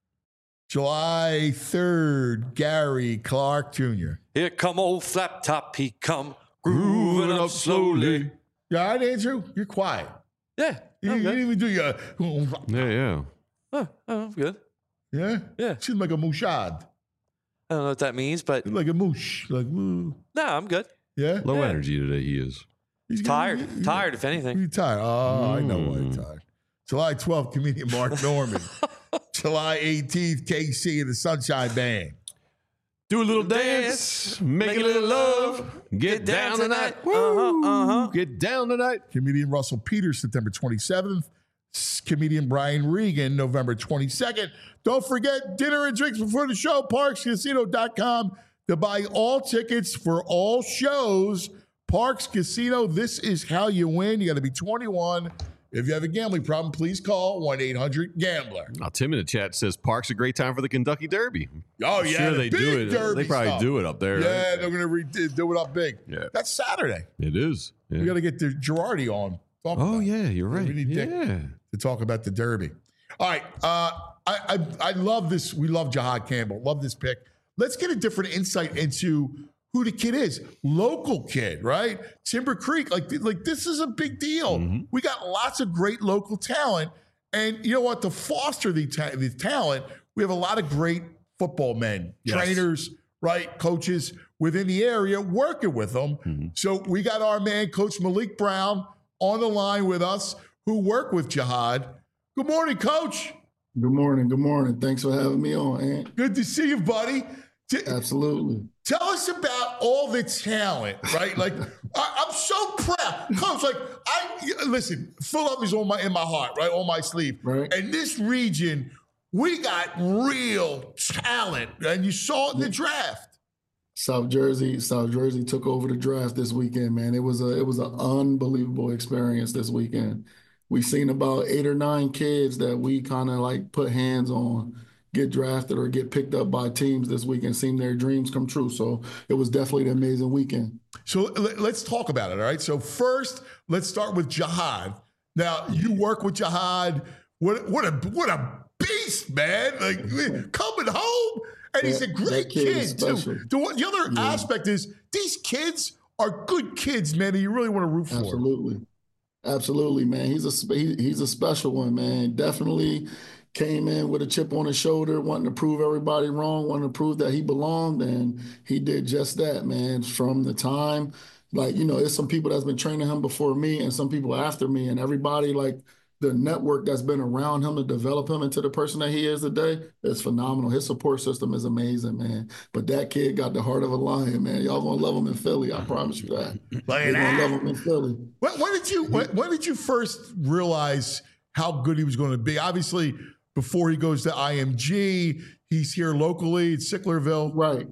July third, Gary Clark Junior Here come old Flap Top, he come grooving up slowly. You all right, Andrew? You're quiet. Yeah, You, I'm you good. didn't even do your... Yeah, yeah. Oh, oh, I'm good. Yeah? Yeah. Seems like a mouchade. I don't know what that means, but Like a moosh. Like, ooh. no, I'm good. Yeah? Low Yeah. energy today, he is. He's Tired, getting- he- tired, if anything. You're tired. Oh, I know why Mm. you're tired. July twelfth, comedian Mark Norman. July eighteenth, K C and the Sunshine Band. Do a little dance, make a little love, get down tonight. Uh-huh, uh-huh. Get down tonight. Comedian Russell Peters, September twenty-seventh. S- Comedian Brian Regan, November twenty-second. Don't forget dinner and drinks before the show, parks casino dot com to buy all tickets for all shows. Parks Casino, this is how you win. You got to be twenty-one. If you have a gambling problem, please call one eight hundred gambler. Now, Tim in the chat says Park's a great time for the Kentucky Derby. Oh, I'm yeah. sure the they big do it. Derby They probably stuff. do it up there. Yeah, right? they're going to re- do it up big. Yeah. That's Saturday. It is. Yeah. We got to get the Girardi on. Talk Oh, about it. yeah, you're right. We need Dick Yeah. to talk about the Derby. All right. Uh, I, I I love this. We love Jihad Campbell. Love this pick. Let's get a different insight into who the kid is. Local kid, right? Timber Creek. Like, like this is a big deal. Mm-hmm. We got lots of great local talent. And you know what? To foster the, ta- the talent, we have a lot of great football men, Yes. trainers, right? Coaches. within the area working with them. Mm-hmm. So we got our man, Coach Malik Brown, on the line with us, who work with Jihad. Good morning, Coach. Good morning. Good morning. Thanks for having me on, Ant. Good to see you, buddy. T- Absolutely. Tell us about all the talent, right? Like, I, I'm so proud. Coach, like, I listen, Philadelphia's on my in my heart, right? On my sleeve. Right. And this region, we got real talent, and you saw it in the draft. South Jersey, South Jersey took over the draft this weekend, man. It was a it was an unbelievable experience this weekend. We seen about eight or nine kids that we kind of like put hands on get drafted or get picked up by teams this weekend, seen their dreams come true. So it was definitely an amazing weekend. So let's talk about it, all right? So first, let's start with Jihad. Now, you work with Jihad. What, what, a, what a beast, man. Like, coming home, and he's a great kid, kid too. The, the other yeah. aspect is these kids are good kids, man, and you really want to root for. Absolutely. Absolutely, man. He's a, he, he's a special one, man. Definitely came in with a chip on his shoulder, wanting to prove everybody wrong, wanting to prove that he belonged, and he did just that, man. From the time, like, you know, there's some people that's been training him before me and some people after me, and everybody, like, the network that's been around him to develop him into the person that he is today is phenomenal. His support system is amazing, man. But that kid got the heart of a lion, man. Y'all gonna love him in Philly, I promise you that. They're gonna love him in Philly. When, when did you when, when did you first realize how good he was going to be? Obviously, before he goes to I M G, he's here locally at Sicklerville. Right.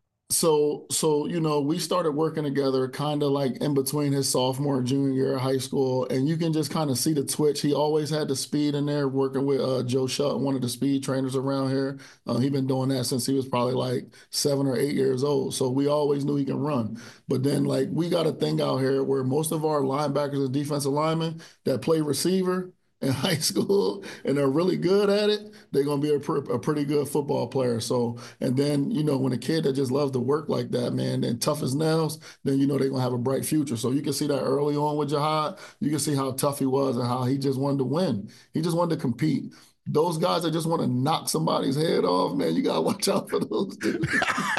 So, so you know, we started working together kind of like in between his sophomore and junior year of high school, and you can just kind of see the twitch. He always had the speed in there, working with uh, Joe Shutt, one of the speed trainers around here. Uh, he's been doing that since he was probably like seven or eight years old. So we always knew he can run. But then, like, we got a thing out here where most of our linebackers and defensive linemen that play receiver in high school and they're really good at it, they're going to be a, pr- a pretty good football player. So, and then, you know, when a kid that just loves to work like that, man, and tough as nails, then, you know, they're going to have a bright future. So you can see that early on with Jihad. You can see how tough he was and how he just wanted to win. He just wanted to compete. Those guys that just want to knock somebody's head off, man, you got to watch out for those dudes.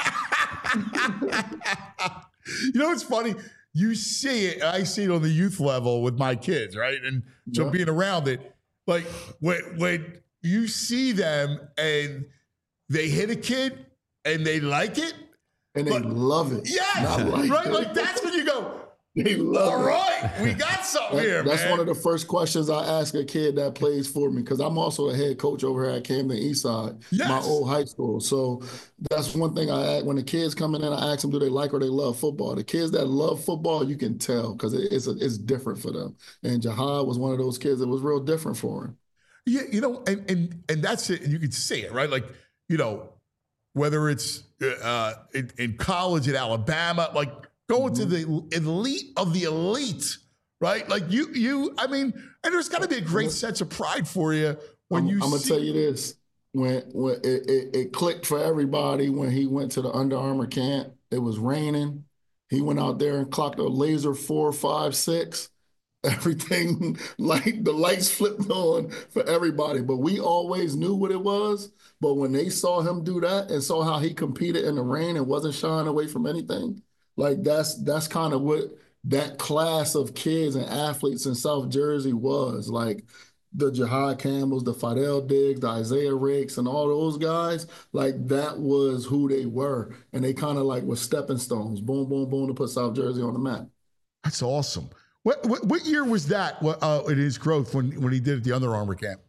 You know, it's funny. You see it, I see it on the youth level with my kids, right? And so yeah. being around it, like when when you see them and they hit a kid and they like it. And they but, love it. Yeah, like right? It. Like that's when you go, they love all it. right, we got something that, here, That's man. one of the first questions I ask a kid that plays for me, because I'm also a head coach over here at Camden Eastside, yes. my old high school. So that's one thing I ask. When the kids come in, I ask them, do they like or they love football? The kids that love football, you can tell, because it, it's, a, it's different for them. And Jihad was one of those kids that was real different for him. Yeah, you know, and and and that's it. And you can see it, right? Like, you know, whether it's uh, in, in college at Alabama, like, going mm-hmm. to the elite of the elite, right? Like you, you. I mean, and there's got to be a great sense of pride for you when I'm, you. I'm gonna see- tell you this: when when it, it, it clicked for everybody when he went to the Under Armour camp. It was raining. He went out there and clocked a laser four, five, six. Everything, like the lights flipped on for everybody. But we always knew what it was. But when they saw him do that and saw how he competed in the rain and wasn't shying away from anything. Like that's that's kind of what that class of kids and athletes in South Jersey was. Like the Jihad Campbells, the Fidel Diggs, the Isaiah Rakes, and all those guys, like that was who they were. And they kind of like were stepping stones, boom, boom, boom, to put South Jersey on the map. That's awesome. What what, what year was that uh, in his growth when, when he did it at the Under Armour camp?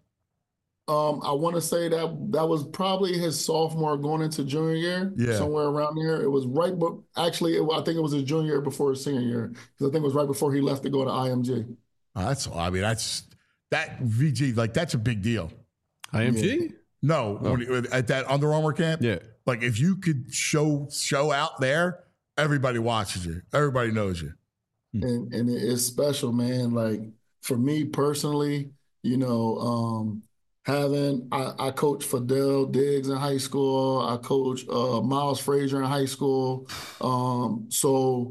Um, I want to say that that was probably his sophomore going into junior year, yeah. somewhere around there. It was right, but actually, it, I think it was his junior year before his senior year, because I think it was right before he left to go to I M G. Oh, that's, I mean, that's that V G, like that's a big deal. I M G? Yeah. No, oh. when, at that Under Armour camp. Yeah, like if you could show show out there, everybody watches you, everybody knows you, and and it's special, man. Like for me personally, you know. Um, Having, I, I coached Fidel Diggs in high school. I coached uh, Miles Frazier in high school. Um, so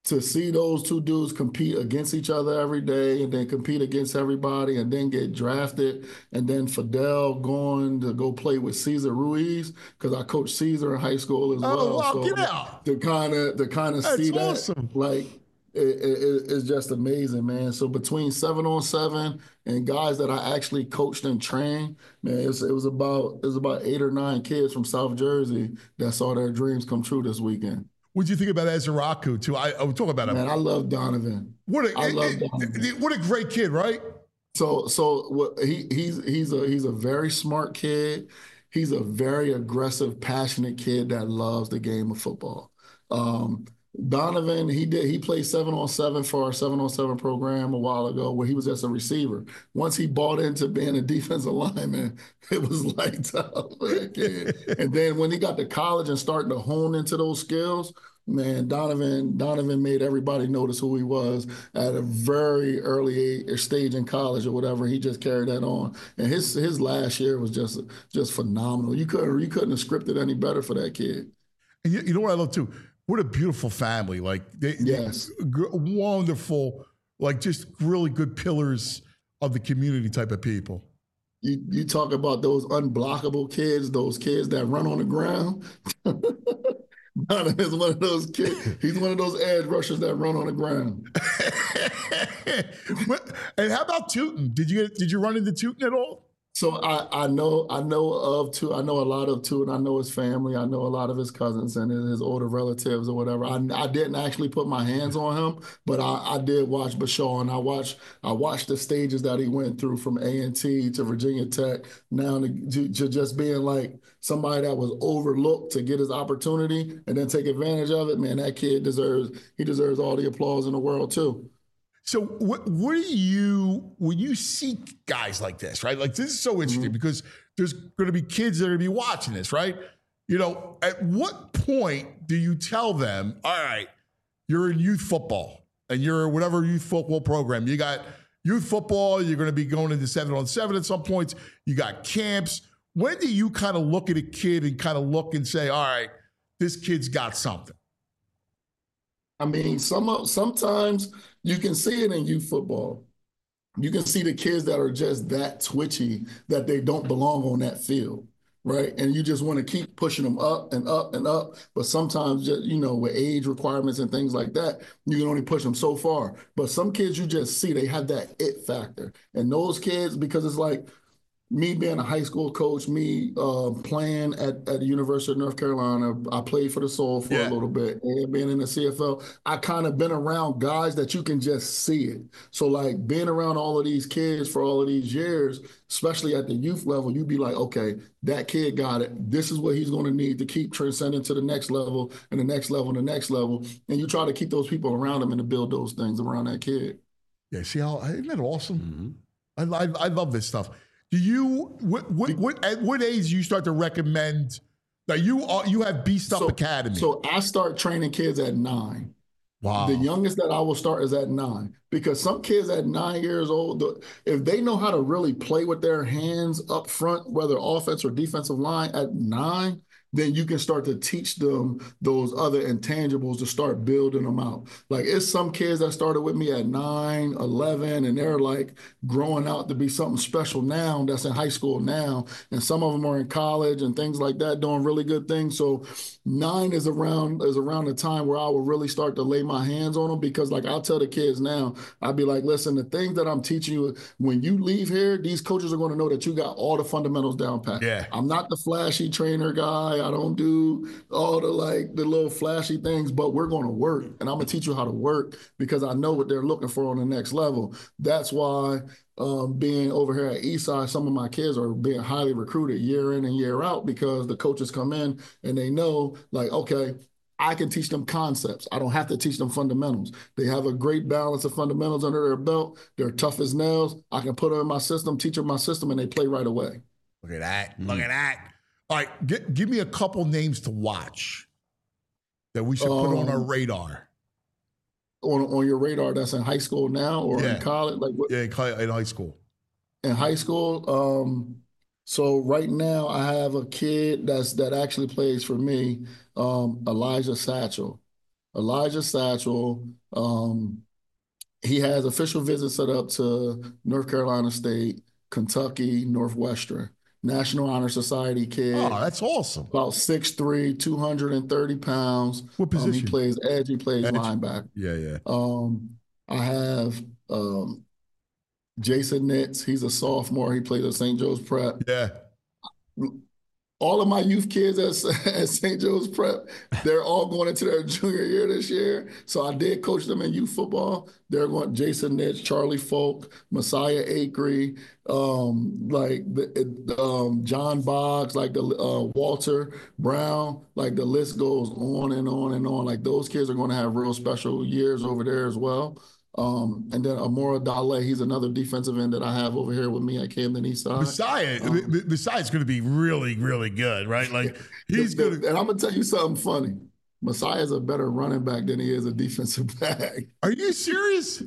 to see those two dudes compete against each other every day and then compete against everybody and then get drafted, and then Fidel going to go play with Cesar Ruiz, because I coached Cesar in high school as Oh, well. wow, so get out. to kind of to kind of That's see that, awesome. like it, it, it's just amazing, man. So between seven on seven and guys that I actually coached and trained, man, it was, it was about it was about eight or nine kids from South Jersey that saw their dreams come true this weekend. What'd you think about Ezraku too? I, I was talking about him. Man, I love Donovan. What a I it- love it- Donovan. what a great kid, right? So so what he he's he's a he's a very smart kid. He's a very aggressive, passionate kid that loves the game of football. Um, Donovan, he did he played seven on seven for our seven on seven program a while ago where he was just a receiver. Once he bought into being a defensive lineman, it was lights out for that kid. And then when he got to college and starting to hone into those skills, man, Donovan Donovan made everybody notice who he was at a very early age, stage in college or whatever. He just carried that on, and his his last year was just just phenomenal. You couldn't you couldn't have scripted any better for that kid. And you, you know what I love too? What a beautiful family. Like they, Yes. they- g- wonderful, like just really good pillars of the community type of people. You you talk about those unblockable kids, those kids that run on the ground. Donovan's one of those kids. He's one of those edge rushers that run on the ground. And how about Tootin? Did you get, did you run into Tootin at all? So I, I know I know of two. I know a lot of two, and I know his family. I know a lot of his cousins and his older relatives or whatever. I, I didn't actually put my hands on him, but I, I did watch Bashaw, and I watched I watched the stages that he went through from A and T to Virginia Tech, now to, to, to just being like somebody that was overlooked to get his opportunity and then take advantage of it. Man, that kid deserves he deserves all the applause in the world too. So what what do you, when you see guys like this, right? Like this is so interesting Mm-hmm. because there's going to be kids that are going to be watching this, right? You know, at what point do you tell them, all right, you're in youth football and you're whatever youth football program, you got youth football, you're going to be going into seven on seven at some points, you got camps. When do you kind of look at a kid and kind of look and say, all right, this kid's got something? I mean, some sometimes you can see it in youth football. You can see the kids that are just that twitchy that they don't belong on that field, right? And you just want to keep pushing them up and up and up. But sometimes, just, you know, with age requirements and things like that, you can only push them so far. But some kids you just see, they have that it factor. And those kids, because it's like, me being a high school coach, me uh, playing at, at the University of North Carolina, I played for the Soul for Yeah. a little bit, and being in the C F L, I kind of been around guys that you can just see it. So like being around all of these kids for all of these years, especially at the youth level, you be like, okay, that kid got it. This is what he's going to need to keep transcending to the next level and the next level and the next level. And you try to keep those people around him and to build those things around that kid. Yeah, see how, isn't that awesome? I, I, I love this stuff. Do you, what, what, what, at what age do you start to recommend that you are, you have Beast Up So- Academy? So I start training kids at nine. Wow. The youngest that I will start is at nine, because some kids at nine years old, the- if they know how to really play with their hands up front, whether offense or defensive line at nine, then you can start to teach them those other intangibles to start building them out. Like it's some kids that started with me at nine, eleven, and they're like growing out to be something special now that's in high school now. And some of them are in college and things like that, doing really good things. So nine is around is around the time where I will really start to lay my hands on them, because like I'll tell the kids now, I'll be like, listen, the things that I'm teaching you, when you leave here, these coaches are going to know that you got all the fundamentals down pat. Yeah. I'm not the flashy trainer guy. I don't do all the like the little flashy things, but we're going to work, and I'm going to teach you how to work because I know what they're looking for on the next level. That's why um, being over here at Eastside, some of my kids are being highly recruited year in and year out, because the coaches come in and they know like, okay, I can teach them concepts. I don't have to teach them fundamentals. They have a great balance of fundamentals under their belt. They're tough as nails. I can put them in my system, teach them my system, and they play right away. Look at that. Look at that. All right, g- give me a couple names to watch that we should put on our Um, radar. On, on your radar, that's in high school now or Yeah. in college? Like what, Yeah, in cl- in high school. in high school? Um, so right now I have a kid that's that actually plays for me, um, Elijah Satchel. Elijah Satchel. Um, he has official visits set up to North Carolina State, Kentucky, Northwestern. National Honor Society kid. Oh, that's awesome. About six three, two hundred thirty pounds. What position? Um, he plays edge, he plays Edge. linebacker. Yeah, yeah. Um, I have um, Jason Nitz. He's a sophomore. He plays at Saint Joe's Prep. Yeah. All of my youth kids at, at Saint Joe's Prep, they're all going into their junior year this year. So I did coach them in youth football. They're going Jason Nitz, Charlie Folk, Messiah Acree, um, like the, um, John Boggs, like the uh, Walter Brown, like the list goes on and on and on. Like those kids are going to have real special years over there as well. Um, and then Amora Dale, he's another defensive end that I have over here with me at Camden Eastside. Messiah, um, Messiah's going to be really, really good, right? Like he's going to. And I'm going to tell you something funny. Messiah's a better running back than he is a defensive back. Are you serious?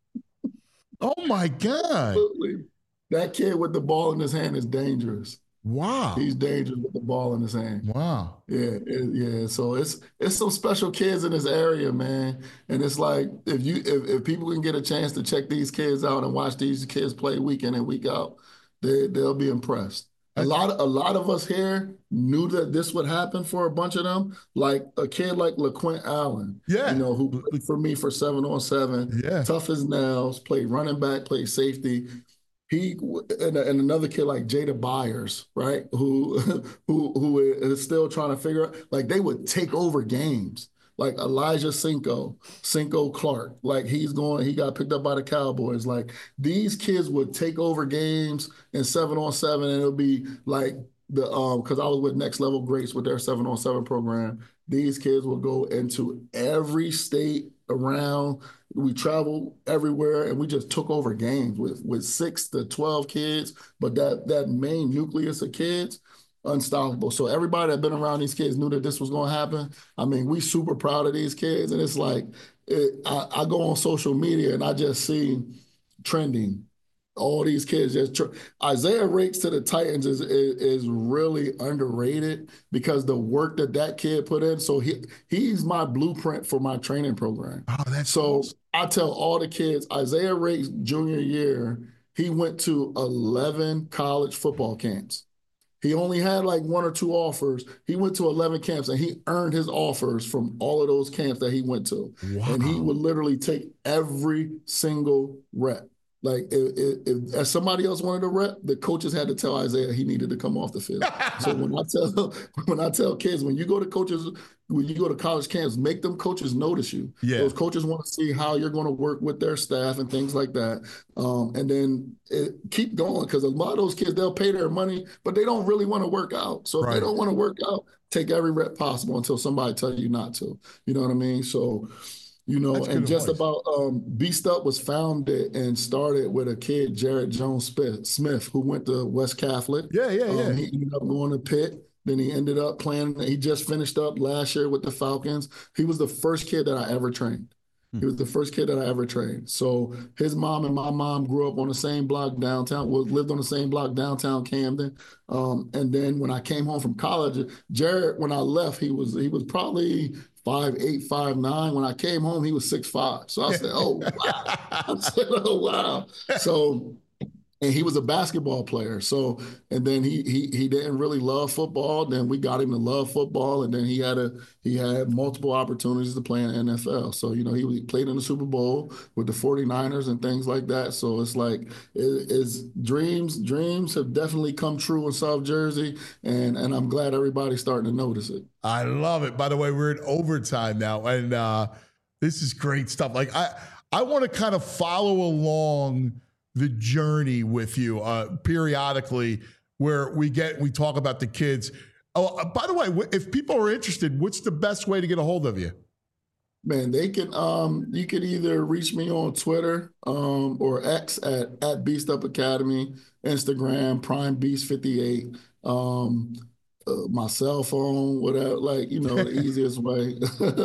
Oh my God! Absolutely. That kid with the ball in his hand is dangerous. Wow. He's dangerous with the ball in his hand. Wow. Yeah, it, yeah. So it's it's some special kids in this area, man. And it's like if you if, if people can get a chance to check these kids out and watch these kids play week in and week out, they they'll be impressed. A lot of a lot of us here knew that this would happen for a bunch of them. Like a kid like LaQuint Allen, yeah, you know, who played for me for seven on seven, yeah, tough as nails, played running back, played safety. He and, and another kid like Jada Byers, right? Who who who is still trying to figure out. Like they would take over games. Like Elijah Cinco, Cinco Clark. Like he's going. He got picked up by the Cowboys. Like these kids would take over games in seven on seven, and it'll be like the um because I was with Next Level Greats with their seven on seven program. These kids will go into every state around. We travel everywhere, and we just took over games with with six to twelve kids. But that that main nucleus of kids, unstoppable. So everybody that been around these kids knew that this was going to happen. I mean, we super proud of these kids, and it's like it, I, I go on social media and I just see trending. All these kids just tr- Isaiah Rakes to the Titans is, is is really underrated because the work that that kid put in. So he he's my blueprint for my training program. Oh, that's so awesome. I tell all the kids, Isaiah Rakes junior year, he went to eleven college football camps. He only had like one or two offers. He went to eleven camps and he earned his offers from all of those camps that he went to. Wow. And he would literally take every single rep. Like if, if, if as somebody else wanted a rep, the coaches had to tell Isaiah he needed to come off the field. So when I tell when I tell kids, when you go to coaches, when you go to college camps, make them coaches notice you. Yeah. Those coaches want to see how you're going to work with their staff and things like that. Um, and then it, keep going because a lot of those kids, they'll pay their money, but they don't really want to work out. So if Right. they don't want to work out, take every rep possible until somebody tells you not to. You know what I mean? So. You know, That's and good just advice. about um, Beast Up was founded and started with a kid, Jared Jones Smith, who went to West Catholic. Yeah, yeah, yeah. Um, he ended up going to Pitt. Then he ended up playing. He just finished up last year with the Falcons. He was the first kid that I ever trained. He was the first kid that I ever trained. So his mom and my mom grew up on the same block downtown, well, lived on the same block downtown Camden. Um, and then when I came home from college, Jared, when I left, he was he was probably five eight, five nine. When I came home, he was six five. So I said, oh, wow. I said, oh, wow. So, and he was a basketball player. So, and then he he he didn't really love football. Then we got him to love football, and then he had a he had multiple opportunities to play in the N F L. So, you know, he, he played in the Super Bowl with the forty-niners and things like that. So it's like it, it's dreams dreams have definitely come true in South Jersey, and and I'm glad everybody's starting to notice it. I love it. By the way, we're in overtime now, and uh, this is great stuff. Like I, I want to kind of follow along the journey with you uh, periodically, where we get we talk about the kids. Oh, uh, by the way, if people are interested, what's the best way to get a hold of you? Man, they can um you can either reach me on Twitter um or X at at Beast Up Academy, Instagram Prime Beast fifty-eight. Um, Uh, my cell phone, whatever, like, you know, the easiest way.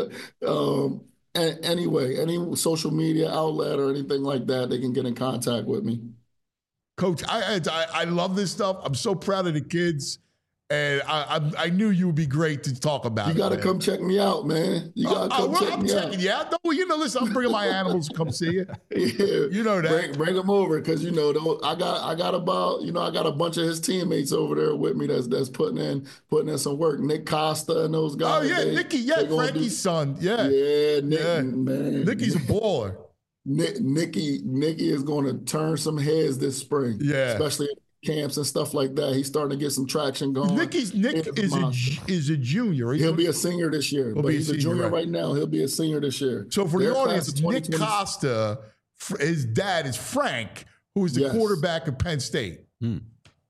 um, and anyway, any social media outlet or anything like that, they can get in contact with me. Coach, I, I I love this stuff. I'm so proud of the kids. And I, I I knew you would be great to talk about. You got to it, come check me out, man. You got to uh, come well, check I'm me checking out. you out. No, you know, listen, I'm bringing my animals to come see you. Yeah, you know that. Bring, bring them over because you know those, I got I got about you know I got a bunch of his teammates over there with me that's that's putting in putting in some work. Nick Costa and those guys. Oh yeah, they, Nicky, yeah, Frankie's do, son, yeah, yeah, Nick, yeah. man, Nicky's a baller. Nick, Nicky Nicky is going to turn some heads this spring. Yeah, especially camps and stuff like that. He's starting to get some traction going. Nicky's Nick is a, is a junior. He'll be a senior this year, He'll but he's a, a junior right. right now. He'll be a senior this year. So for Their the audience, Nick Costa, his dad is Frank, who is the yes. quarterback of Penn State. Hmm.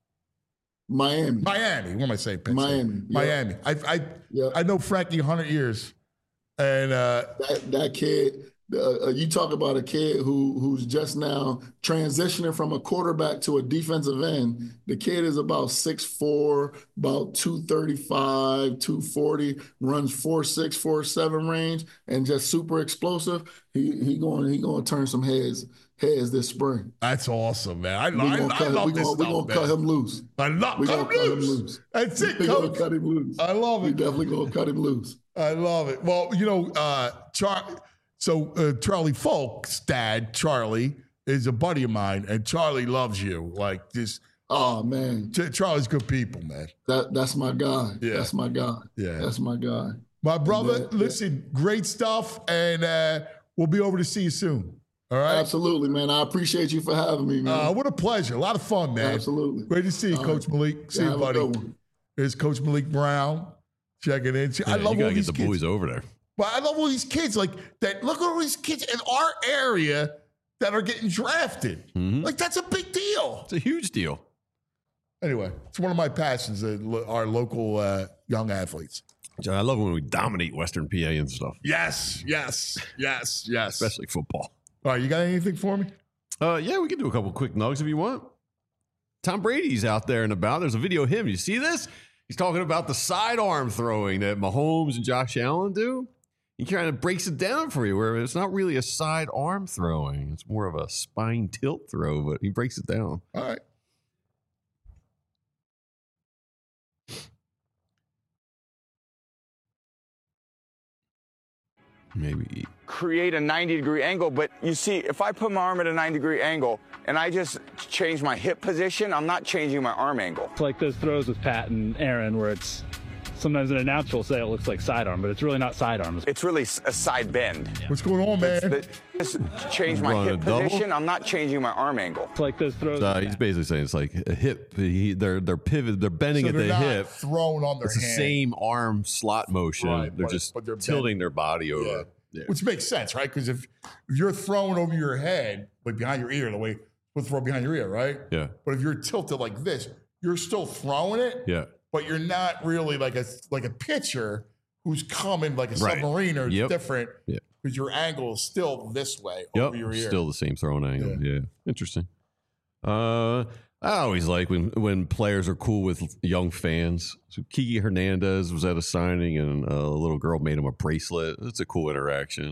Miami. Miami. What am I saying? Penn Miami. State? Miami. I I yep. I know Frankie one hundred years, and uh, that that kid. Uh, you talk about a kid who who's just now transitioning from a quarterback to a defensive end. The kid is about six four, about two thirty-five, two forty, runs four six, four seven range, and just super explosive. He he going he going to turn some heads heads this spring. That's awesome, man. I, I, I, I love we this gonna, stuff, We're going to cut him loose. I love we cut, gonna him, cut loose. him loose. That's it, We're coach. going to cut him loose. I love it. We definitely going to cut him loose. I love it. Well, you know, uh, Char- so uh, Charlie Falk's dad, Charlie, is a buddy of mine, and Charlie loves you. Like this. Oh man, Ch- Charlie's good people, man. That that's my guy. Yeah. That's my guy. Yeah, that's my guy. My brother, that, listen, yeah. great stuff, and uh, we'll be over to see you soon. All right. Absolutely, man. I appreciate you for having me, man. Uh, what a pleasure. A lot of fun, man. Absolutely. Great to see you, All Coach right. Malik. See yeah, you, buddy. Here's Coach Malik Brown checking in. Yeah, I love you gotta all get these the kids. boys over there. But I love all these kids like that. Look at all these kids in our area that are getting drafted. Mm-hmm. Like that's a big deal. It's a huge deal. Anyway, it's one of my passions. Uh, lo- our local uh, young athletes. John, I love when we dominate Western P A and stuff. Yes, yes, yes, yes. Especially football. All right, you got anything for me? Uh, yeah, we can do a couple quick nugs if you want. Tom Brady's out there and about. There's a video of him. You see this? He's talking about the sidearm throwing that Mahomes and Josh Allen do. He kind of breaks it down for you, where it's not really a sidearm throwing. It's more of a spine tilt throw, but he breaks it down. All right. Maybe create a ninety degree angle, but you see, if I put my arm at a ninety degree angle and I just change my hip position, I'm not changing my arm angle. It's like those throws with Pat and Aaron where it's sometimes an announcer will say it looks like sidearm, but it's really not sidearm. It's really a side bend. What's going on, man? Just change my hip position, I'm not changing my arm angle. It's like those throws. Uh, he's basically saying it's like a hip. He, they're they're pivot. They're bending So at they're the not hip. thrown on their It's the hand. same arm slot motion. Right, they're but- just but they're tilting bent. their body over. Yeah. Yeah. Which makes sense, right? Because if, if you're throwing over your head, like behind your ear, the way we'll throw behind your ear, right? Yeah. But if you're tilted like this, you're still throwing it, Yeah. but you're not really like a like a pitcher who's coming like a Right. submariner. It's Yep. different Yeah. because your angle is still this way Yep. over your ear. Still the same throwing angle. Yeah. Interesting. Uh, I always like when when players are cool with young fans. So Kiki Hernandez was at a signing, and a little girl made him a bracelet. It's a cool interaction.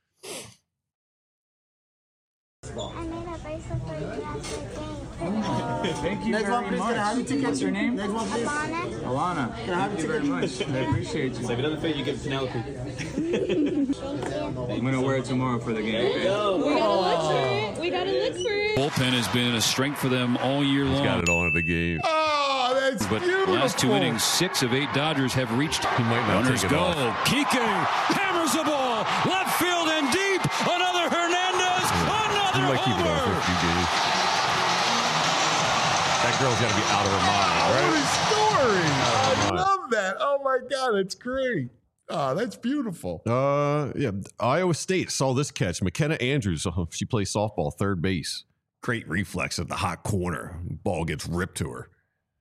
I made a bracelet for you after the game. Thank you Next very one, please. much. Can I have your tickets? What's your name? Next one, please. Alana. Alana. Can I have Thank you your very much. tickets? I appreciate you. Save another thing you give Penelope. I'm gonna wear it tomorrow for the game. There you go. We gotta look for it. We gotta look for it. Bullpen has been a strength for them all year long. He's got it on at the game. Oh, that's but beautiful. last two innings, six of eight Dodgers have reached. He might not Runners take it go. off. Kike hammers the ball. Left field and deep. Another Hernandez. Another He might keep it on for a few games. That girl's got to be out of her mind, What right? a story. I mind. love that. Oh my God, that's great. Oh, that's beautiful. Uh, yeah. Iowa State saw this catch. McKenna Andrews. uh, She plays softball, third base. Great reflex at the hot corner. Ball gets ripped to her.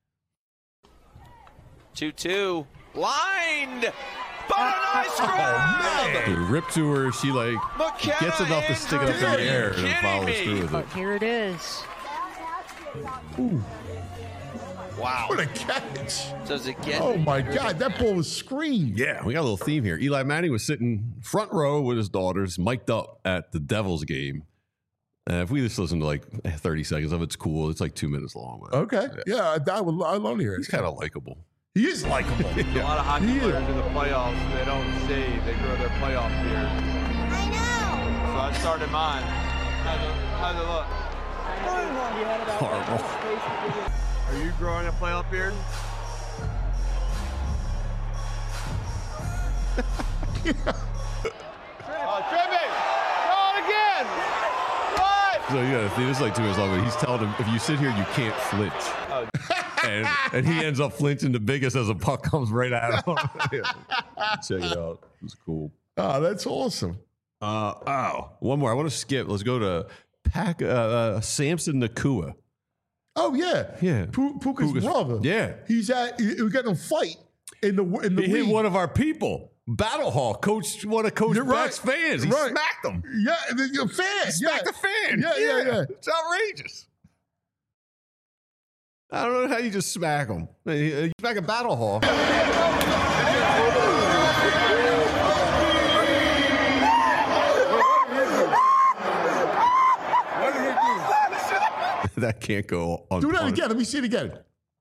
two two. Lined. But a nice grab. It ripped to her. She like McKenna gets enough to stick it up in the Andrews. air Are you and follows kidding through me? with it. Here it is. Ooh, Wow. what a catch. Does it get? Oh my God, that ball was screamed. Yeah, we got a little theme here. Eli Manning was sitting front row with his daughters, mic'd up at the Devils game. Uh, if we just listen to like thirty seconds of it, it's cool. It's like two minutes long. But Okay. Yeah, I, I would I love to hear it. he's kind of likable. He is likable. A lot of hockey He is. players in the playoffs, they don't shave. They grow their playoff beard. I know. So I started mine. How's it, how's it look? Horrible. Are you growing a playoff beard? Oh, Trippy! Go it again! What? So you gotta see this is like two minutes long, but he's telling him if you sit here, you can't flinch. Oh. And, and he ends up flinching the biggest as a puck comes right at him. Check it out. It's cool. Oh, that's awesome. Uh, oh, one more. I want to skip. Let's go to Pac, uh, uh, Samson Nakua. Oh yeah, Yeah. P- Puka's, Puka's- brother. yeah. he's at. He, we got in a fight in the in the He hit league. one of our people. Battle Hall, coach, one of Coach You're right. Beck's fans. He Right. smacked him. Yeah, and then your fan. He smacked yeah. the fan. Yeah, yeah, yeah. It's outrageous. I don't know how you just smack him. You smack a Battle Hall. That can't go on. Do that again. Let me see it again.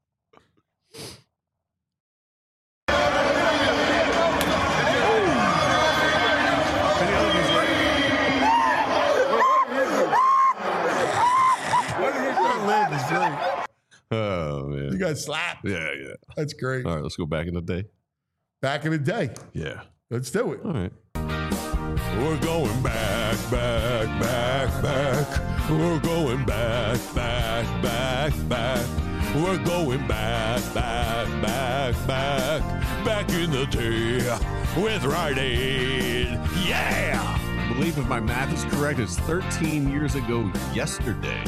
Oh man, You got slapped. yeah, yeah. That's great. All right, let's go back in the day. Back in the day. Yeah. Let's do it. All right. We're going back, back, back, back. We're going back, back, back, back. We're going back, back, back, back. Back in the day with Rite Aid. Yeah! I believe if my math is correct, it's thirteen years ago yesterday.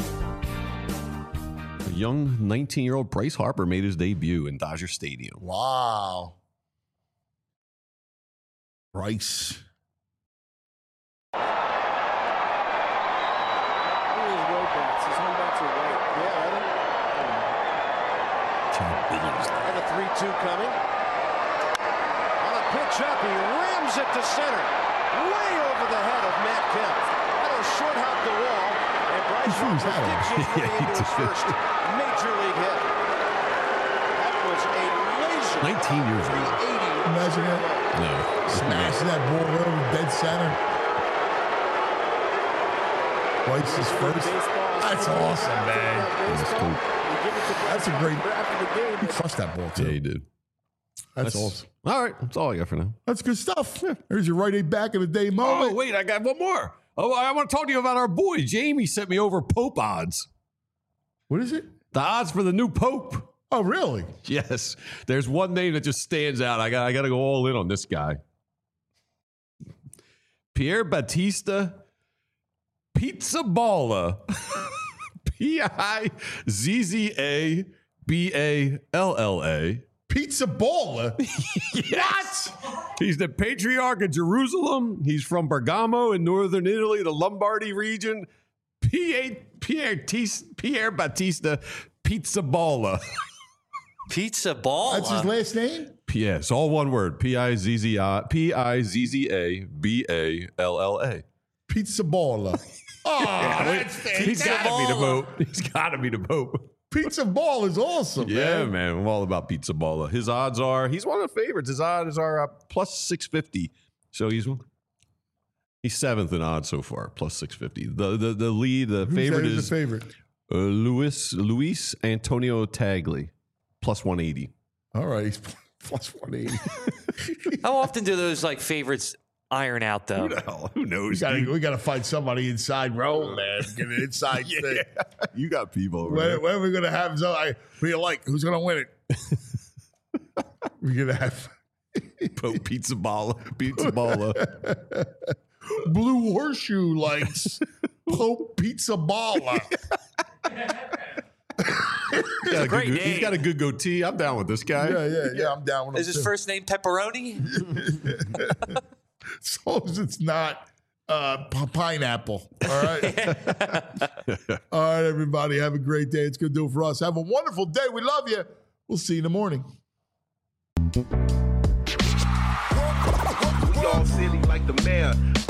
A young nineteen-year-old Bryce Harper made his debut in Dodger Stadium. Wow. Bryce. And a three two coming. On a pitch up, he rims it to center. Way over the head of Matt Kemp. That'll short hop the wall. And Bryce Harper digs his way Yeah, he into his did. first major league hit. That was a laser. nineteen years old. Imagine that. No. Smashing that ball over dead center. Bryce's first. That's awesome, man. That's cool. That's a great. He crushed that ball too. Yeah, he did. That's, awesome. All right, that's all I got for now. That's good stuff. There's your Rite Aid back in the day moment. Oh, wait, I got one more. Oh, I want to talk to you about our boy. Jamie sent me over Pope odds. What is it? The odds for the new Pope. Oh, really? Yes. There's one name that just stands out. I got I got to go all in on this guy. Pierre Battista Pizzaballa. P I Z Z A B A L L A. Pizzaballa? Yes. What? He's the Patriarch of Jerusalem. He's from Bergamo in northern Italy, the Lombardy region. Pierre, Pierre, Tis, Pierre Battista Pizzaballa. Pizzaballa? That's his last name? Yes, all one word. P I Z Z I P I Z Z A B A L L A. Pizzaballa. Oh, that's fantastic. He's got to be the Pope. He's got to be the Pope. Pizza Ball is awesome, Yeah, man. man. I'm all about Pizza Balla. His odds are, he's one of the favorites. His odds are uh, plus six fifty. So he's he's seventh in odds so far, plus six fifty. The the, the lead, the Who's favorite that is the favorite? Uh, Luis, Luis Antonio Tagli, plus one eighty. All right, he's plus one eighty. How often do those like favorites iron out though? Who the hell? Who knows? We gotta, dude? we gotta find somebody inside row, man. Get an inside Yeah. thing. You got people over When, there. when are we gonna have so I who you like? Who's gonna win it? We're gonna have Pope Pizza Balla. Pizza Balla. Blue Horseshoe likes Pope Pizza Balla. He's got, a great good, name. he's got a good goatee. I'm down with this guy. Yeah, yeah, yeah. I'm down with him. Is his too. first name Pepperoni? As long as it's not uh, p- pineapple. All right. All right, everybody. Have a great day. It's going to do it for us. Have a wonderful day. We love you. We'll see you in the morning. We all silly like the mayor.